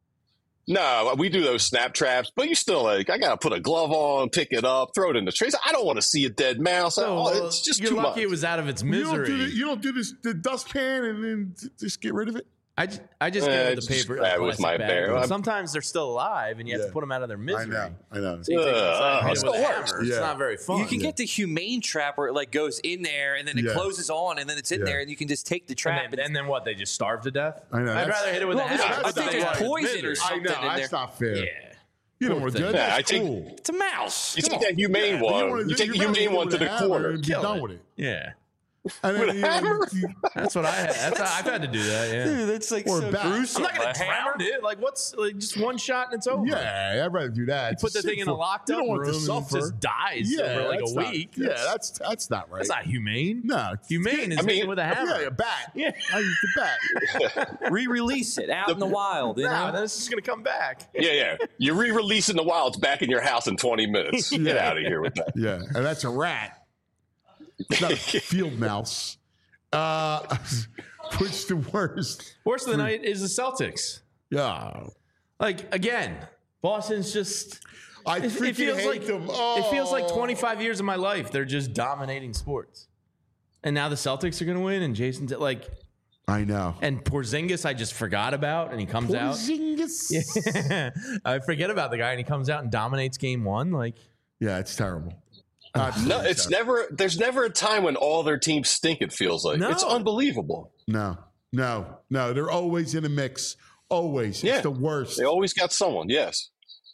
No, we do those snap traps, but you still like, I gotta put a glove on, pick it up, throw it in the trays. I don't want to see a dead mouse. So, oh, it's just you're too lucky much. it was out of its You don't, do misery. the, you don't do this the dustpan and then t- just get rid of it. I just, I just Eh, get it with just the paper. grab it with plastic my bag. bear. But I'm- Sometimes they're still alive, and you have Yeah. to put them out of their misery. I know. I know. So you take it outside and Ugh, hit it's it with the a worst. hammer. It's Yeah. not very fun. you can get the humane trap where it like goes in there and then it Yeah. closes on and then it's in Yeah. there and you can just take the trap. and, then, and then what? They just starve to death? I know, I'd that's- rather hit it with Well, a hammer. I that's think not there's right. poison or I something know. in That's there. not fair. Yeah. You don't Poor want to do thing. that. Yeah, That's I take- cool. It's a mouse. You Come take on. that humane But one. wanna You do- take the you'd rather humane hit one it to with the a hammer corner. and be Kill done it. with it. Yeah. And then, With a you know, hammer? you- That's what I had. That's how, I've had to do that. Yeah. Dude, that's like Or so bat. gruesome. I'm not gonna A hammer? drown it. Like what's like just one shot and it's over. Yeah, I'd rather do that. You put the thing in a locked You up don't want room to and suffer. it just dies Yeah, over like that's a not- week. Yeah, That's- that's that's not right. That's not humane. No, it's- Humane is I mean- hitting with a hammer. Yeah, a bat. Yeah. I use the bat. Re-release it out in the wild. You Nah, know? then it's just gonna come back. Yeah, yeah. You re-release in the wild. It's back in your house in twenty minutes. Get Yeah. out of here with that. Yeah, and that's a rat. It's not a field mouse. Uh, which the worst? Worst of the night is the Celtics. Yeah, Like again, Boston's just. I It, freaking it feels hate like them. Oh. it feels like twenty-five years of my life. They're just dominating sports, and now the Celtics are going to win. And Jason's like, I know. and Porzingis, I just forgot about, and he comes out. Porzingis. Yeah. I forget about the guy, and he comes out and dominates game one. Like, Yeah, it's terrible. No, Absolutely it's terrible. never. There's never a time when all their teams stink. It feels like No. it's unbelievable. No, no, no. They're always in a mix. Always. Yeah. It's the worst. They always got someone. Yes.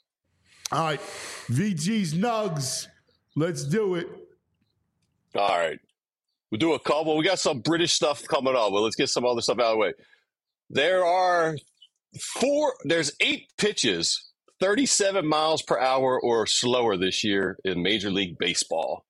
All right, V G's Nugs. Let's do it. All right. We'll do a couple. We got some British stuff coming up, but let's get some other stuff out of the way. There are four, there's eight pitches, thirty-seven miles per hour or slower this year in Major League Baseball.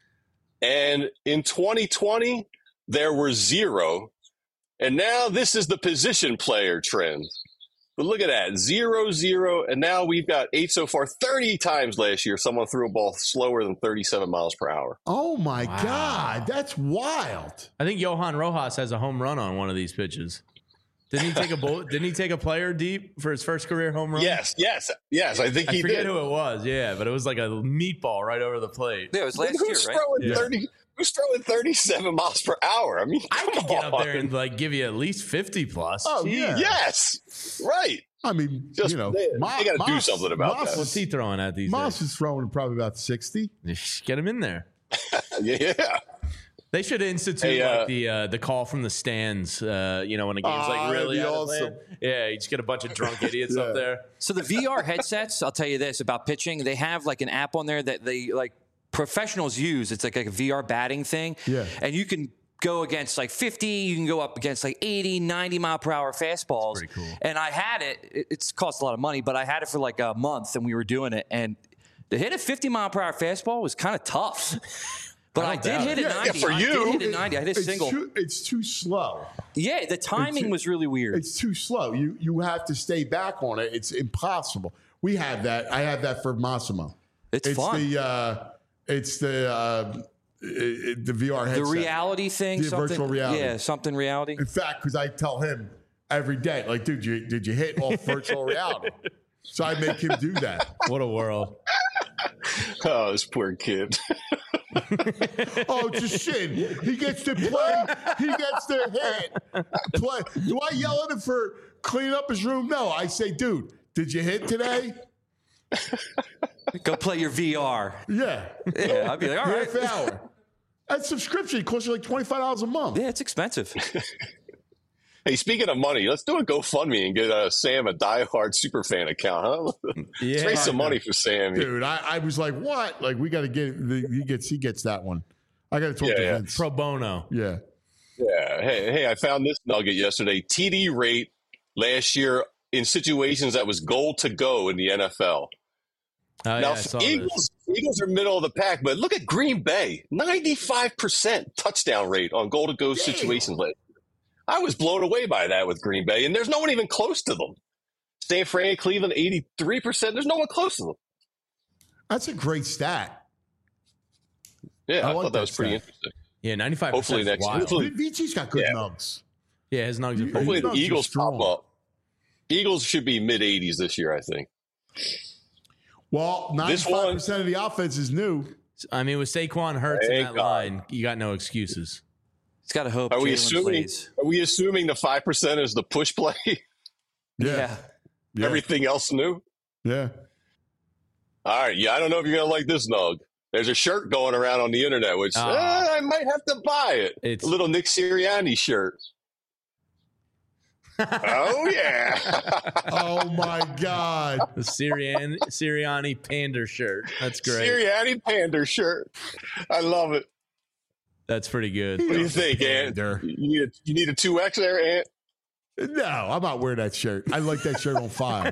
And in twenty twenty, there were zero. And now this is the position player trend. But look at that, zero, zero, and now we've got eight so far. thirty times last year, someone threw a ball slower than thirty-seven miles per hour. Oh my Wow. God, that's wild. I think Johan Rojas has a home run on one of these pitches. Didn't he take a bullet? Didn't he take a player deep for his first career home run? Yes, yes, yes. I think I he forget did. who it was. Yeah, but it was like a meatball right over the plate. Yeah, it was last who's year, right? throwing Yeah. thirty? Who's throwing thirty-seven miles per hour? I mean, I come could get up there on. and like give you at least fifty plus. Oh, Jeez. yeah. Yes, right. I mean, Just you know, they, Ma- they got to do Moss- something about Moss that. What's he throwing at these Moss days? is throwing probably about sixty. Get him in there. Yeah, They should institute Hey, uh, like the uh, the call from the stands. Uh, you know, when a game's Ah, like really that'd be out of awesome. hand. Yeah, you just get a bunch of drunk idiots Yeah. up there. So the V R headsets, I'll tell you this about pitching. They have like an app on there that they like professionals use. It's like a V R batting thing. Yeah. And you can go against like fifty, you can go up against like eighty, ninety mile per hour fastballs. pretty cool. And I had it, it- it's cost a lot of money, but I had it for like a month and we were doing it. And to hit a fifty mile per hour fastball was kind of tough. But I I, don't did doubt hit it. a Yeah, ninety. for I you. did hit a ninety. I hit a it's single. Too, it's too slow. Yeah, the timing too- was really weird. It's too slow. You you have to stay back on it. It's impossible. We have that. I have that for Massimo. It's, fun. the uh, it's the uh, it, the V R the headset. reality thing, The something, virtual reality. Yeah, something reality. In fact, because I tell him every day, like, dude, you, did you hit off virtual reality? So I make him do that. What a world. oh, this poor kid. Oh, it's a shin. He gets to play. He gets to hit. Play. Do I yell at him for cleaning up his room? No. I say, dude, did you hit today? Go play your V R. Yeah. Yeah, I'd be like, all right. Half hour. That subscription costs you like twenty-five dollars a month. Yeah, it's expensive. Hey, speaking of money, let's do a GoFundMe and get uh, Sam a diehard superfan account, huh? Let's raise some money for Sam. Dude, I, I was like, what? Like, we got to get, the, he gets he gets that one. I got to talk Yeah, to yeah. Vince. Pro bono. Yeah. Yeah. Yeah. Hey, hey, I found this nugget yesterday. T D rate last year in situations that was goal to go in the N F L. Oh, now, yeah, I saw Eagles, this. Eagles are middle of the pack, but look at Green Bay, ninety-five percent touchdown rate on goal to go situations. Last year. I was blown away by that with Green Bay, and there's no one even close to them. San Fran, Cleveland, eighty-three percent. There's no one close to them. That's a great stat. Yeah, I, I I like thought that that was pretty stat. interesting. Yeah, ninety-five percent. Hopefully next wild. hopefully, Vinci's got good yeah. nugs. Yeah, his nugs are pretty Hopefully His the nugs are Eagles strong. pop up. Eagles should be mid eighties this year, I think. Well, ninety-five percent of the offense is new. I mean, with Saquon Hurts in Thank that God. line, you got no excuses. He's got to hope. Are we Jalen assuming? plays. Are we assuming the five percent is the push play? Yeah. Yeah. Everything else new. Yeah. All right. Yeah, I don't know if you're gonna like this, Nug. There's a shirt going around on the internet, which Oh. eh, I might have to buy it. It's- a little Nick Sirianni shirt. Oh yeah. Oh my God. The Sirianni, Sirianni Pander shirt. That's great. Sirianni Pander shirt. I love it. That's pretty good. What do you think, Ant? Pander. You need a you need a two X there, Ant? No, I'm not wearing that shirt. I like that shirt on fire.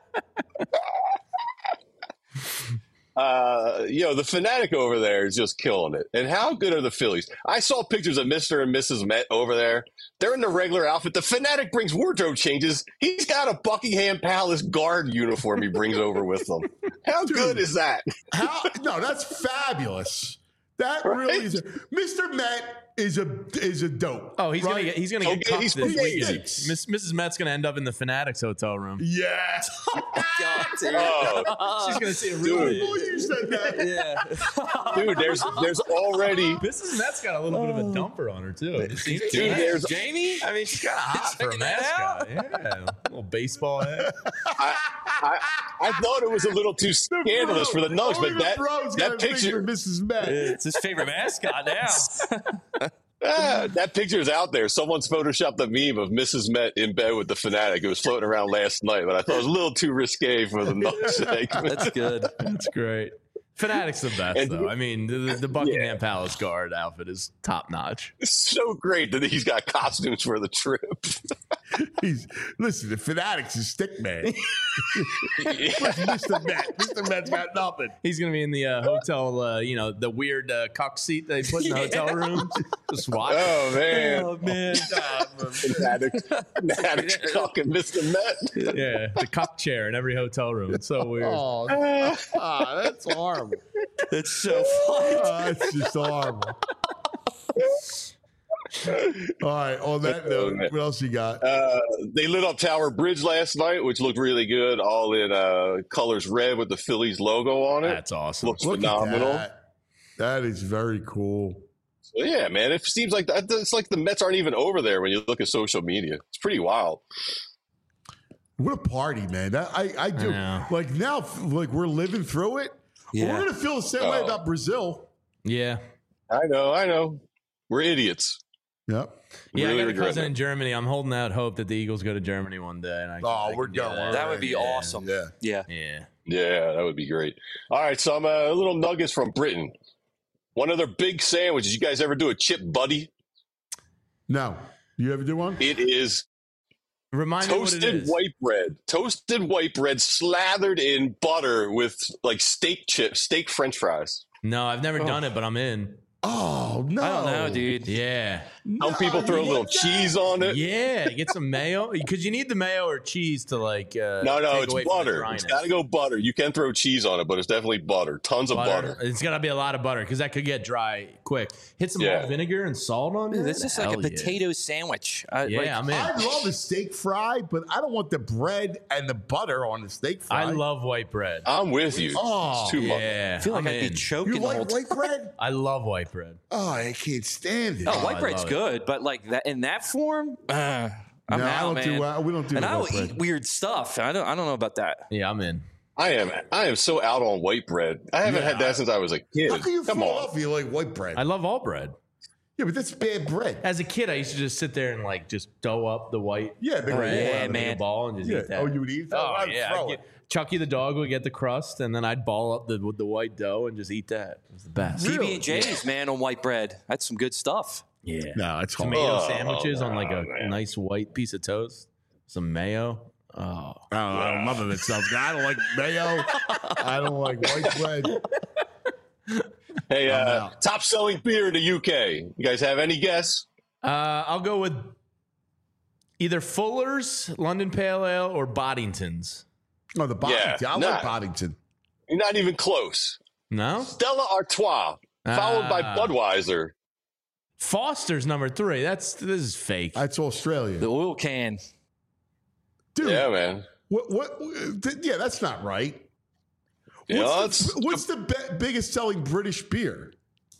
Uh, you know, the Fanatic over there is just killing it. And how good are the Phillies? I saw pictures of Mister and Missus Met over there. They're in the regular outfit. The Fanatic brings wardrobe changes. He's got a Buckingham Palace guard uniform he brings over with him. How Dude. good is that? How? No, that's fabulous. That really Right? is. A, Mister Met is a is a dope. Oh, he's right? gonna get he's gonna Oh, get yeah, cucked he's this pretty weekend. nice. Miss, Missus Met's gonna end up in the Fanatics hotel room. Yeah. God, dude. Oh, She's gonna see a I real. know you said that. Yeah. dude, there's there's already Missus Met's got a little bit of a dumper on her too. Have you seen it? Dude, there's- Jamie. I mean, she's kind of hot for a Checking that mascot. Yeah, little baseball head. I, I I thought it was a little too scandalous for the Nugs, Only but the that bro's got that a thing for picture Missus Met. It's his favorite mascot now. ah, that picture is out there. Someone's photoshopped a meme of Missus Met in bed with the Fanatic. It was floating around last night, but I thought it was a little too risque for the Nugs segment. That's good. That's great. Fanatic's the best, And- though. I mean, the, the Buckingham Palace guard outfit is top notch. It's so great that he's got costumes for the trip. He's listen. The Fanatics is stick man. Where's Mister Met? Mister Met's got nothing. He's gonna be in the uh, hotel, uh, you know, the weird uh, cuck seat they put in the hotel room. Just watch. Oh man, Oh man. Fanatic, Fanatic talking Mister Met. Yeah, the cuck chair in every hotel room. It's so weird. Oh, ah, that's horrible. That's so funny. Oh, that's just horrible. All right. On that note, what else you got? Uh, they lit up Tower Bridge last night, which looked really good, all in uh, colors red with the Phillies logo on it. That's awesome. Looks Look at phenomenal. that. That is very cool. So, yeah, man, it seems like that, it's like the Mets aren't even over there when you look at social media. It's pretty wild. What a party, man! That I I do. I know. Like now, like we're living through it. Yeah. We're gonna feel the same way Oh. about Brazil. Yeah. I know, I know. We're idiots. Yep. Yeah, Really I got a regret cousin it. in Germany. I'm holding out hope that the Eagles go to Germany one day. And I, Oh, I we're can do going. that. That would be Yeah. awesome. Yeah. Yeah. Yeah. Yeah, that would be great. All right, some uh, little nuggets from Britain. One of their big sandwiches. You guys ever do a chip buddy? No. You ever do one? It is Remind me what it toasted is. white bread. Toasted white bread slathered in butter with like steak chips, steak French fries. No, I've never done it, but I'm in. Oh no! I don't know, dude. Yeah. Some people throw a little cheese on it. Yeah, get some mayo because you need the mayo or cheese to like. Uh, No, no, take it's away from the butter. dryness. It's got to go butter. You can throw cheese on it, but it's definitely butter. Tons of butter. It's got to be a lot of butter because that could get dry quick. Hit some Yeah. malt vinegar and salt on it. Dude, that's just like a Hell yeah. potato sandwich. I, Yeah, like, I'm in. I love a steak fry, but I don't want the bread and the butter on the steak fry. I love white bread. I'm with you. Oh, it's too much. Yeah, I feel like I'm I'd be in. choking You the whole like time. white bread? I love white bread. Oh, I can't stand it. No, Oh, white I bread's love it. good, but like that in that form, uh, I'm no, I out, don't man. do. Uh, we don't do. and the I white will bread. eat weird stuff. I don't. I don't know about that. Yeah, I'm in. I am. I am so out on white bread. I haven't Yeah, had that I- since I was a kid. How can you Come fall on. off? You like white bread? I love all bread. yeah, but that's bad bread. As a kid, I used to just sit there and like just dough up the white Yeah, the bread yeah, out of man. a ball and just Yeah. eat that. Oh, you would eat that? Oh I'd yeah, throw I'd it. get, Chucky the dog would get the crust, and then I'd ball up the with the white dough and just eat that. It was the best. Really? P B and J's, man, on white bread. That's some good stuff. Yeah. No, it's hard. Tomato Oh, sandwiches on like a man. nice white piece of toast. Some mayo. Oh. Oh, I don't, none of it sounds good. I don't like mayo. I don't like white bread. Hey, I'm uh, out. top selling beer in the U K. You guys have any guess? Uh, I'll go with either Fuller's, London Pale Ale, or Boddington's. Oh, the Boddington. Yeah, I nah. like Boddington. You're not even close. No? Stella Artois, followed by Ah. Budweiser. Foster's number three. That's This is fake. That's Australia. The oil can. Dude, Yeah, man. what, what, th- yeah, that's not right. Yeah, What's, it's- the, what's the be- biggest selling British beer?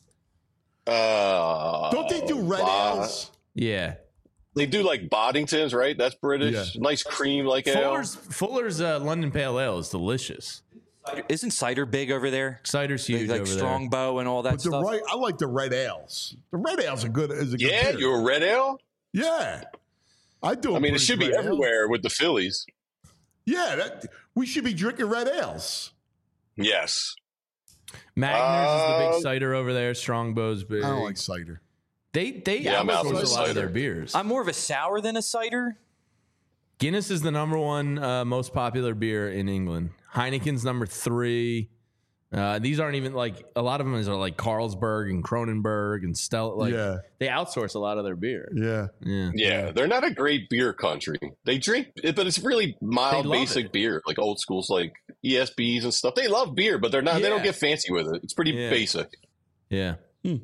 Uh, Don't they do red Bod- ales? Yeah. They do like Boddingtons, right? That's British. Yeah. Nice cream like ale. Fuller's, Fuller's uh, London Pale Ale is delicious. Isn't cider big over there? Cider's huge like over Strongbow and all that But the stuff. right, I like the red ales. The red ales are good. Is a good Yeah, beer. you're a red ale. Yeah, I do. a I mean, it British should be red ale. everywhere with the Phillies. Yeah, that, we should be drinking red ales. Yes. Magners is the Uh, big cider over there. Strongbow's big. I don't like cider. They they Yeah, I'm out outsource on a lot cider. of their beers. I'm more of a sour than a cider. Guinness is the number one uh, most popular beer in England. Heineken's number three. Uh, these aren't even like a lot of them are like Carlsberg and Kronenberg and Stella. Like Yeah. they outsource a lot of their beer. Yeah, Yeah, Yeah, they're not a great beer country. They drink, but it's really mild, They love basic it. beer, like old schools, like E S Bs and stuff. They love beer, but they're not. They don't Yeah. get fancy with it. It's pretty Yeah. basic. yeah.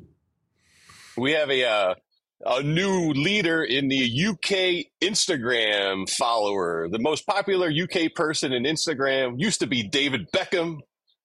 We have a uh, a new leader in the U K Instagram follower. The most popular U K person in Instagram used to be David Beckham.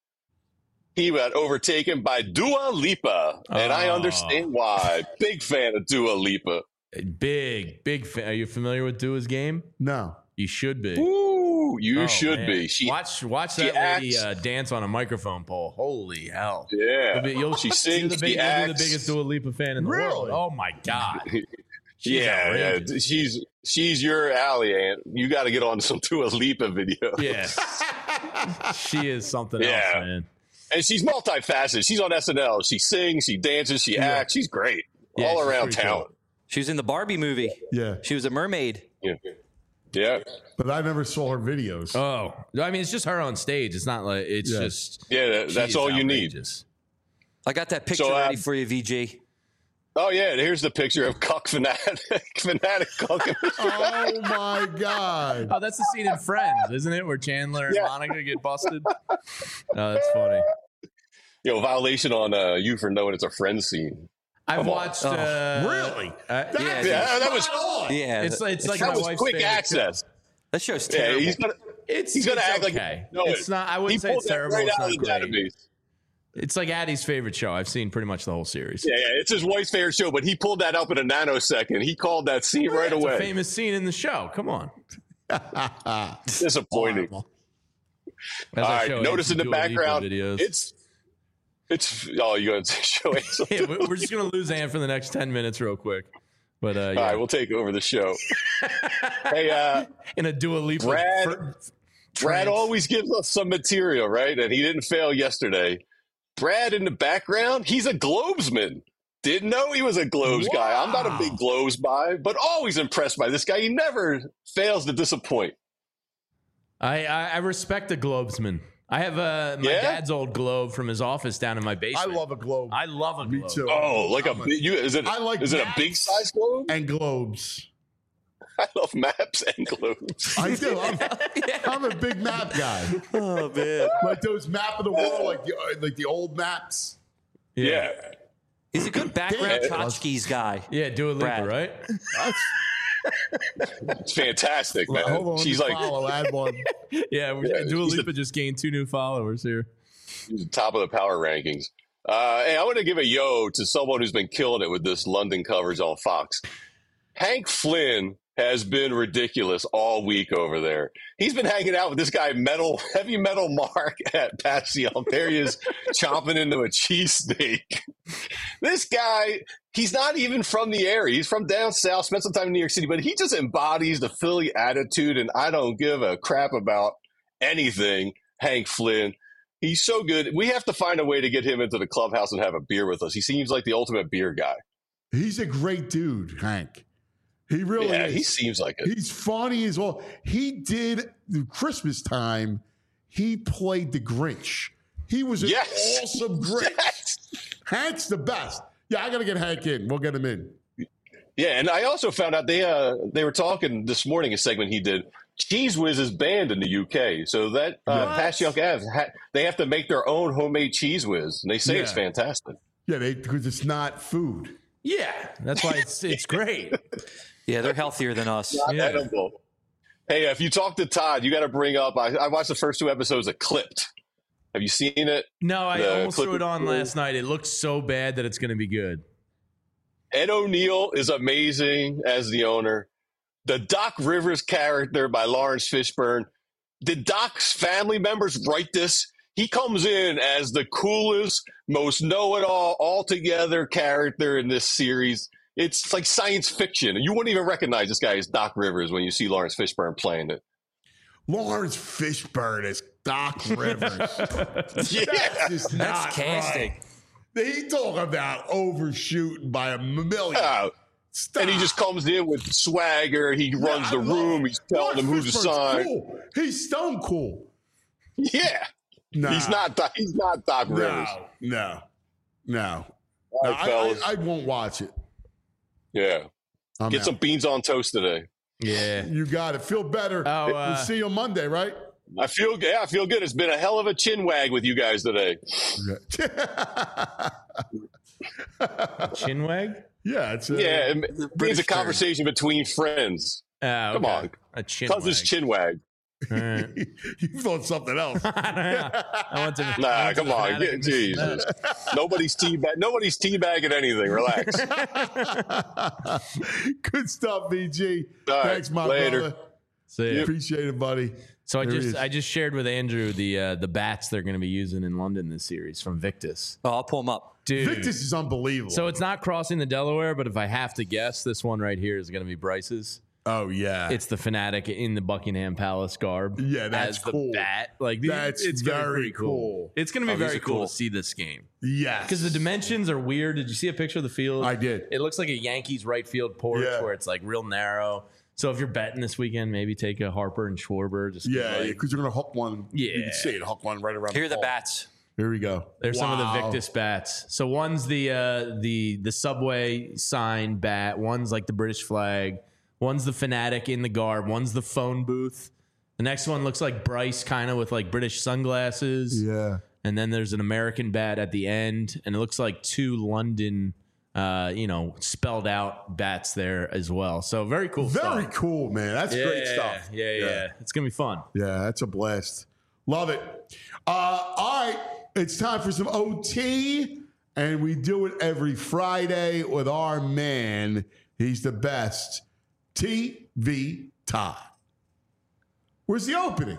He got overtaken by Dua Lipa, and I Oh. understand why. Big fan of Dua Lipa. Big big. Fan. Are you familiar with Dua's game? no. You should be. Ooh, you Oh, should man. be. She, watch watch she that lady acts- uh, dance on a microphone pole. Holy hell! yeah, You'll be- you'll- she you're sings. the, she big, you'll be acts. the biggest Dua Lipa fan in the Really? world. Oh my god! She's yeah, outrageous. yeah, she's she's your alley, Aunt. You got to get on some Dua Lipa videos. Yeah, she is something Yeah. else, man. And she's multifaceted. She's on S N L. She sings, she dances, she Yeah. acts. She's great. Yeah, All she's around pretty talent. She was in the Barbie movie. Yeah, She was a mermaid. Yeah. Yeah. but I never saw her videos. Oh, I mean, it's just her on stage. It's not like it's Yeah. just. Yeah, that- she that's is all you need. outrageous. I got that picture So, uh, ready for you, V G. Oh, yeah. Here's the picture of Cuck Fanatic. Fanatic Cuck. Oh my god! Oh, that's the scene in Friends, isn't it, where Chandler and Yeah. Monica get busted? Oh, that's funny. Yo, violation on uh, you for knowing it's a friend scene. I've Come on. watched. Oh. Uh, Really? uh, That's Yeah, Yeah, that was spot on. Yeah, it's that, it's like that my was wife's quick favorite access. that show's Yeah, terrible. he's gonna It's he's gonna it's act like okay. no, It's not. I he wouldn't say pulled it's that terrible. right It's out not of the great. database. It's like Addie's favorite show. I've seen pretty much the whole series. Yeah, yeah, it's his wife's favorite show, but he pulled that up in a nanosecond. He called that scene right It's away. a famous scene in the show. Come on. Disappointing. Horrible. As All I right, show notice in Anson the Dua Lipa background, videos. it's it's. Oh, you going to show it? Yeah, we- we're just gonna lose Ann for the next ten minutes, real quick. But uh, yeah, All right, we'll take over the show. Hey, uh, in a Dua Lipa. Brad- fir- Brad trance. always gives us some material, right? And he didn't fail yesterday. Brad in the background, he's a Globesman. Didn't know he was a Globes guy. I'm not a big Globes guy, but always impressed by this guy. He never fails to disappoint. I, I I respect the Globesman. I have uh, my Yeah? dad's old globe from his office down in my I basement. love a globe. I love a Me globe. too. Oh, like a I'm big, you is it? I like is it a maps. big size globe? and globes. I love maps and globes. I do. I'm, I'm a big map guy. Oh man, Like those map of the world, like the like the old maps. Yeah. he's a good background Yeah. tchotchkes guy. Yeah, Dua Lipa, Brad. right? That's It's fantastic, man. hold on. She's let me like follow. Add one. Yeah, we, Yeah, Dua he's the- Lipa just gained two new followers here. she's the top of the power rankings. Uh, hey, I want to give a yo to someone who's been killing it with this London coverage on Fox. Hank Flynn has been ridiculous all week over there. He's been hanging out with this guy, metal, heavy metal Mark at Patsy. There he is, chomping into a cheesesteak. This guy, he's not even from the area. He's from down south, spent some time in New York City, but he just embodies the Philly attitude, and I don't give a crap about anything, Hank Flynn. He's so good. We have to find a way to get him into the clubhouse and have a beer with us. He seems like the ultimate beer guy. He's a great dude, Hank. He really yeah, is. he seems like it. He's funny as well. He did the Christmas time. He played the Grinch. He was an Yes. awesome Grinch. Yes. Hank's the best. Yeah, I got to get Hank in. We'll get him in. Yeah, and I also found out they uh, they were talking this morning, a segment he did. Cheese Whiz is banned in the U K, so that uh, Pass Young Avs, ha- they have to make their own homemade Cheese Whiz, and they say Yeah. it's fantastic. Yeah, because it's not food. Yeah, that's why it's it's great. Yeah, they're healthier than us. Not Yeah. edible. Hey, if you talk to Todd, you got to bring up. I, I watched the first two episodes of Clipped. Have you seen it? No, I The almost threw Clippers it on crew. last night. It looks so bad that it's going to be good. Ed O'Neill is amazing as the owner. The Doc Rivers character by Lawrence Fishburne. Did Doc's family members write this? He comes in as the coolest, most know-it-all, altogether character in this series. It's like science fiction. You wouldn't even recognize this guy as Doc Rivers when you see Lawrence Fishburne playing it. Lawrence Fishburne is Doc Rivers. Yeah. That's just That's not casting. right. They talk about overshooting by a million. Uh, Stop. and he just comes in with swagger. He Yeah, runs I the love room. it. He's telling Lawrence them who to Fishburne's sign. Cool. He's stone cool. Yeah. Nah. He's not Doc, he's not Doc Rivers. No, no, no. All No, right, I, fellas. I, I won't watch it. Yeah. I'm Get out. some beans on toast today. Yeah. You got it. Feel better. Oh, we'll uh, see you on Monday, right? I feel yeah, I feel good. It's been a hell of a chin wag with you guys today. Chinwag? Yeah, it's a, Yeah, it means British a conversation between friends. Oh, Come okay. on. A chinwag. Cousin's chin wag. All right. you thought something else. I don't know. I went to, I Nah, went to come the on. Fanatic Get, and missed Jesus. nobody's teabag nobody's teabagging anything. Relax. Good stuff, V G. All right, Thanks, my later. brother. See ya. Appreciate it, buddy. So I There he just is. I just shared with Andrew the uh, the bats they're going to be using in London this series from Victus. Oh, I'll pull them up. Dude. Victus is unbelievable. So it's not crossing the Delaware, but if I have to guess, this one right here is going to be Bryce's. oh yeah, It's the Fanatic in the Buckingham Palace garb. Yeah, that's as the cool. bat. Like these- That's it's gonna be very pretty cool. cool. It's going to be Oh, these very are cool cool. to see this game yes, because the dimensions are weird. Did you see a picture of the field? I did. It looks like a Yankees right field porch Yeah. where it's like real narrow. So if you're betting this weekend, maybe take a Harper and Schwarber. Just 'cause, Yeah, like, because you're gonna hook one. you Yeah. can see it. Hook one right around. Here are the ball. bats. Here we go. There's some of the Wow. Victus bats. So one's the uh, the the Subway sign bat. One's like the British flag. One's the Fanatic in the garb. One's the phone booth. The next one looks like Bryce, kind of with like British sunglasses. Yeah. And then there's an American bat at the end, and it looks like two London, uh, you know, spelled out bats there as well. So very cool. Very stuff. cool, man. That's Yeah, great stuff. Yeah, yeah, yeah. It's gonna be fun. Yeah, that's a blast. Love it. Uh, all right, it's time for some O T, and we do it every Friday with our man. He's the best, T V Todd. Where's the opening?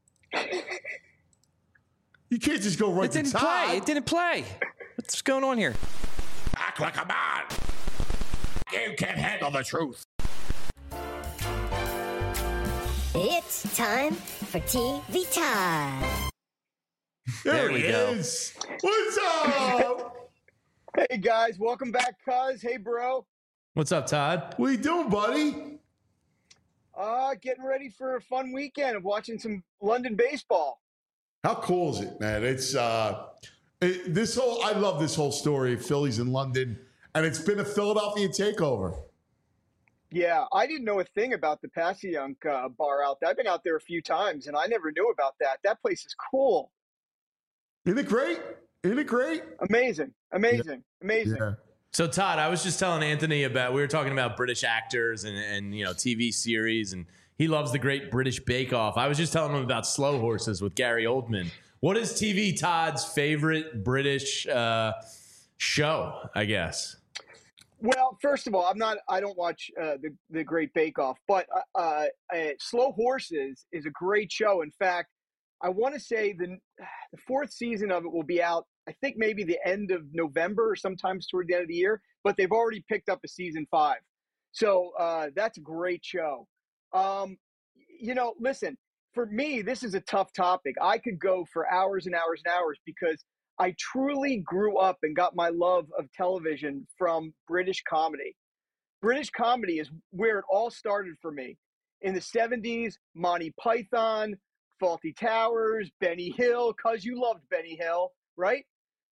You can't just go right It to didn't Todd. play. It didn't play. What's going on here? Act like a man. You can't handle the truth. It's time for T V time. There, There we he go. is. What's up? Hey guys, welcome back, cuz. Hey, bro. What's up, Todd? What you doing, buddy? Uh, getting ready for a fun weekend of watching some London baseball. How cool is it, man? It's uh, it, this whole. I love this whole story of Phillies in London, and it's been a Philadelphia takeover. Yeah, I didn't know a thing about the Passyunk uh, bar out there. I've been out there a few times, and I never knew about that. That place is cool. Isn't it great? Isn't it great? Amazing, amazing, amazing. Yeah. So Todd, I was just telling Anthony about we were talking about British actors and and you know T V series, and he loves the Great British Bake Off. I was just telling him about Slow Horses with Gary Oldman. What is T V Todd's favorite British uh, show? I guess. Well, first of all, I'm not. I don't watch uh, the the Great Bake Off, but uh, uh, Slow Horses is a great show. In fact, I want to say the the fourth season of it will be out. I think maybe the end of November or sometimes toward the end of the year. But they've already picked up a season five, so uh, that's a great show. Um, you know, listen. For me, this is a tough topic. I could go for hours and hours and hours because I truly grew up and got my love of television from British comedy. British comedy is where it all started for me. In the seventies, Monty Python, Fawlty Towers, Benny Hill, because you loved Benny Hill, right?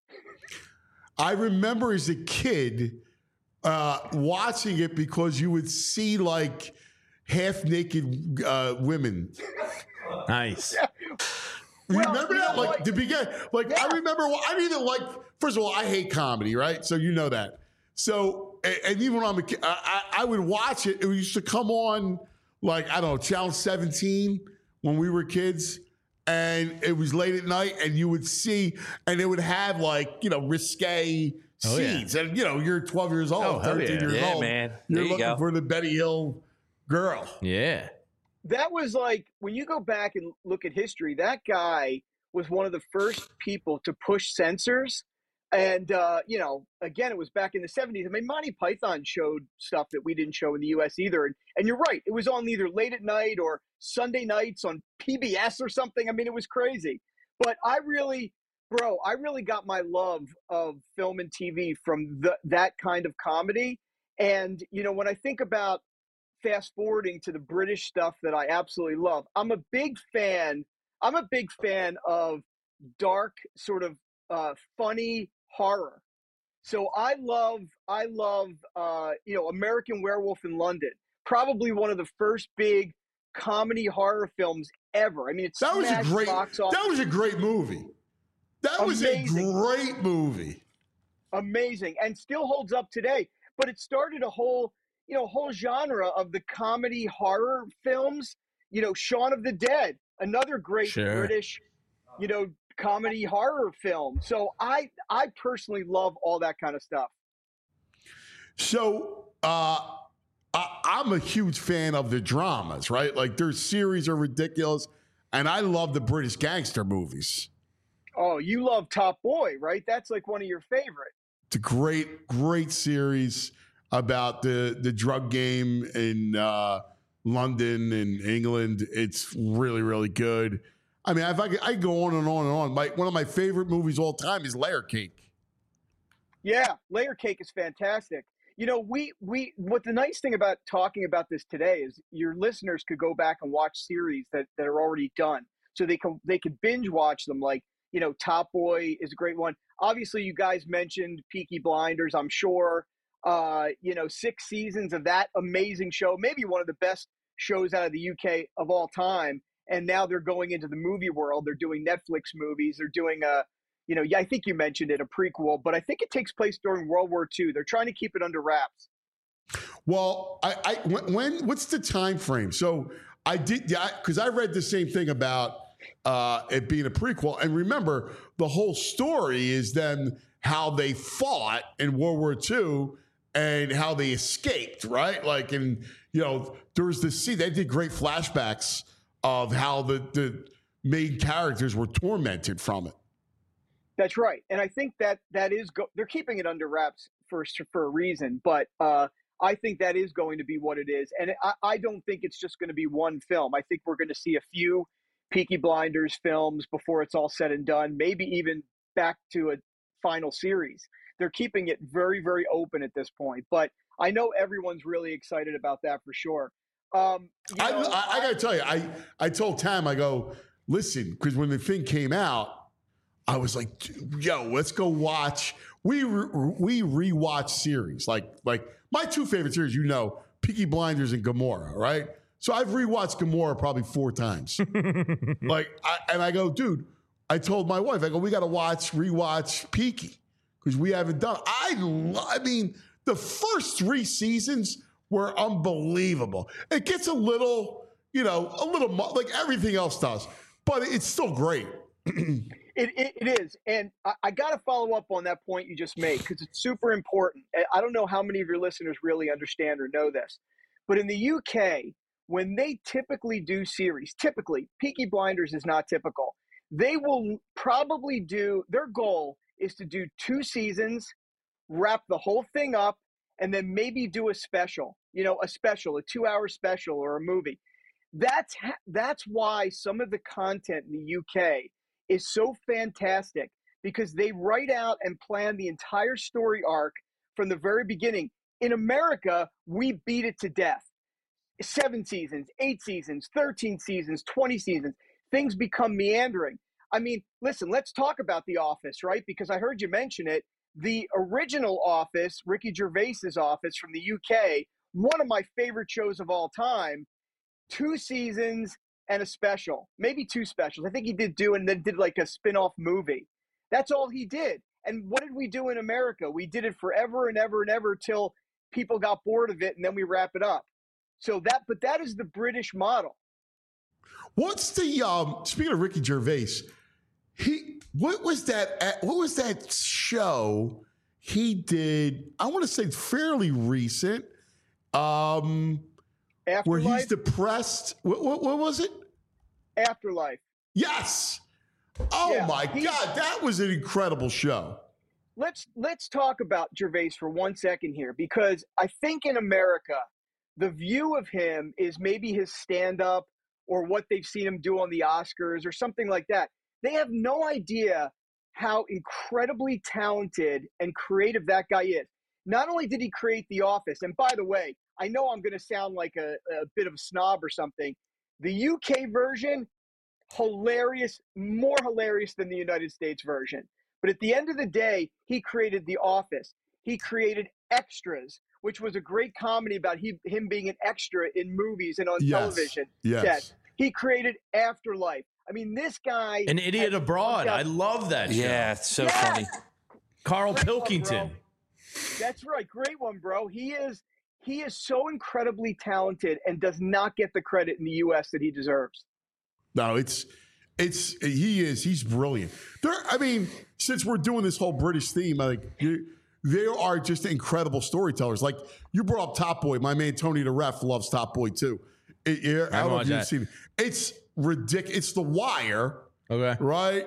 I remember as a kid uh, watching it because you would see like half naked uh, women. Nice. Yeah. You Well, remember you that? know Like what? the begin, like Yeah. I remember. I didn't even like. First of all, I hate comedy, right? So you know that. So and, and even when I'm a kid, I, I, I would watch it. It used to come on like I don't know, Channel seventeen when we were kids, and it was late at night, and you would see, and it would have like you know risque Oh, yeah. scenes, and you know you're twelve years old, Oh, hell thirteen yeah. years Yeah, old, man. You're There you looking go. for the Betty Hill girl. Yeah. That was like, when you go back and look at history, that guy was one of the first people to push censors. And, uh, you know, again, it was back in the seventies. I mean, Monty Python showed stuff that we didn't show in the U S either. And, and you're right. It was on either late at night or Sunday nights on P B S or something. I mean, it was crazy. But I really, bro, I really got my love of film and T V from the, that kind of comedy. And, you know, when I think about fast forwarding to the British stuff that I absolutely love, I'm a big fan. I'm a big fan of dark, sort of uh, funny horror. So I love, I love, uh, you know, American Werewolf in London. Probably one of the first big comedy horror films ever. I mean, it's That was a great. box office. That was a great movie. That was Amazing. a great movie. Amazing, and still holds up today. But it started a whole, you know, whole genre of the comedy horror films. You know, Shaun of the Dead, another great Sure. British, you know, comedy horror film. So I, I personally love all that kind of stuff. So uh, I, I'm a huge fan of the dramas, right? Like their series are ridiculous, and I love the British gangster movies. Oh, you love Top Boy, right? That's like one of your favorite. It's a great, great series about the the drug game in uh, London and England. It's really, really good. I mean, if I could, I could go on and on and on. My, one of my favorite movies all time is Layer Cake. Yeah, Layer Cake is fantastic. You know, we we what the nice thing about talking about this today is your listeners could go back and watch series that, that are already done. So they can they could binge watch them, like, you know, Top Boy is a great one. Obviously, you guys mentioned Peaky Blinders, I'm sure. Uh, you know, six seasons of that amazing show, maybe one of the best shows out of the U K of all time. And now they're going into the movie world. They're doing Netflix movies. They're doing a, you know, yeah, I think you mentioned it, a prequel, but I think it takes place during World War Two. They're trying to keep it under wraps. Well, I, I when, when what's the time frame? So I did, yeah, because I read the same thing about uh, it being a prequel. And remember, the whole story is then how they fought in World War Two and how they escaped, right? Like, and you know, there was this scene. They did great flashbacks of how the the main characters were tormented from it. That's right, and I think that that is go- they're keeping it under wraps for for a reason. But uh, I think that is going to be what it is, and I, I don't think it's just going to be one film. I think we're going to see a few Peaky Blinders films before it's all said and done. Maybe even back to a final series. They're keeping it very, very open at this point. But I know everyone's really excited about that for sure. Um, you I, know, I, I got to tell you, I, I told Tam, I go, listen, because when the thing came out, I was like, yo, let's go watch. We re- we rewatch series. Like, like my two favorite series, you know, Peaky Blinders and Gomorrah, right? So I've rewatched Gomorrah probably four times. like, I, and I go, dude, I told my wife, I go, we got to watch, rewatch Peaky because we haven't done. I, lo- I mean, the first three seasons were unbelievable. It gets a little, you know, a little mo- like everything else does, but it's still great. It, it, it is. And I, I got to follow up on that point you just made because it's super important. I don't know how many of your listeners really understand or know this, but in the U K, when they typically do series, typically, Peaky Blinders is not typical. They will probably do, their goal is to do two seasons, wrap the whole thing up, and then maybe do a special, you know, a special, a two-hour special or a movie. That's ha- that's why some of the content in the U K is so fantastic because they write out and plan the entire story arc from the very beginning. In America, we beat it to death. Seven seasons, eight seasons, thirteen seasons, twenty seasons. Things become meandering. I mean, listen, let's talk about The Office, right? Because I heard you mention it. The original Office, Ricky Gervais's Office from the U K, one of my favorite shows of all time, two seasons and a special, maybe two specials. I think he did do, and then did like a spin-off movie. That's all he did. And what did we do in America? We did it forever and ever and ever till people got bored of it, and then we wrap it up. So that, but that is the British model. What's the um? Speaking of Ricky Gervais, he what was that? What was that show he did? I want to say fairly recent. Um, Afterlife? Where he's depressed. What, what, what was it? Afterlife. Yes. Oh Yeah, my he- God, that was an incredible show. Let's let's talk about Gervais for one second here, because I think in America, the view of him is maybe his stand-up or what they've seen him do on the Oscars or something like that. They have no idea how incredibly talented and creative that guy is. Not only did he create The Office, and by the way, I know I'm going to sound like a, a bit of a snob or something. The U K version, hilarious, more hilarious than the United States version. But at the end of the day, he created The Office. He created Extras, which was a great comedy about he, him being an extra in movies and on Yes. television Yes. sets. He created Afterlife. I mean, this guy... An Idiot has Abroad. fucked up- I love that show. Yeah, it's so Yes! funny. Carl Great one, Pilkington. bro. That's right. Great one, bro. He is he is so incredibly talented and does not get the credit in the U S that he deserves. No, it's it's he is he's brilliant. There, I mean, since we're doing this whole British theme, like you, they are just incredible storytellers. Like you brought up Top Boy, my man Tony the Ref loves Top Boy too. It, it, I don't know watch if you've that. seen it. It's ridiculous. It's The Wire, Okay. right?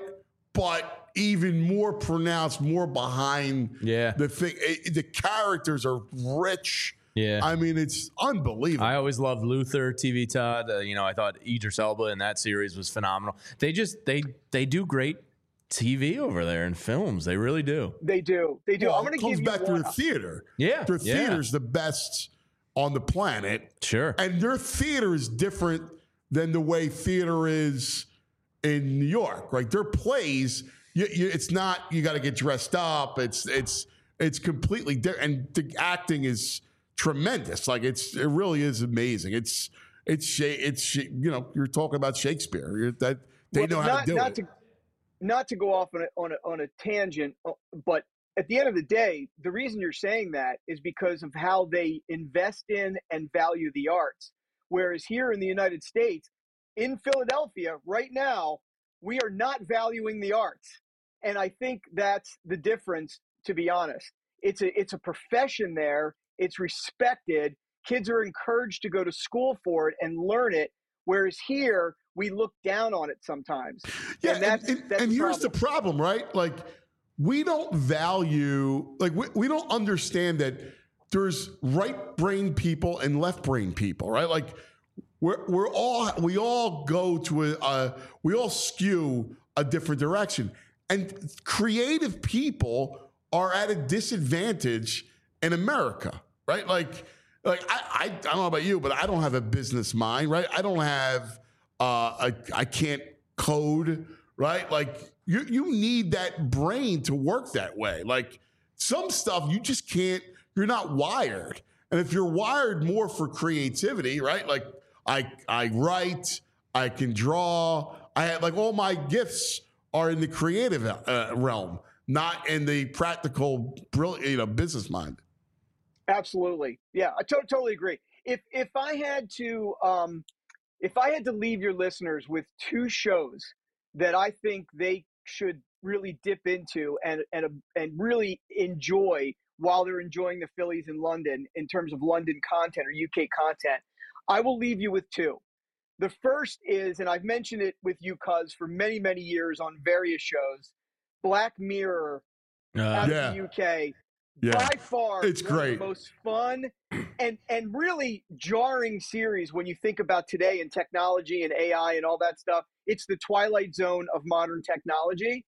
But even more pronounced, more behind Yeah. the thing. It- the characters are rich. Yeah. I mean, it's unbelievable. I always loved Luther, T V Todd. Uh, you know, I thought Idris Elba in that series was phenomenal. They just they they do great T V over there and films. They really do. They do. They do. Well, I'm going it to comes give you back to one. the theater. Yeah, Their yeah. theater's the best on the planet. Sure. And their theater is different than the way theater is in New York, right? Their plays, you, you, it's not, you got to get dressed up. It's, it's, it's completely different. And the acting is tremendous. Like it's, it really is amazing. It's, it's, Sha- it's, Sha- you know, you're talking about Shakespeare. You're, that they Well, know how not, to do not it. To, not to go off on a, on, a, on a tangent, uh, but at the end of the day, the reason you're saying that is because of how they invest in and value the arts. Whereas here in the United States, in Philadelphia right now, we are not valuing the arts. And I think that's the difference, to be honest. It's a, it's a profession there. It's respected. Kids are encouraged to go to school for it and learn it. Whereas here, we look down on it sometimes. Yeah, and that's, and, and, that's and the here's problem. the problem, right? Like, we don't value, like, we, we don't understand that there's right brain people and left brain people, right? Like, we're we're all we all go to a uh, we all skew a different direction, and creative people are at a disadvantage in America, right? Like, like I I, I don't know about you, but I don't have a business mind, right? I don't have uh I I can't code, right? Like you you need that brain to work that way. Like some stuff you just can't. You're not wired, and if you're wired more for creativity, right? Like I I write, I can draw. I have like all my gifts are in the creative uh, realm, not in the practical, brilliant, you know, business mind. Absolutely. Yeah, I to- totally agree. If if I had to um, if I had to leave your listeners with two shows that I think they should really dip into and and and really enjoy while they're enjoying the Phillies in London in terms of London content or U K content, I will leave you with two. The first is, and I've mentioned it with you, Cuz, for many, many years on various shows, Black Mirror Uh, out yeah. of the U K. Yeah. By far, It's one of great. the most fun and and really jarring series when you think about today and technology and A I and all that stuff. It's the Twilight Zone of modern technology.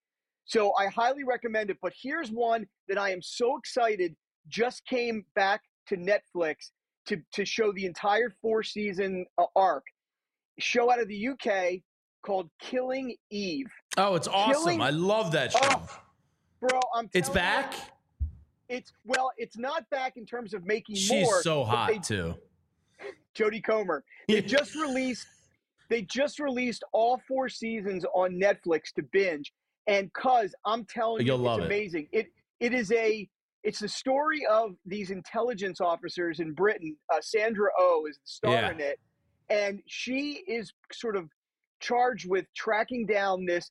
So I highly recommend it. But here's one that I am so excited just came back to Netflix to, to show the entire four-season uh, arc. Show out of the U K called Killing Eve. Oh, it's awesome. Killing, I love that show. Oh, bro, I'm It's telling back? You, it's, well, it's not back in terms of making She's more. so but hot, they, too. Jodie Comer. They just released they just released all four seasons on Netflix to binge. And cuz I'm telling You'll you, love it's it. amazing. It it is a it's the story of these intelligence officers in Britain. Uh, Sandra Oh is the star Yeah. in it, and she is sort of charged with tracking down this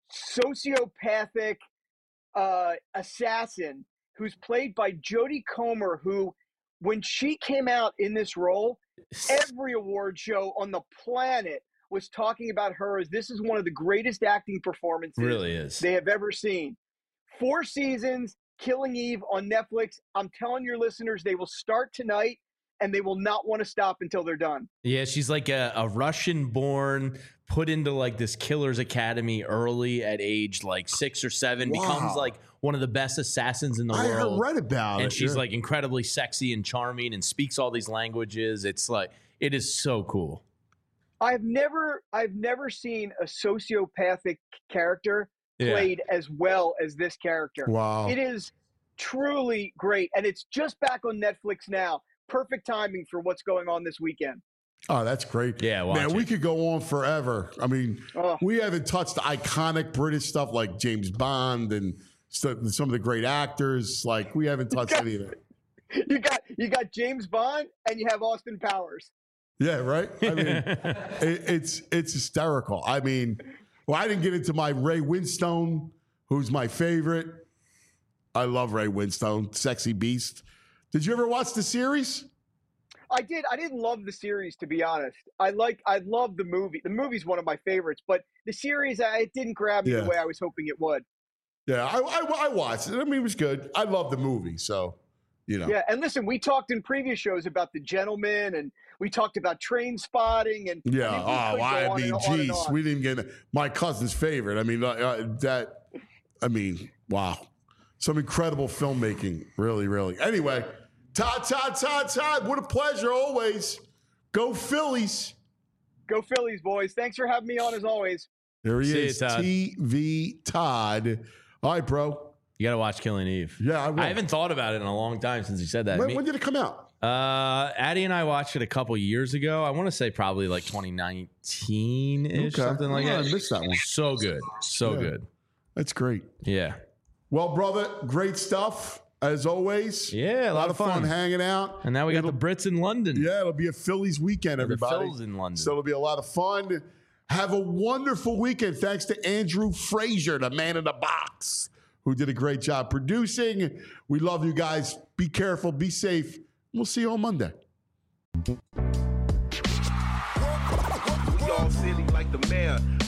sociopathic uh, assassin who's played by Jodie Comer, who, when she came out in this role, every award show on the planet was talking about her as this is one of the greatest acting performances Really is. they have ever seen. Four seasons, Killing Eve on Netflix. I'm telling your listeners, they will start tonight and they will not want to stop until they're done. Yeah, she's like a, a Russian-born, put into like this killer's academy early at age like six or seven, Wow. becomes like one of the best assassins in the I world. read about and it, she's yeah. like incredibly sexy and charming and speaks all these languages. It's like, it is so cool. I've never I've never seen a sociopathic character Yeah. played as well as this character. Wow. It is truly great, and it's just back on Netflix now. Perfect timing for what's going on this weekend. Oh, that's great. Yeah, watch man, we it. could go on forever. I mean, Oh. we haven't touched iconic British stuff like James Bond and st- some of the great actors. Like, we haven't touched any of it. You got you got James Bond and you have Austin Powers. Yeah, right. I mean, it, it's it's hysterical. I mean, well, I didn't get into my Ray Winstone, who's my favorite. I love Ray Winstone, sexy beast. Did you ever watch the series? I did. I didn't love the series, to be honest. I like. I love the movie. The movie's one of my favorites, but the series, I, it didn't grab me Yeah. the way I was hoping it would. Yeah, I, I, I watched it. I mean, it was good. I love the movie, so you know. Yeah, and listen, we talked in previous shows about The Gentleman, and we talked about Train Spotting, and Yeah. I mean, we Oh, could go I on mean, and on and geez, on. we didn't get my cousin's favorite. I mean, uh, uh, that. I mean, wow, some incredible filmmaking. Really, really. Anyway, Todd, Todd, Todd, Todd. What a pleasure always. Go Phillies. Go Phillies, boys! Thanks for having me on as always. There he See you, is, Todd. T V Todd. All right, bro. You got to watch Killing Eve. Yeah, I will. I haven't thought about it in a long time since you said that. When, Me- when did it come out? Uh, Addie and I watched it a couple years ago. I want to say probably like twenty nineteen ish, Okay. something like Oh, that. I missed that one. So good, so Yeah. good. That's great. Yeah, Well, brother, great stuff as always. yeah, A lot of fun hanging out. And now we got It'll- the Brits in London. Yeah, it'll be a Phillies weekend, The everybody. Phils in London. So it'll be a lot of fun. Have a wonderful weekend. Thanks to Andrew Frazier, the man in the box, who did a great job producing. We love you guys. Be careful. Be safe. We'll see you on Monday. We all silly like the mayor.